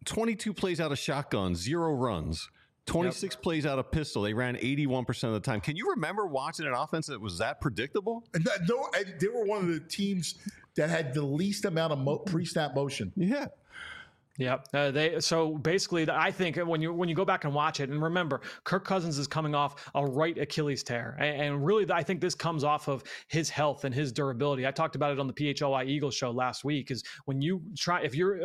22 plays out of shotgun, 0 runs. 26 plays out of pistol. They ran 81% of the time. Can you remember watching an offense that was that predictable? And they were one of the teams that had the least amount of pre-snap motion. Yeah. Yeah. So basically, I think when you go back and watch it, and remember, Kirk Cousins is coming off a right Achilles tear, and really, I think this comes off of his health and his durability. I talked about it on the PHLY Eagles show last week. Is when you if you're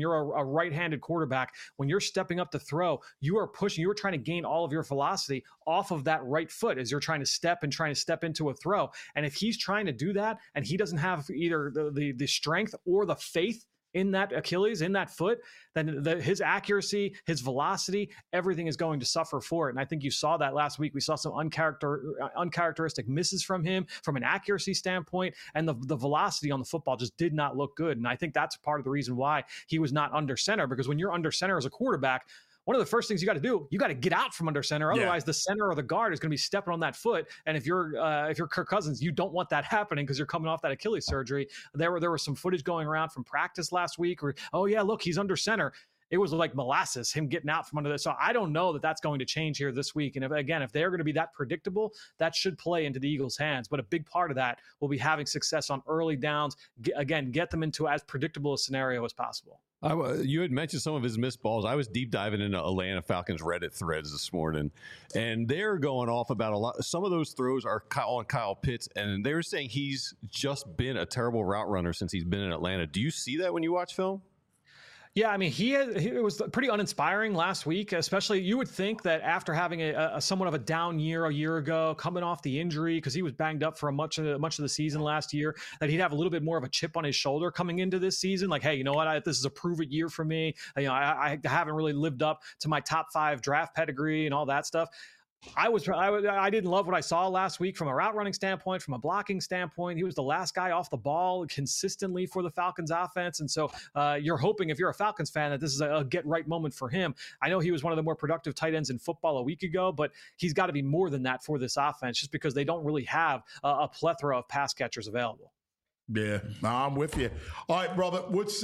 a right-handed quarterback, when you're stepping up to throw, you are trying to gain all of your velocity off of that right foot as you're trying to step into a throw. And if he's trying to do that, and he doesn't have either the strength or the faith in that Achilles, in that foot, then his accuracy, his velocity, everything is going to suffer for it. And I think you saw that last week. We saw some uncharacteristic misses from him from an accuracy standpoint, and the velocity on the football just did not look good. And I think that's part of the reason why he was not under center, because when you're under center as a quarterback, one of the first things you got to do, you got to get out from under center. Otherwise, the center or the guard is going to be stepping on that foot. And if you're Kirk Cousins, you don't want that happening because you're coming off that Achilles surgery. There was some footage going around from practice last week where, oh yeah, look, he's under center. It was like molasses, him getting out from under this. So I don't know that that's going to change here this week. And if they're going to be that predictable, that should play into the Eagles' hands. But a big part of that will be having success on early downs. Get them into as predictable a scenario as possible. You had mentioned some of his missed balls. I was deep diving into Atlanta Falcons Reddit threads this morning, and they're going off about a lot. Some of those throws are on Kyle Pitts, and they were saying he's just been a terrible route runner since he's been in Atlanta. Do you see that when you watch film? Yeah, I mean, it was pretty uninspiring last week, especially you would think that after having a somewhat of a down year a year ago, coming off the injury, because he was banged up for much of the season last year, that he'd have a little bit more of a chip on his shoulder coming into this season. Like, hey, you know what? This is a prove-it year for me. I haven't really lived up to my top 5 draft pedigree and all that stuff. I didn't love what I saw last week from a route running standpoint, from a blocking standpoint. He was the last guy off the ball consistently for the Falcons offense. And so you're hoping, if you're a Falcons fan, that this is a get right moment for him. I know he was one of the more productive tight ends in football a week ago, but he's got to be more than that for this offense, just because they don't really have a plethora of pass catchers available. Yeah, no, I'm with you. All right, brother. What's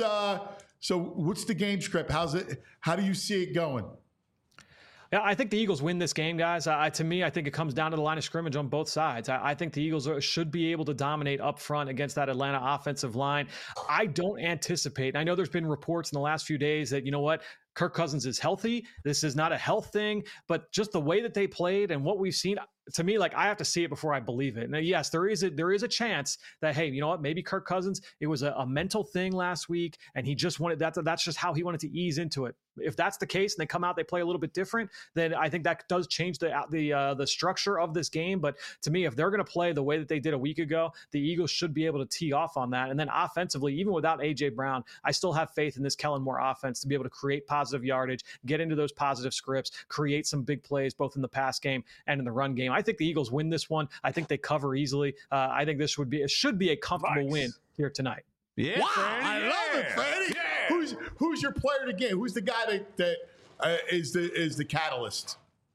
the game script? How do you see it going? Yeah, I think the Eagles win this game, guys. To me, I think it comes down to the line of scrimmage on both sides. I think the Eagles should be able to dominate up front against that Atlanta offensive line. I don't anticipate, I know there's been reports in the last few days that, you know what, Kirk Cousins is healthy. This is not a health thing, but just the way that they played and what we've seen, to me, like, I have to see it before I believe it. Now, yes, there is a chance that, hey, you know what, maybe Kirk Cousins, it was a mental thing last week, and he just wanted that's just how he wanted to ease into it. If that's the case and they come out, they play a little bit different, then I think that does change the structure of this game. But to me, if they're going to play the way that they did a week ago, the Eagles should be able to tee off on that. And then offensively, even without A.J. Brown, I still have faith in this Kellen Moore offense to be able to create positive yardage, get into those positive scripts, create some big plays both in the pass game and in the run game. I think the Eagles win this one. I think they cover easily. I think this should be a comfortable win here tonight. Yeah, wow, Franny, I love it, Franny. Yeah. Who's your player of the game? Who's the guy that is the catalyst?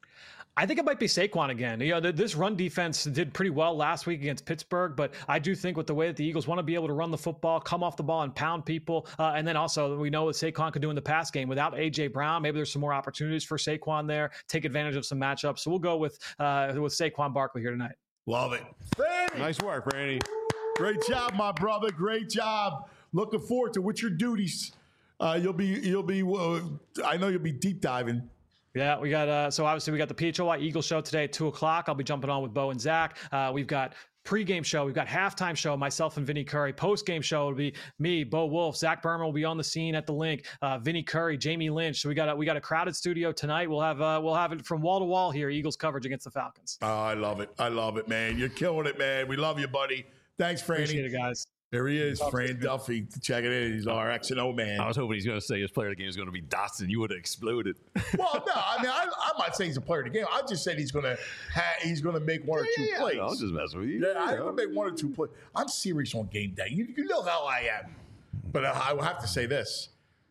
I think it might be Saquon again. You know, this run defense did pretty well last week against Pittsburgh, but I do think with the way that the Eagles want to be able to run the football, come off the ball and pound people, and then also we know what Saquon could do in the pass game without A.J. Brown. Maybe there's some more opportunities for Saquon there, take advantage of some matchups. So we'll go with Saquon Barkley here tonight. Love it. Franny. Nice work, Franny. Great job, my brother. Great job. Looking forward to what's your duties. You'll be. I know you'll be deep diving. Yeah, we got so obviously we got the PHLY Eagles show today at 2:00. I'll be jumping on with Bo and Zach. We've got pregame show, we've got halftime show, myself and Vinny Curry. Postgame show will be me, Bo Wolf, Zach Berman will be on the scene at the link. Vinny Curry, Jamie Lynch. So we got a crowded studio tonight. We'll have it from wall to wall here. Eagles coverage against the Falcons. Oh, I love it, man. You're killing it, man. We love you, buddy. Thanks, Franny. Appreciate it, guys. There he is, Fran Duffy. Check it in. He's our X&O man. I was hoping he's going to say his player of the game is going to be Dotson. You would have exploded. Well, no, I mean, I'm not saying he's a player of the game. I just said he's going to make one or two plays. I'll just mess with you. Yeah, I'm going to make one or two plays. I'm serious on game day. You know how I am. But I will have to say this.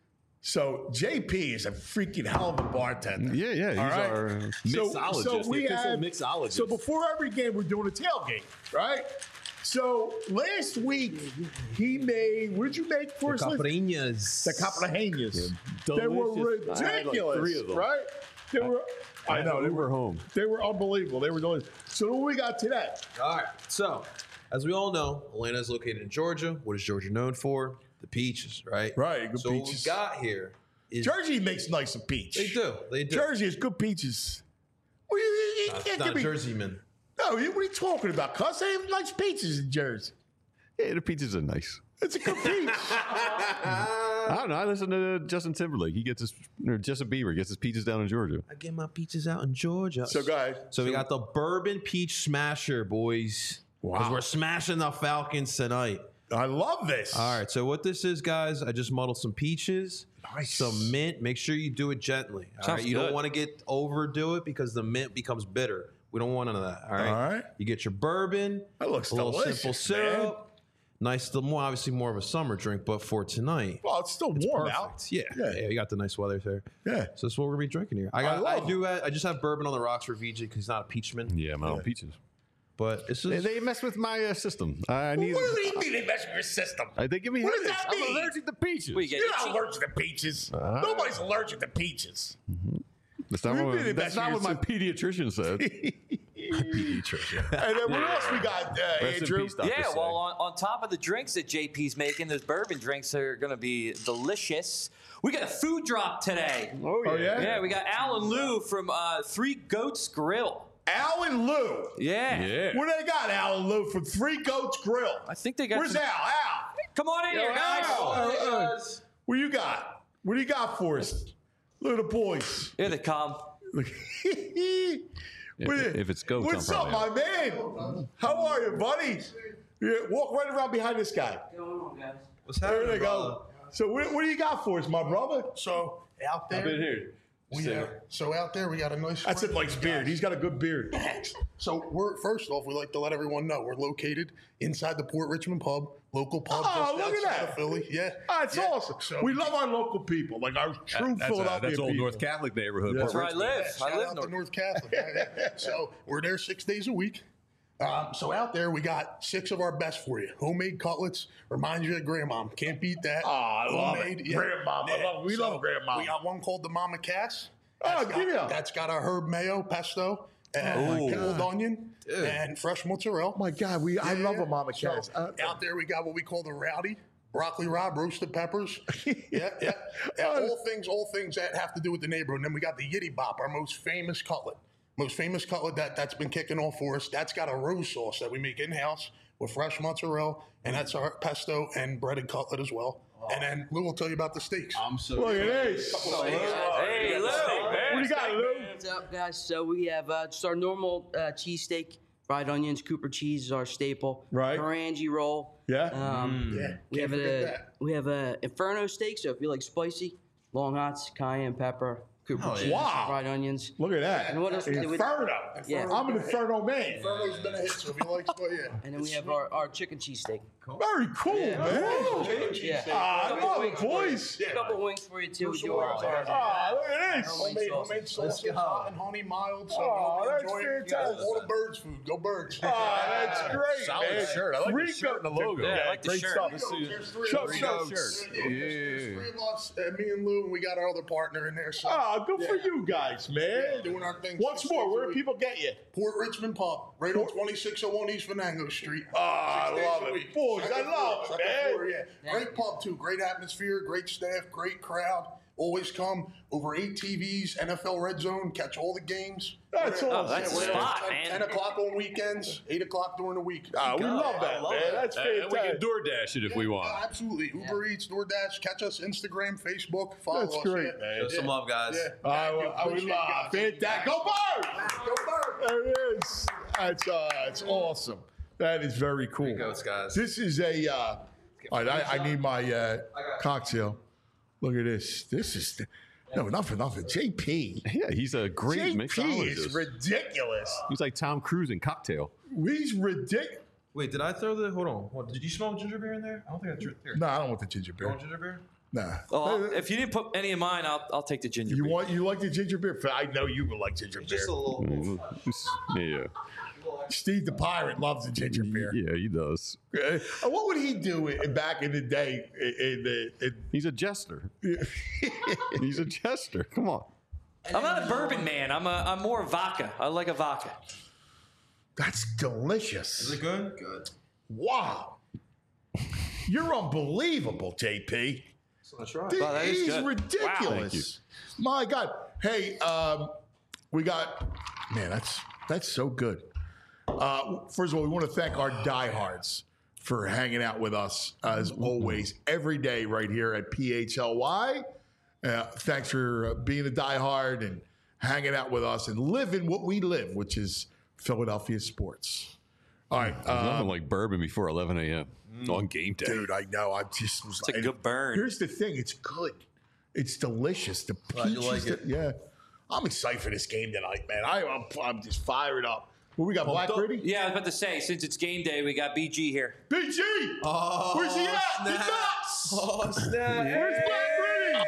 So JP is a freaking hell of a bartender. Yeah. He's our mixologist. So before every game, we're doing a tailgate, right? So last week he made. What did you make for us? Caipirinhas. The caipirinhas. They were Delicious. I had like ridiculous, 3 of them. right? They were. I know we were home. They were unbelievable. They were delicious. So what we got today? All right. So, as we all know, Atlanta is located in Georgia. What is Georgia known for? The peaches, right? Right. Good so peaches. what we got here is Jersey makes nice peach. They do. They do. Jersey is good peaches. Well, you can't Not give me. Jersey man. No, what are you talking about? Cuz they have nice peaches in Jersey. Yeah, the peaches are nice. It's a good peach. I don't know. I listen to Justin Timberlake. He gets his, or Justin Bieber gets his peaches down in Georgia. I get my peaches out in Georgia. So, guys. So we got the Bourbon Peach Smasher, boys. Wow. Because we're smashing the Falcons tonight. I love this. All right. So what this is, guys, I just muddled some peaches, some mint. Make sure you do it gently. All right. You don't want to overdo it because the mint becomes bitter. We don't want none of that. All right. All right. You get your bourbon. That looks a little delicious, simple syrup. Nice, obviously more of a summer drink, but for tonight, Well, it's still warm out. perfect. Yeah, you got the nice weather there. Yeah. So that's what we're gonna be drinking here. I just have bourbon on the rocks for VJ because he's not a peachman. Yeah, my own peaches. But it's just, They mess with my system. I need. What do you mean they mess with your system? They give me What does headaches. that mean? I'm allergic to peaches. You're not allergic to peaches. Nobody's allergic to peaches. That's not What do you what, mean they that's mess not with what my your pediatrician said. And then what else we got, Rest in Andrew? peace, Dr. Yeah, Say. well, on top of the drinks that JP's making, those bourbon drinks are going to be delicious. We got a food drop today. Oh, yeah? Yeah, we got Al and Lou from Three Goats Grill. Al and Lou. Yeah. Yeah. What do they got, Al and Lou, from Three Goats Grill? I think they got Where's some- Al? Al. Come on in here, guys. What you got? What do you got for us? Look at the boys. Here they come. If it's goats, What's I'm up, probably my man? How are you, buddy? Yeah, walk right around behind this guy. what's There happening? they go. So what do you got for us, my brother? So out there, here. out there we got a nice. That's a nice beard. He's got a good beard. So we're first off, we like to let everyone know we're located inside the Port Richmond Pub, local pub. Oh, just look at outside that. of Philly. Yeah, That's yeah. awesome. So We love our local people, like our true Philadelphia That's old people. North Catholic neighborhood. That's Port That's where I live. Shout I live out north. to North Catholic. Yeah. So we're there 6 days a week. So out there, we got 6 of our best for you. Homemade cutlets. Reminds you of Grandma. Can't beat that. Oh, I love Homemade, it. Grandma. We love Grandma. We got one called the Mama Cass. Oh, give me a. That's got a herb mayo pesto and pickled onion and fresh mozzarella. Oh my God, I love a Mama So, Cass. out there, we got what we call the rowdy. Broccoli Rob, roasted peppers. Yeah. All things that have to do with the neighborhood. And then we got the Yitty Bop, our most famous cutlet. That's been kicking off for us. That's got a rose sauce that we make in-house with fresh mozzarella, and that's our pesto and breaded cutlet as well. And then Lou will tell you about the steaks. Look at this. Hey, Lou. What do you got, Lou? What's up, guys? So we have just our normal cheesesteak, fried onions, Cooper cheese is our staple. Right. Orange roll. Yeah. We Can't have forget that. we have a Inferno steak. So if you like spicy, long hots, cayenne pepper, Cooper cheese, Wow. fried onions. Look at that. And what else we do with- Inferno. Yeah. I'm an Inferno man. Inferno's been a hit, so if you like, but yeah. And then we have our chicken cheesesteak. Very cool, man. Yeah. I love it, boys. A couple wings for you too. We do our Look at this. Homemade sausage, hot and honey, mild. So Oh, you'll that's enjoy it. fantastic. All the birds food. Go birds. Oh, that's great, Solid man. shirt. I like the Three shirt and the logo. Yeah, I like the great shirt. stuff. There's three Show of us. shirts. There's 3 of us, me and Lou, and we got our other partner in there. So Oh, good for you guys, man. doing our thing. Once 6 more, days a where do week. people get you? Port Richmond Pub, right on 2601 East Venango Street. Oh, I 6 days love a it. week. Boys, I Second love floor, it, second man. floor, yeah. Great pub, too. Great atmosphere, great staff, great crowd. Always come. Over 8 TVs, NFL Red Zone, catch all the games. That's awesome. that's We're the there spot, 10 man. o'clock on weekends, 8 o'clock during the week. Ah, we love that, man. That's And we can fantastic. DoorDash it if we want. Absolutely. Uber Eats, DoorDash. Catch us Instagram, Facebook. Follow That's us. great, yeah. man. Show some love, guys. Yeah. I Thank you. would Appreciate you love guys. fantastic. Go Birds! Go Birds! There it is. That's awesome. That is very cool. Goats, guys. This is a. All right, I need my cocktail. Look at this. This is not for nothing. JP. Yeah, he's a great JP mixologist. is ridiculous. He's like Tom Cruise in Cocktail. He's ridiculous. Wait, did I throw the? Hold on. Did you smell ginger beer in there? I don't think I drew here. No, I don't want the ginger You beer. want ginger beer? Nah. Well, if you didn't put any of mine, I'll take the ginger beer. You like the ginger beer? I know you would like ginger beer. Just a little. Yeah. Steve the Pirate loves the ginger beer. Yeah, he does. What would he do back in the day? He's a jester. He's a jester. Come on. I'm not a bourbon man. I'm more vodka. I like a vodka. That's delicious. Is it good? Good. Wow. You're unbelievable, JP. That's right. Wow, that is He's good. ridiculous. Wow. My God. Hey, we got, man, that's so good. First of all, we want to thank our diehards for hanging out with us as always every day right here at PHLY. Thanks for being a diehard and hanging out with us and living what we live, which is Philadelphia sports. All right. There's nothing like bourbon before 11 a.m. on game day. Dude, I know. I just was It's a good burn. Here's the thing. It's good. It's delicious. The peaches. you like it? Yeah. I'm excited for this game tonight, man. I'm just fired up. What we got, Black Gritty? Yeah, I was about to say, since it's game day, we got BG here. BG! Oh, where's he at? snap. He's nuts! Oh, snap. Where's Black Gritty?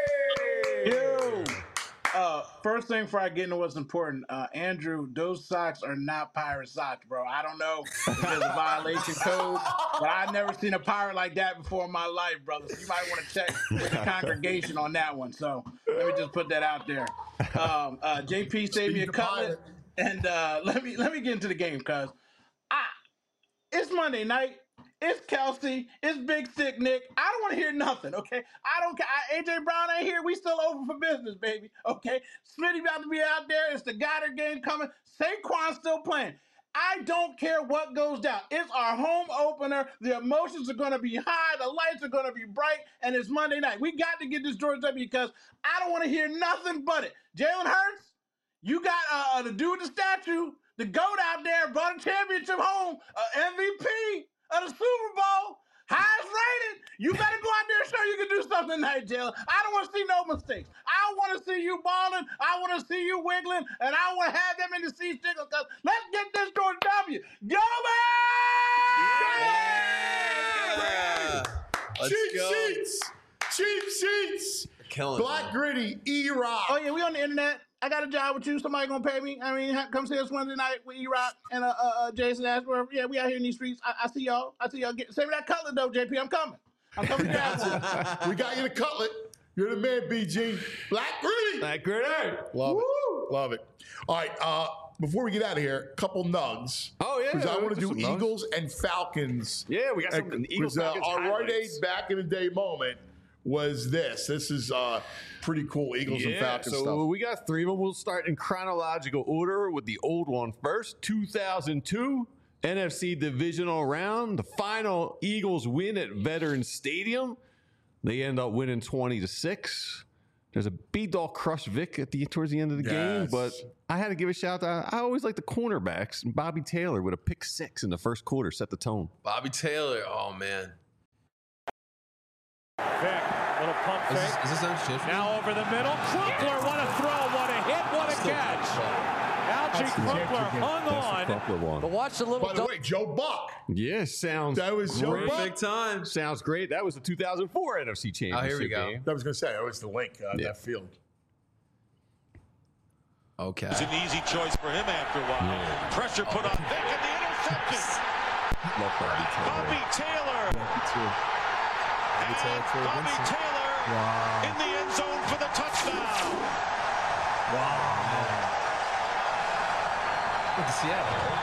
Yo! First thing before I get into what's important, Andrew, those socks are not pirate socks, bro. I don't know if there's a violation code, but I've never seen a pirate like that before in my life, brother. So you might want to check with the congregation on that one. So let me just put that out there. JP saved me a cutlet, and let me get into the game, cuz it's Monday night. It's Kelsey. It's Big Sick Nick. I don't want to hear nothing, okay? I don't care. AJ Brown ain't here. We still open for business, baby, okay? Smitty about to be out there. It's the Goddard game coming. Saquon still playing. I don't care what goes down. It's our home opener. The emotions are going to be high. The lights are going to be bright, and it's Monday night. We got to get this Georgia W because I don't want to hear nothing but it. Jalen Hurts, you got the dude with the statue, the GOAT out there, brought a championship home, MVP of the Super Bowl, highest rated. You better go out there and show you can do something tonight, Jalen. I don't want to see no mistakes. I want to see you balling. I want to see you wiggling, and I want to have them in the seats because let's get this Georgia W. Go back! Let's Cheap go. sheets! Cheap sheets! Killing Black man. Gritty, E-Rock. Oh, yeah, we on the internet. I got a job with you. Somebody gonna pay me. I mean, come see us Wednesday night with E-Rock and Jason Ashworth. Yeah, we out here in these streets. I see y'all. Send me that cutlet though, JP. I'm coming. I'm coming down. We got you the cutlet. You're the man, BG. Black Gritty. Black Gritty. Love it. Love it. All right. Before we get out of here, a couple nugs. Oh, yeah. Because I want to do Some nugs. Eagles and Falcons. Yeah, we got some Eagles Falcons Our Rite Aid highlights. back in the day moment was this. This is pretty cool Eagles and Falcons so stuff. we got three of them. We'll start in chronological order with the old one first. 2002 NFC Divisional Round. The final Eagles win at Veterans Stadium. They end up winning 20-6. There's a B-Dog crush Vic towards the end of the game, but I had to give a shout out. I always like the cornerbacks. And Bobby Taylor with a pick 6 in the first quarter set the tone. Bobby Taylor. Oh, man. Vic, little pump fake. Is this unshifted? Now over the middle. Crumpler, what a throw, what a hit, what a catch. Algie Crumpler hung on. But watch the little. By the way, Joe Buck. Yeah, sounds That was Joe great. Buck. Big time. Sounds great. That was the 2004 NFC Championship Oh, here we go. game. I was going to say, that was the link, that field. Okay. It's an easy choice for him after a while. Pressure put on Vic and the interception. Love Bobby Taylor. Bobby Taylor. Bobby Taylor in the end zone for the touchdown. Look at Seattle.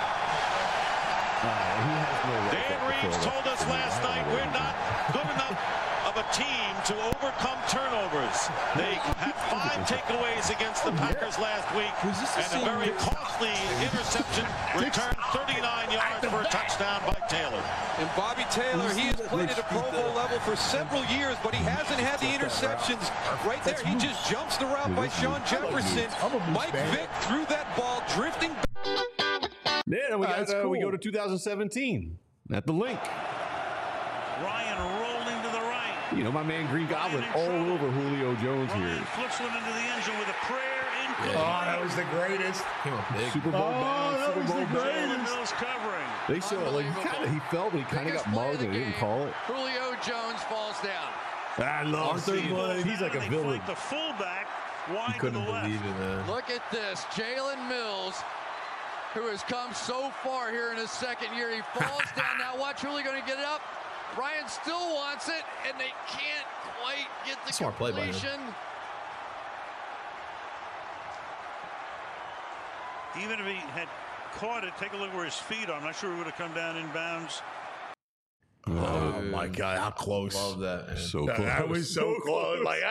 Dan Reeves told us last night we're not good enough of a team to overcome turnovers. They had 5 takeaways against the Packers last week and a very costly interception returned 39 yards for a touchdown by Taylor. And Bobby Taylor, he has played at a Pro Bowl level for several years, but he hasn't had the interceptions. Right there, he just jumps the route by Sean Jefferson. Mike Vick threw that ball drifting. Yeah, we go to 2017 at the link. Ryan rolling to the right. You know, my man Green Goblin all over Julio Jones here. Flips one into the end zone with a prayer in. Oh, that was the greatest. Came up big. Super Bowl bound, that Super was Bowl the bound. greatest. Mills covering. They show it like he fell, but he kind of got mugged and they didn't call it. Julio Jones falls down. I love seeing it. He's like a villain. The fullback wide to Couldn't the left. believe it, man. Look at this. Jalen Mills who has come so far here in his second year. He falls down. Now watch Julio going to get it up. Ryan still wants it, and they can't quite get the Smart play by him. completion. Even if he had caught it, take a look where his feet are. I'm not sure he would have come down in bounds. Oh my God, how close. Love that. Man. So close. That was so close. Like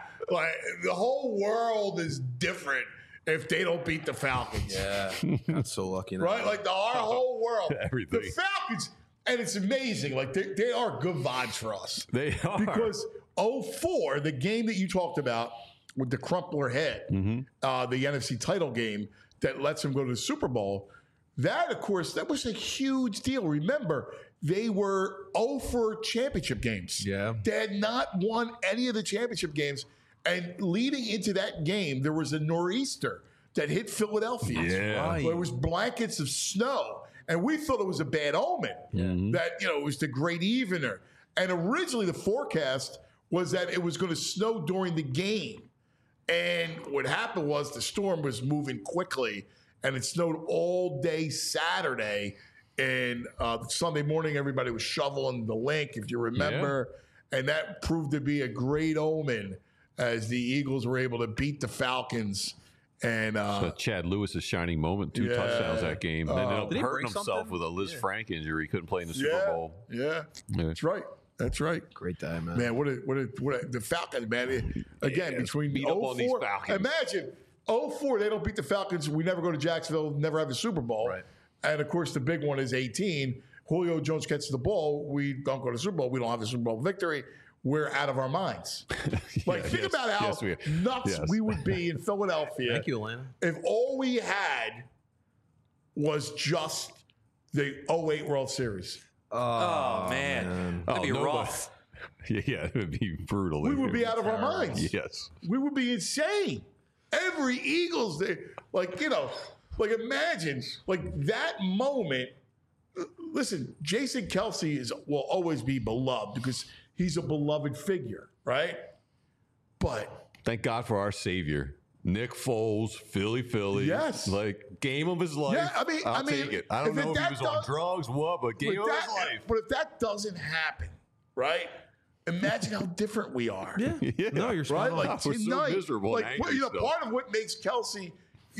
the whole world is different if they don't beat the Falcons. Yeah. That's so lucky. Right? Like our whole world. Everything. The Falcons, and it's amazing. Like they are good vibes for us. They are. Because 04, the game that you talked about with the Crumpler head, the NFC title game that lets them go to the Super Bowl, that, of course, that was a huge deal. Remember, they were 0 championship games. Yeah. They had not won any of the championship games. And leading into that game, there was a nor'easter that hit Philadelphia. Yeah. Right. Where it was blankets of snow. And we thought it was a bad omen. That, it was the great evener. And originally the forecast was that it was going to snow during the game. And what happened was the storm was moving quickly, and it snowed all day Saturday. And Sunday morning, everybody was shoveling the link, if you remember. Yeah. And that proved to be a great omen as the Eagles were able to beat the Falcons. And so Chad Lewis's shining moment, 2 touchdowns that game. And then ended up hurting himself something? with a Liz Frank injury. He couldn't play in the Super Bowl. Yeah, that's right. That's right. Great day, man. Man, what a the Falcons, man. Again, between beat up on these 04, Falcons. imagine 04, they don't beat the Falcons. We never go to Jacksonville, never have a Super Bowl. Right. And of course, the big one is 18. Julio Jones gets the ball. We don't go to the Super Bowl. We don't have a Super Bowl victory. We're out of our minds. Like, think about how nuts we would be in Philadelphia. Thank you, Atlanta. If all we had was just the 08 World Series. Oh, man. That'd be rough. Yeah, it would be brutal. We would be out of our minds. Yes. We would be insane. Every Eagles, like imagine, like that moment. Listen, Jason Kelce will always be beloved because he's a beloved figure, right? But thank God for our savior. Nick Foles, Philly. Yes. Like, game of his life. Yeah, I'll take it. I don't know if he was on drugs, but game of his life. But if that doesn't happen, right? Imagine how different we are. Yeah. No, you're right. spot on. Like We're so tonight, miserable and angry still. part of what makes Kelce,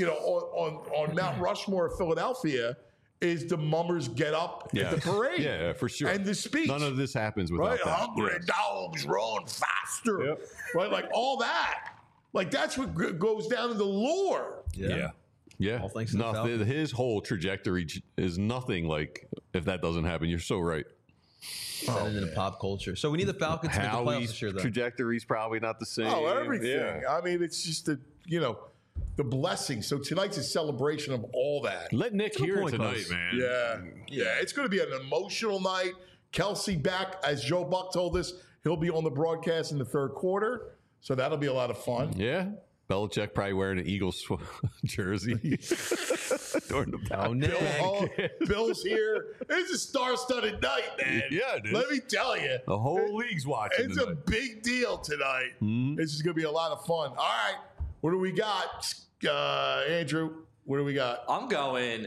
on Mount Rushmore of Philadelphia, is the mummers get up at the parade. Yeah, for sure. And the speech. None of this happens without Right, that. hungry dogs run faster. Right, like all that. Like that's what goes down in the lore. Yeah. All thanks to the Falcons. His whole trajectory is nothing like if that doesn't happen. You're so right. Into pop culture. So we need the Falcons to make the playoffs this year, though. Trajectory's probably not the same. Oh, everything. Yeah. I mean, it's just the blessing. So tonight's a celebration of all that. Let Nick hear it tonight, man. Yeah. It's going to be an emotional night. Kelce back, as Joe Buck told us, he'll be on the broadcast in the third quarter. So that'll be a lot of fun. Yeah. Belichick probably wearing an Eagles jersey during the Bill's here. It's a star-studded night, man. Yeah, it is. Let me tell you. The whole league's watching It's tonight. a big deal tonight. This is going to be a lot of fun. All right. What do we got? Andrew, what do we got? I'm going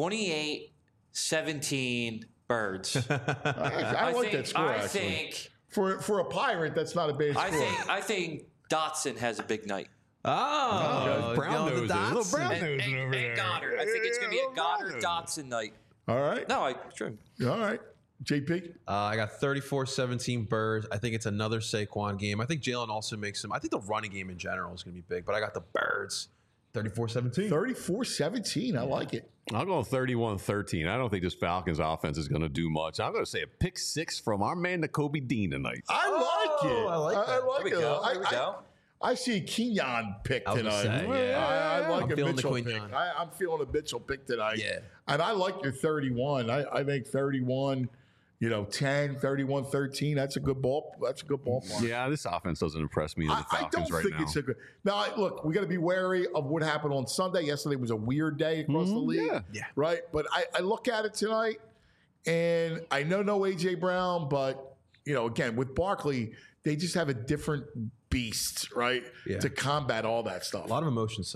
28-17 Birds. I like that score, I actually. think For a Pirate, that's not a bad score. I think Dotson has a big night. Brown nose. Little brown nose over there. And Goddard. I think it's going to be a Goddard Dotson night. All right. No, sure. All right. JP? I got 34-17 Birds. I think it's another Saquon game. I think Jalen also makes some. I think the running game in general is going to be big, but I got the Birds 34-17. 34-17. I like it. I'll go 31-13. I don't think this Falcons offense is going to do much. I'm going to say a pick 6 from our man, Nakobe Dean, tonight. I like it. I like that. I like There we it. go. There we go. I see a Kenyon pick I was tonight. gonna say, yeah. I like I'm a feeling the Mitchell pick. Quinyon. I'm feeling a Mitchell pick tonight. Yeah. And I like your 31. I think 31, 10, 31-13. That's a good ball. That's a good ballpark. Yeah, this offense doesn't impress me. The I Falcons don't right think now. it's a good. Now, look, we got to be wary of what happened on Sunday. Yesterday was a weird day across the league. Yeah. Right? But I look at it tonight, and I know no A.J. Brown, but, again, with Barkley, they just have a different beast, right? Yeah. To combat all that stuff. A lot of emotions tonight.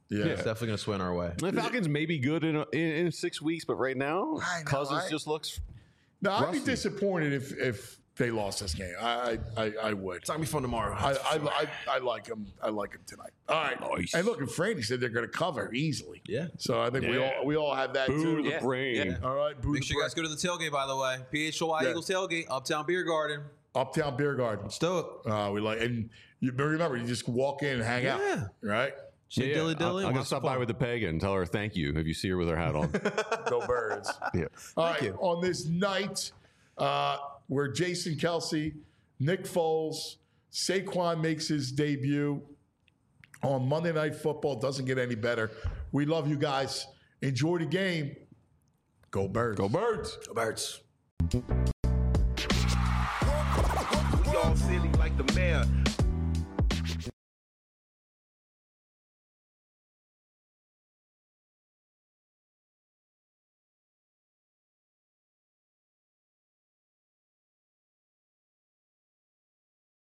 Yeah. It's definitely going to swing our way. The Falcons may be good in 6 weeks, but right now, Cousins just looks. No, I'd be rusty. disappointed if they lost this game. I would. It's not going to be fun tomorrow. I like them. I like them tonight. All right. Nice. And look, and Franny said they're going to cover easily. Yeah. So I think we all have that Boo too. the brain. Yeah. All right. Boo Make the sure you guys go to the tailgate, by the way. PHLY Yeah. Eagles tailgate, Uptown Beer Garden. Uptown Beer Garden. Let's do it. We like, and you remember, you just walk in and hang out. Right. Say dilly dilly. I'm going to stop by with the peg and tell her thank you if you see her with her hat on. Go Birds. Yeah. All right. On this night, where Jason Kelce, Nick Foles, Saquon makes his debut on Monday Night Football. Doesn't get any better. We love you guys. Enjoy the game. Go Birds. Go Birds. Go Birds. We all silly like the mayor.